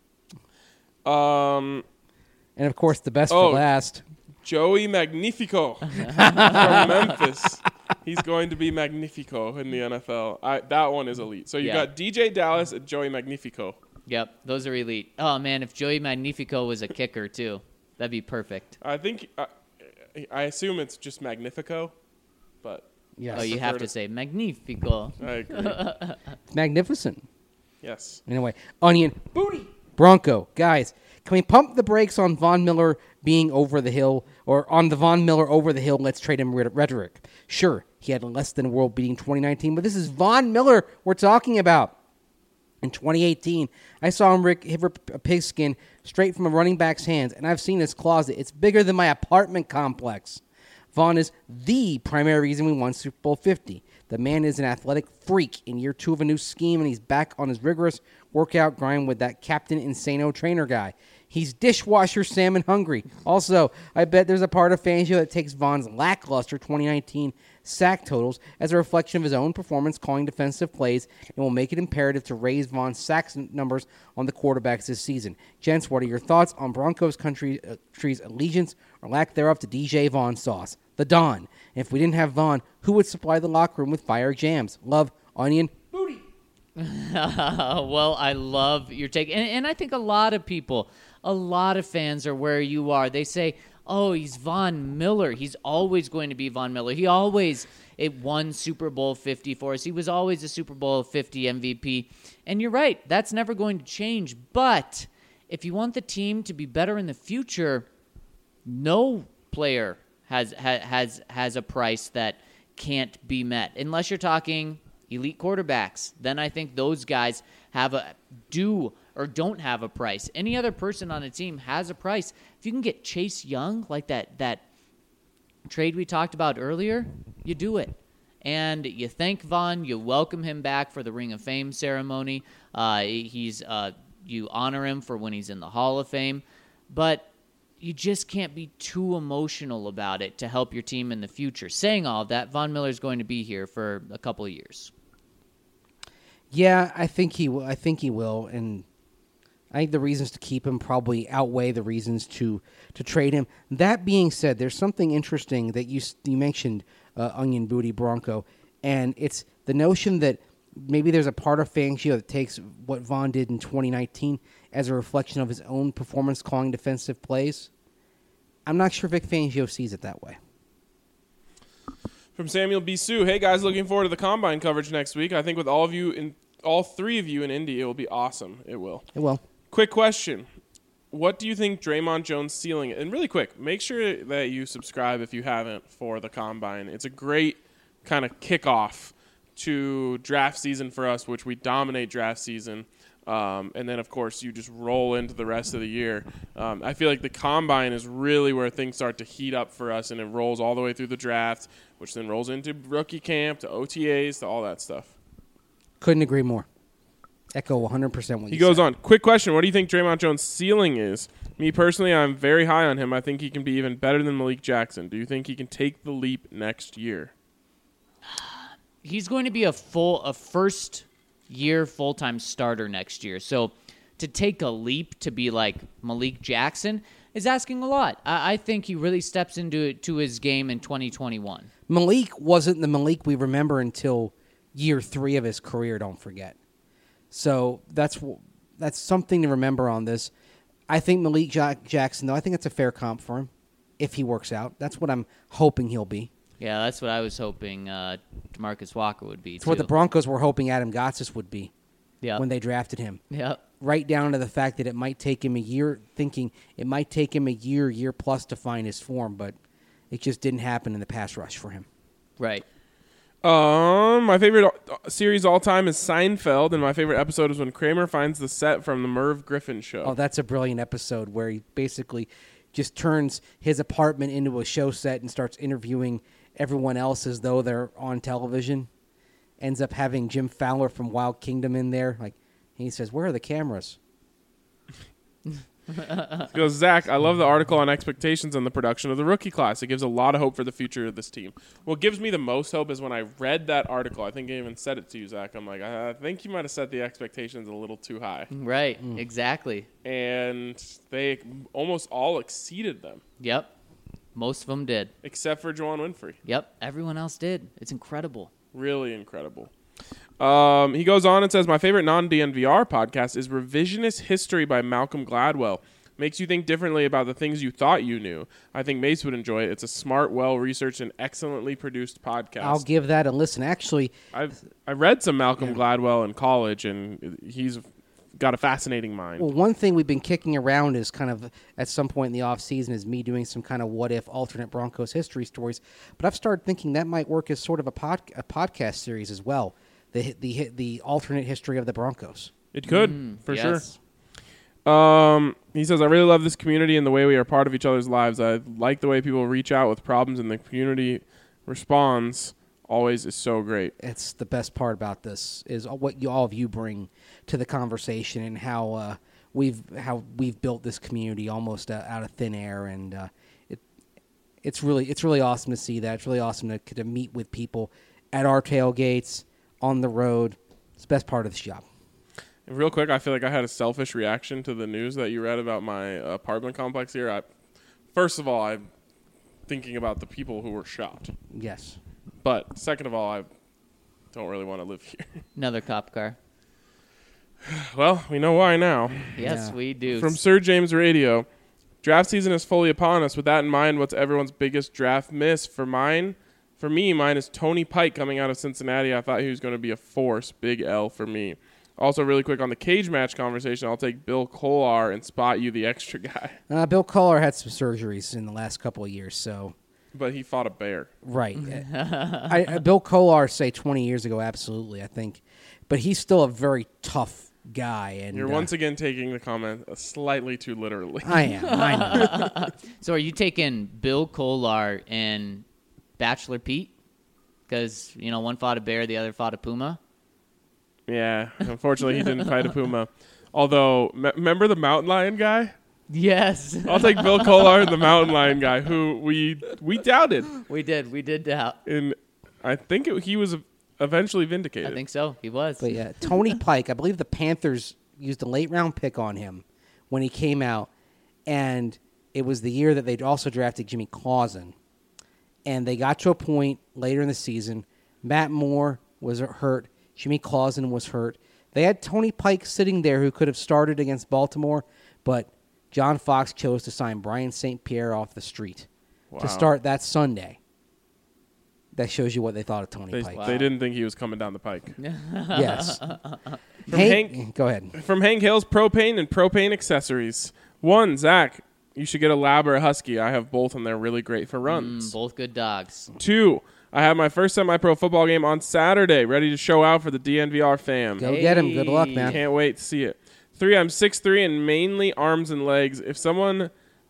Um, And of course, the best Oh. for last. Joey Magnifico from Memphis. He's going to be Magnifico in the N F L. I, that one is elite. So you Yeah. got D J Dallas and Joey Magnifico. Yep, those are elite. Oh, man, if Joey Magnifico was a kicker, too, that'd be perfect. I think I, I assume it's just Magnifico, but Yes. Oh, you prefer have to- to say Magnifico. I agree. Magnificent. Yes. Anyway, Onion. Booty. Bronco. Guys, can we pump the brakes on Von Miller being over the hill, or on the Von Miller over the hill, let's trade him rhetoric? Sure, he had less than world-beating twenty nineteen, but this is Von Miller we're talking about. In twenty eighteen, I saw him rip hit a pigskin straight from a running back's hands, and I've seen his closet. It's bigger than my apartment complex. Vaughn is the primary reason we won Super Bowl fifty. The man is an athletic freak in year two of a new scheme, and he's back on his rigorous workout grind with that Captain Insano trainer guy. He's dishwasher salmon hungry. Also, I bet there's a part of Fangio that takes Vaughn's lackluster twenty nineteen sack totals as a reflection of his own performance calling defensive plays and will make it imperative to raise Vaughn's sack numbers on the quarterbacks this season. Gents, what are your thoughts on Broncos country, uh, country's allegiance or lack thereof to D J Vaughn sauce? The Don. And if we didn't have Vaughn, who would supply the locker room with fire jams? Love, Onion. Well, I love your take. And, and I think a lot of people, a lot of fans are where you are. They say, oh, he's Von Miller. He's always going to be Von Miller. He always it won Super Bowl fifty for us. He was always a Super Bowl fifty M V P. And you're right. That's never going to change. But if you want the team to be better in the future, no player has ha, has has a price that can't be met unless you're talking elite quarterbacks. Then I think those guys have a do or don't have a price. Any other person on a team has a price. If you can get Chase Young, like that that trade we talked about earlier, you do it. And you thank Vaughn, you welcome him back for the Ring of Fame ceremony. Uh, he's uh, you honor him for when he's in the Hall of Fame. But you just can't be too emotional about it to help your team in the future. Saying all of that, Von Miller's going to be here for a couple of years. Yeah, I think he will. I think he will, and I think the reasons to keep him probably outweigh the reasons to to trade him. That being said, there's something interesting that you you mentioned, uh, Onion Booty Bronco, and it's the notion that maybe there's a part of Fangio that takes what Vaughn did in twenty nineteen as a reflection of his own performance calling defensive plays. I'm not sure Vic Fangio sees it that way. From Samuel B. Sue, hey guys, looking forward to the Combine coverage next week. I think with all of you, in all three of you in Indy, it will be awesome. It will. It will. Quick question. What do you think Draymond Jones' ceiling is? And really quick, make sure that you subscribe if you haven't for the Combine. It's a great kind of kickoff to draft season for us, which we dominate draft season. Um, and then, of course, you just roll into the rest of the year. Um, I feel like the Combine is really where things start to heat up for us, and it rolls all the way through the draft, which then rolls into rookie camp, to O T As, to all that stuff. Couldn't agree more. Echo one hundred percent what He you goes said. on. Quick question. What do you think Draymond Jones' ceiling is? Me personally, I'm very high on him. I think he can be even better than Malik Jackson. Do you think he can take the leap next year? He's going to be a full, a first year full time starter next year. So to take a leap to be like Malik Jackson is asking a lot. I, I think he really steps into it to his game in twenty twenty-one. Malik wasn't the Malik we remember until year three of his career, don't forget. So that's that's something to remember on this. I think Malik Jack- Jackson, though, I think it's a fair comp for him if he works out. That's what I'm hoping he'll be. Yeah, that's what I was hoping uh, DeMarcus Walker would be, It's too. what the Broncos were hoping Adam Gotsis would be Yep. when they drafted him. Yep. Right down to the fact that it might take him a year, thinking it might take him a year, year plus to find his form, but it just didn't happen in the pass rush for him. Right. Um, my favorite uh, series all time is Seinfeld, and my favorite episode is when Kramer finds the set from the Merv Griffin show. Oh, that's a brilliant episode where he basically just turns his apartment into a show set and starts interviewing everyone else as though they're on television. Ends up having Jim Fowler from Wild Kingdom in there. Like, he says, "Where are the cameras?" He goes, Zach, I love the article on expectations and the production of the rookie class. It gives a lot of hope for the future of this team. What gives me the most hope is when I read that article. I think I even said it to you, Zach. I'm like, I think you might have set the expectations a little too high. Right. Exactly. And they almost all exceeded them, Yep. Most of them did. except for Juwan Winfrey. Yep. Everyone else did. It's incredible. Really incredible. Um, he goes on and says, my favorite non-D N V R podcast is Revisionist History by Malcolm Gladwell. Makes you think differently about the things you thought you knew. I think Mace would enjoy it. It's a smart, well-researched, and excellently produced podcast. I'll give that a listen. Actually, I've I read some Malcolm Gladwell in college, and he's got a fascinating mind. well, one thing we've been kicking around is kind of at some point in the off season is me doing some kind of what if alternate Broncos history stories. But I've started thinking that might work as sort of a pod, a podcast series as well. The the the alternate history of the Broncos. It could, for yes. sure. Um, he says, I really love this community and the way we are part of each other's lives. I like the way people reach out with problems and the community responds always is so great. It's the best part about this is what you, all of you bring to the conversation and how uh, we've how we've built this community almost uh, out of thin air, and uh, it it's really it's really awesome to see that. It's really awesome to, to meet with people at our tailgates, on the road. It's the best part of this job. And real quick, I feel like I had a selfish reaction to the news that you read about my apartment complex here. I, first of all, I'm thinking about the people who were shot. Yes. But second of all, I don't really want to live here. Another cop car. Well, we know why now. Yes, Yeah. we do. From Sir James Radio, draft season is fully upon us. With that in mind, what's everyone's biggest draft miss? For mine, for me, mine is Tony Pike coming out of Cincinnati. I thought he was going to be a force. Big L for me. Also, really quick on the cage match conversation, I'll take Bill Kolar and spot you the extra guy. Uh, Bill Collar had some surgeries in the last couple of years, so But he fought a bear. right. I, I, Bill Kolar, say twenty years ago, absolutely, I think, but he's still a very tough guy. And You're uh, once again taking the comment slightly too literally. I am. I know. So are you taking Bill Kolar and Bachelor Pete? Because, you know, one fought a bear, the other fought a puma. Yeah, unfortunately, he didn't fight a puma. Although, me- remember the mountain lion guy? Yes. I'll take Bill Kolar and the mountain lion guy, who we we doubted, we did. We did doubt. and I think it, he was eventually vindicated. I think so. He was. But yeah, Tony Pike, I believe the Panthers used a late round pick on him when he came out, and it was the year that they'd also drafted Jimmy Clausen. And they got to a point later in the season, Matt Moore was hurt, Jimmy Clausen was hurt. They had Tony Pike sitting there who could have started against Baltimore, but John Fox chose to sign Brian Saint Pierre off the street Wow. to start that Sunday. That shows you what they thought of Tony They, Pike. they didn't think he was coming down the pike. Yes. From Hank, Hank- go ahead. From Hank Hill's Propane and Propane Accessories. One, Zach, you should get a Lab or a Husky. I have both, and they're really great for runs. Mm, both good dogs. Two, I have my first semi-pro football game on Saturday, ready to show out for the D N V R fam. Go get him. Good luck, man. Can't wait to see it. Three, I'm six three and mainly arms and legs. If someone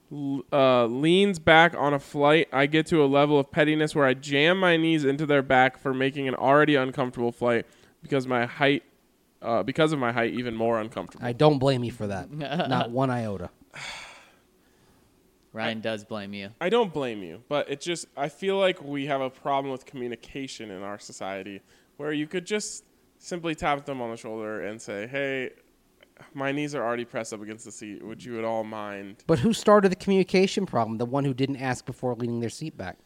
uh, leans back on a flight, I get to a level of pettiness where I jam my knees into their back for making an already uncomfortable flight because my height uh, because of my height, even more uncomfortable. I don't blame you for that. Not one iota. Ryan does blame you. I don't blame you, but it just I feel like we have a problem with communication in our society where you could just simply tap them on the shoulder and say, "Hey, my knees are already pressed up against the seat. Would you at all mind?" But who started the communication problem? The one who didn't ask before leaning their seat back.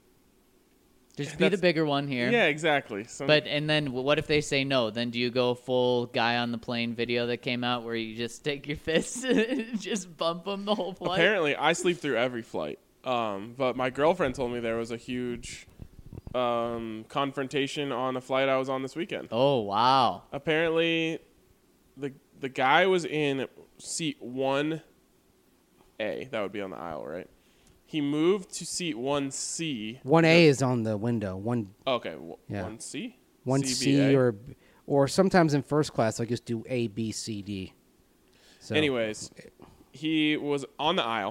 Just be the That's- bigger one here. Yeah, exactly. So, But and then what if they say no? Then do you go full guy on the plane video that came out where you just take your fists and just bump them the whole flight? apparently, I sleep through every flight. Um, but my girlfriend told me there was a huge um, confrontation on a flight I was on this weekend. Oh wow! Apparently, the the guy was in seat one A. That would be on the aisle, right? He moved to seat one C. One A is on the window. One Okay, w- Yeah. one C? one C, B, C A? or or sometimes in first class I just do A, B, C, D. So, Anyways, he was on the aisle,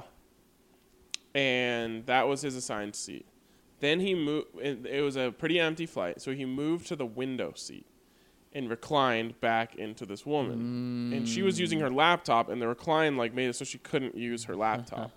and that was his assigned seat. Then he moved. It it was a pretty empty flight, so he moved to the window seat and reclined back into this woman. And she was using her laptop, and the recline like made it so she couldn't use her laptop.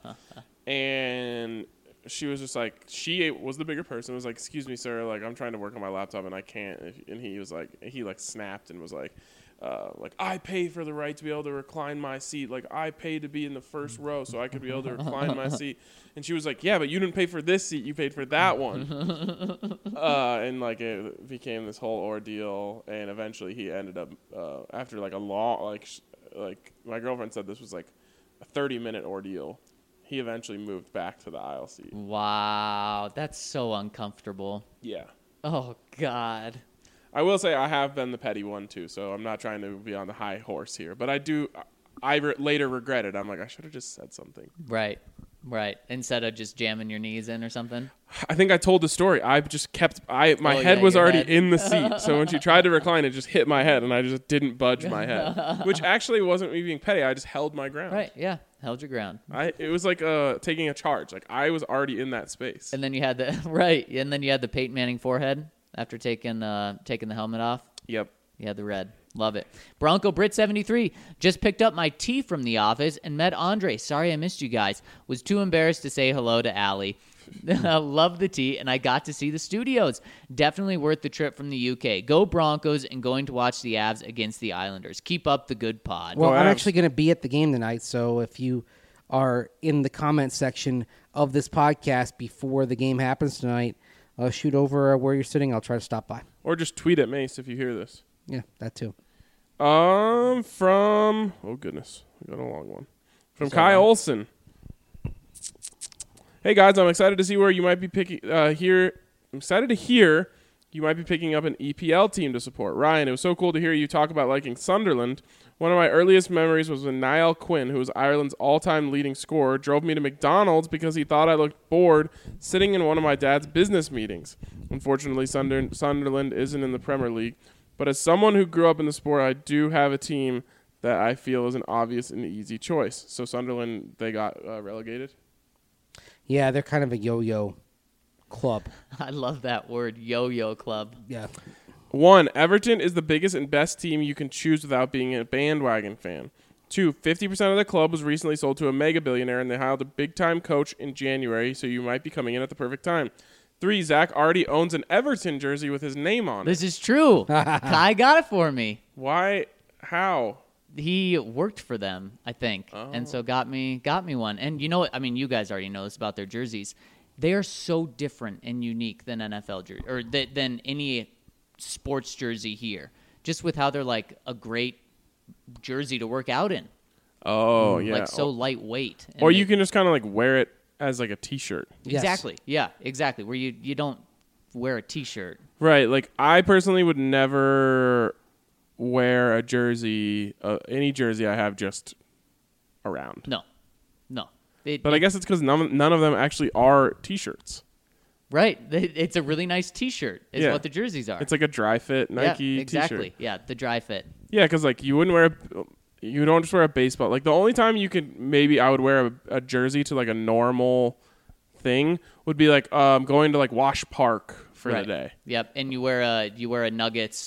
And she was just like, she was the bigger person. Was like, "Excuse me, sir. Like, I'm trying to work on my laptop and I can't." And he was like, he like snapped and was like, uh, like, "I pay for the right to be able to recline my seat. Like, I paid to be in the first row so I could be able to recline my seat." And she was like, "Yeah, but you didn't pay for this seat. You paid for that one." uh, and like it became this whole ordeal. And eventually he ended up uh, after like a long like sh- like my girlfriend said this was like a thirty minute ordeal. He eventually moved back to the aisle seat. Wow, that's so uncomfortable. Yeah. Oh God. I will say I have been the petty one too, so I'm not trying to be on the high horse here. But I do, I re- later regretted. I'm like, I should have just said something. Right. Right. Instead of just jamming your knees in or something. I think I told the story. I just kept, I my Oh, head yeah, was your already head. in the seat. So when she tried to recline, it just hit my head, and I just didn't budge my head. Which actually wasn't me being petty. I just held my ground. Right. Yeah. Held your ground. I it was like uh taking a charge. Like I was already in that space. And then you had the right. And then you had the Peyton Manning forehead after taking uh taking the helmet off. Yep. You had the red. Love it. Bronco Brit seventy-three just picked up my tea from the office and met Andre. Sorry I missed you guys. Was too embarrassed to say hello to Allie. Love the tea, and I got to see the studios. Definitely worth the trip from the U K. Go Broncos and going to watch the Avs against the Islanders. Keep up the good pod. Well, Go I'm Avs. actually going to be at the game tonight, so if you are in the comment section of this podcast before the game happens tonight, uh, shoot over where you're sitting. I'll try to stop by. Or just tweet at Mace if you hear this. Yeah, that too. Um, from oh goodness, we got a long one. From Is that Kai long? Olson. Hey guys, I'm excited to see where you might be picking. Uh, here, I'm excited to hear you might be picking up an E P L team to support. Ryan, it was so cool to hear you talk about liking Sunderland. One of my earliest memories was when Niall Quinn, who was Ireland's all-time leading scorer, drove me to McDonald's because he thought I looked bored sitting in one of my dad's business meetings. Unfortunately, Sunder- Sunderland isn't in the Premier League, but as someone who grew up in the sport, I do have a team that I feel is an obvious and easy choice. So Sunderland, they got uh, relegated. Yeah, they're kind of a yo-yo club. I love that word, yo-yo club. Yeah. One, Everton is the biggest and best team you can choose without being a bandwagon fan. Two, fifty percent of the club was recently sold to a mega billionaire, and they hired a big-time coach in January, so you might be coming in at the perfect time. Three, Zach already owns an Everton jersey with his name on it. This is true. Kai got it for me. Why? How? He worked for them, I think, and so got me got me one. And you know what? I mean, you guys already know this about their jerseys. They are so different and unique than N F L jersey or th- than any sports jersey here. Just with how they're like a great jersey to work out in, Oh, yeah. like so lightweight. And or they- you can just kind of like wear it as like a T-shirt. Yes. exactly, yeah, exactly. Where you you don't wear a T-shirt. Right. Like I personally would never wear a jersey, uh, any jersey I have just around. No, no. It- But I it- guess it's because none, none of them actually are T-shirts. right. It's a really nice T-shirt. Is Yeah. what the jerseys are. It's like a dry fit Nike yeah, exactly. T-shirt. Yeah, the dry fit. Yeah, because like you wouldn't wear, a, you don't just wear a baseball. Like the only time you could maybe I would wear a, a jersey to like a normal thing would be like um going to like Wash Park for right. the day. Yep, and you wear a you wear a Nuggets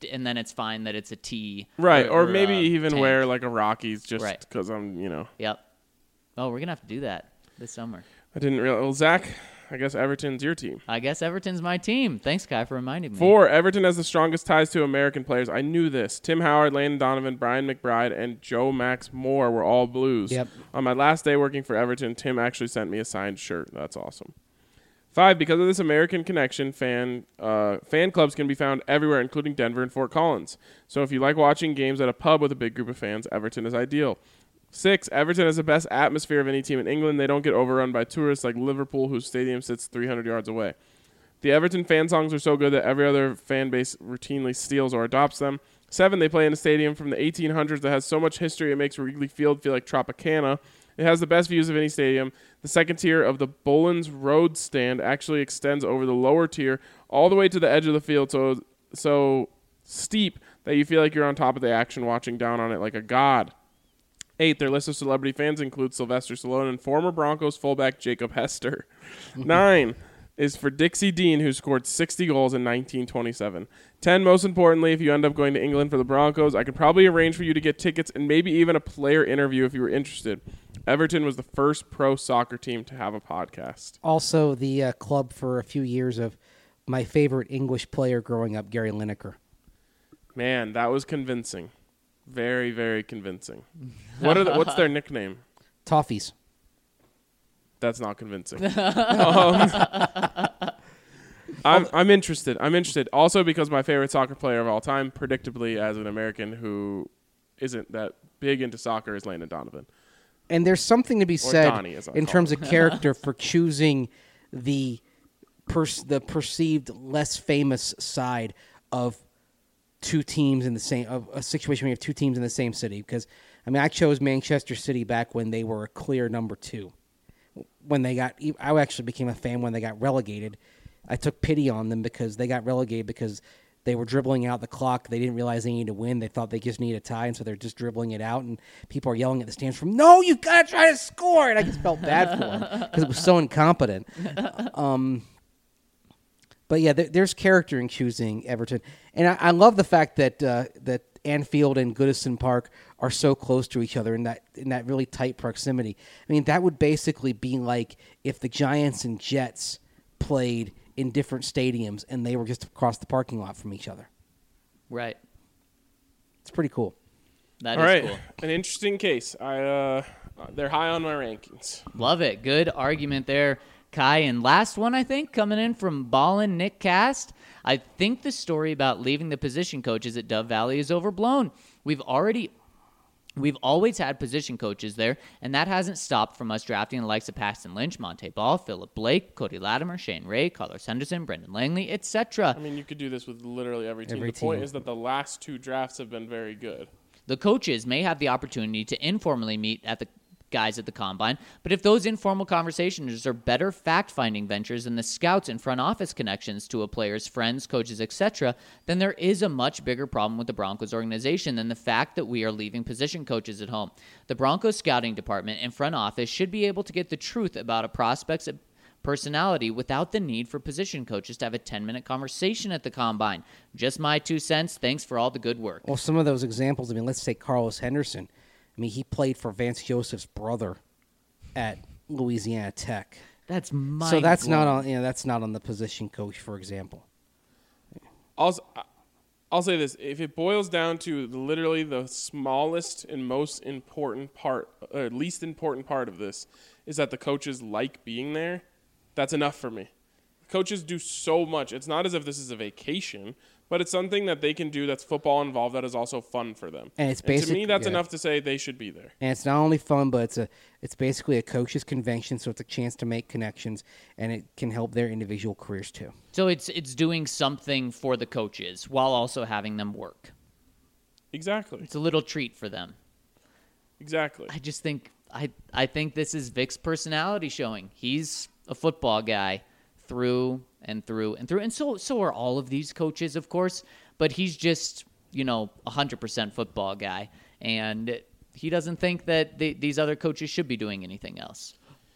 and then it's fine that it's a T. Right, or, or maybe uh, even tank. wear like a Rockies just Right. because I'm, you know. Yep. Oh, we're gonna have to do that this summer. I didn't realize. Well, Zach, I guess Everton's your team. I guess Everton's my team. Thanks, Kai, for reminding me. Four, Everton has the strongest ties to American players. I knew this. Tim Howard, Landon Donovan, Brian McBride, and Joe Max Moore were all Blues. Yep. On my last day working for Everton, Tim actually sent me a signed shirt. That's awesome. Five, because of this American connection, fan uh, fan clubs can be found everywhere, including Denver and Fort Collins. So if you like watching games at a pub with a big group of fans, Everton is ideal. Six, Everton has the best atmosphere of any team in England. They don't get overrun by tourists like Liverpool, whose stadium sits three hundred yards away. The Everton fan songs are so good that every other fan base routinely steals or adopts them. Seven, they play in a stadium from the eighteen hundreds that has so much history it makes Wrigley Field feel like Tropicana. It has the best views of any stadium. The second tier of the Bolins Road stand actually extends over the lower tier all the way to the edge of the field, so so steep that you feel like you're on top of the action watching down on it like a god. Eight, their list of celebrity fans includes Sylvester Stallone and former Broncos fullback Jacob Hester. Nine is for Dixie Dean, who scored sixty goals in nineteen twenty-seven. Ten, most importantly, if you end up going to England for the Broncos, I could probably arrange for you to get tickets and maybe even a player interview if you were interested. Everton was the first pro soccer team to have a podcast. Also, the uh, club for a few years of my favorite English player growing up, Gary Lineker. Man, that was convincing. Very, very convincing. What are the, what's their nickname? Toffees. That's not convincing. um, I'm, I'm interested. I'm interested. Also because my favorite soccer player of all time, predictably as an American who isn't that big into soccer, is Landon Donovan. And there's something to be said Donnie, as I in call terms him. of character for choosing the pers- the perceived less famous side of two teams in the same of a situation where you have two teams in the same city. Because I mean, I chose Manchester City back when they were a clear number two. When they got, I actually became a fan when they got relegated. I took pity on them because they got relegated because they were dribbling out the clock. They didn't realize they needed to win. They thought they just needed a tie, and so they're just dribbling it out. And people are yelling at the stands from, "No, you've got to try to score!" And I just felt bad for them because it was so incompetent. Um, but yeah, there, there's character in choosing Everton, and I, I love the fact that uh, that Anfield and Goodison Park are so close to each other in that in that really tight proximity. I mean, that would basically be like if the Giants and Jets played in different stadiums and they were just across the parking lot from each other. Right. It's pretty cool. That All is right, cool. an interesting case. I uh, they're high on my rankings. Love it. Good argument there, Kai. And last one, I think, coming in from Ballin Nick Cast. I think the story about leaving the position coaches at Dove Valley is overblown. We've already... We've always had position coaches there, and that hasn't stopped from us drafting the likes of Paxton Lynch, Monte Ball, Philip Blake, Cody Latimer, Shane Ray, Carlos Henderson, Brendan Langley, et cetera. I mean, you could do this with literally every team. Every the point team. is that the last two drafts have been very good. The coaches may have the opportunity to informally meet at the guys at the combine, but if those informal conversations are better fact-finding ventures than the scouts and front office connections to a player's friends, coaches, et cetera, then there is a much bigger problem with the Broncos organization than the fact that we are leaving position coaches at home. The Broncos scouting department and front office should be able to get the truth about a prospect's personality without the need for position coaches to have a ten-minute conversation at the combine. Just my two cents. Thanks for all the good work. Well, some of those examples, I mean, let's take Carlos Henderson. I mean, he played for Vance Joseph's brother at Louisiana Tech. That's mind So that's not blowing. on, you know, that's not on the position coach, for example. Also, I'll say this: if it boils down to literally the smallest and most important part, or least important part of this, is that the coaches like being there. That's enough for me. Coaches do so much. It's not as if this is a vacation, but it's something that they can do that's football involved that is also fun for them. And it's to basic- me, that's yeah. enough to say they should be there. And it's not only fun, but it's a it's basically a coach's convention, so it's a chance to make connections, and it can help their individual careers too. So it's it's doing something for the coaches while also having them work. Exactly. It's a little treat for them. Exactly. I just think I I think this is Vic's personality showing. He's a football guy through and through and through, and so so are all of these coaches, of course. But he's just, you know, a hundred percent football guy, and he doesn't think that the, these other coaches should be doing anything else.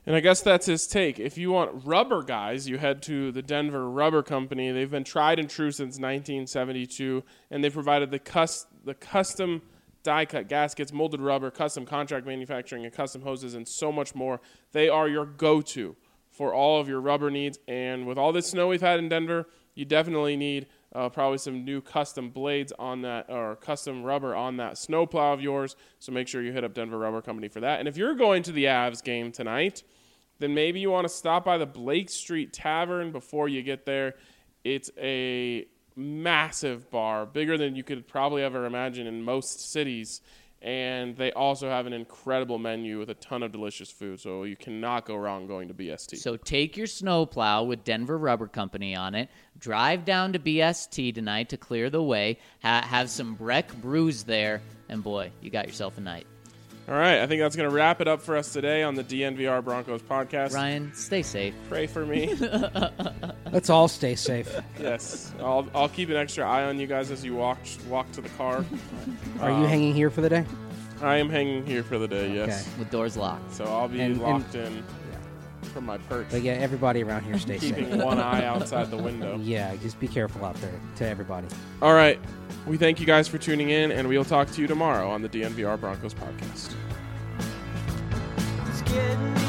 And I guess that's his take. If you want rubber guys, you head to the Denver Rubber Company. They've been tried and true since nineteen seventy-two, and they provided the cus- the custom die-cut gaskets, molded rubber, custom contract manufacturing, and custom hoses, and so much more. They are your go-to for all of your rubber needs. And with all this snow we've had in Denver, you definitely need uh, probably some new custom blades on that, or custom rubber on that snowplow of yours. So make sure you hit up Denver Rubber Company for that. And if you're going to the Avs game tonight, then maybe you want to stop by the Blake Street Tavern before you get there. It's a massive bar, bigger than you could probably ever imagine in most cities. And they also have an incredible menu with a ton of delicious food. So you cannot go wrong going to B S T. So take your snowplow with Denver Rubber Company on it. Drive down to B S T tonight to clear the way. Ha- have some Breck brews there. And boy, you got yourself a night. All right, I think that's going to wrap it up for us today on the D N V R Broncos podcast. Ryan, stay safe. Pray for me. Let's all stay safe. Yes, I'll I'll keep an extra eye on you guys as you walk walk to the car. Are Um, you hanging here for the day? I am hanging here for the day. Yes, Okay. With doors locked. so I'll be And- locked in from my perch, But yeah, everybody around here stay keeping safe. one eye outside the window. Yeah, just be careful out there to everybody. All right, we thank you guys for tuning in, and we'll talk to you tomorrow on the D N V R Broncos podcast. It's getting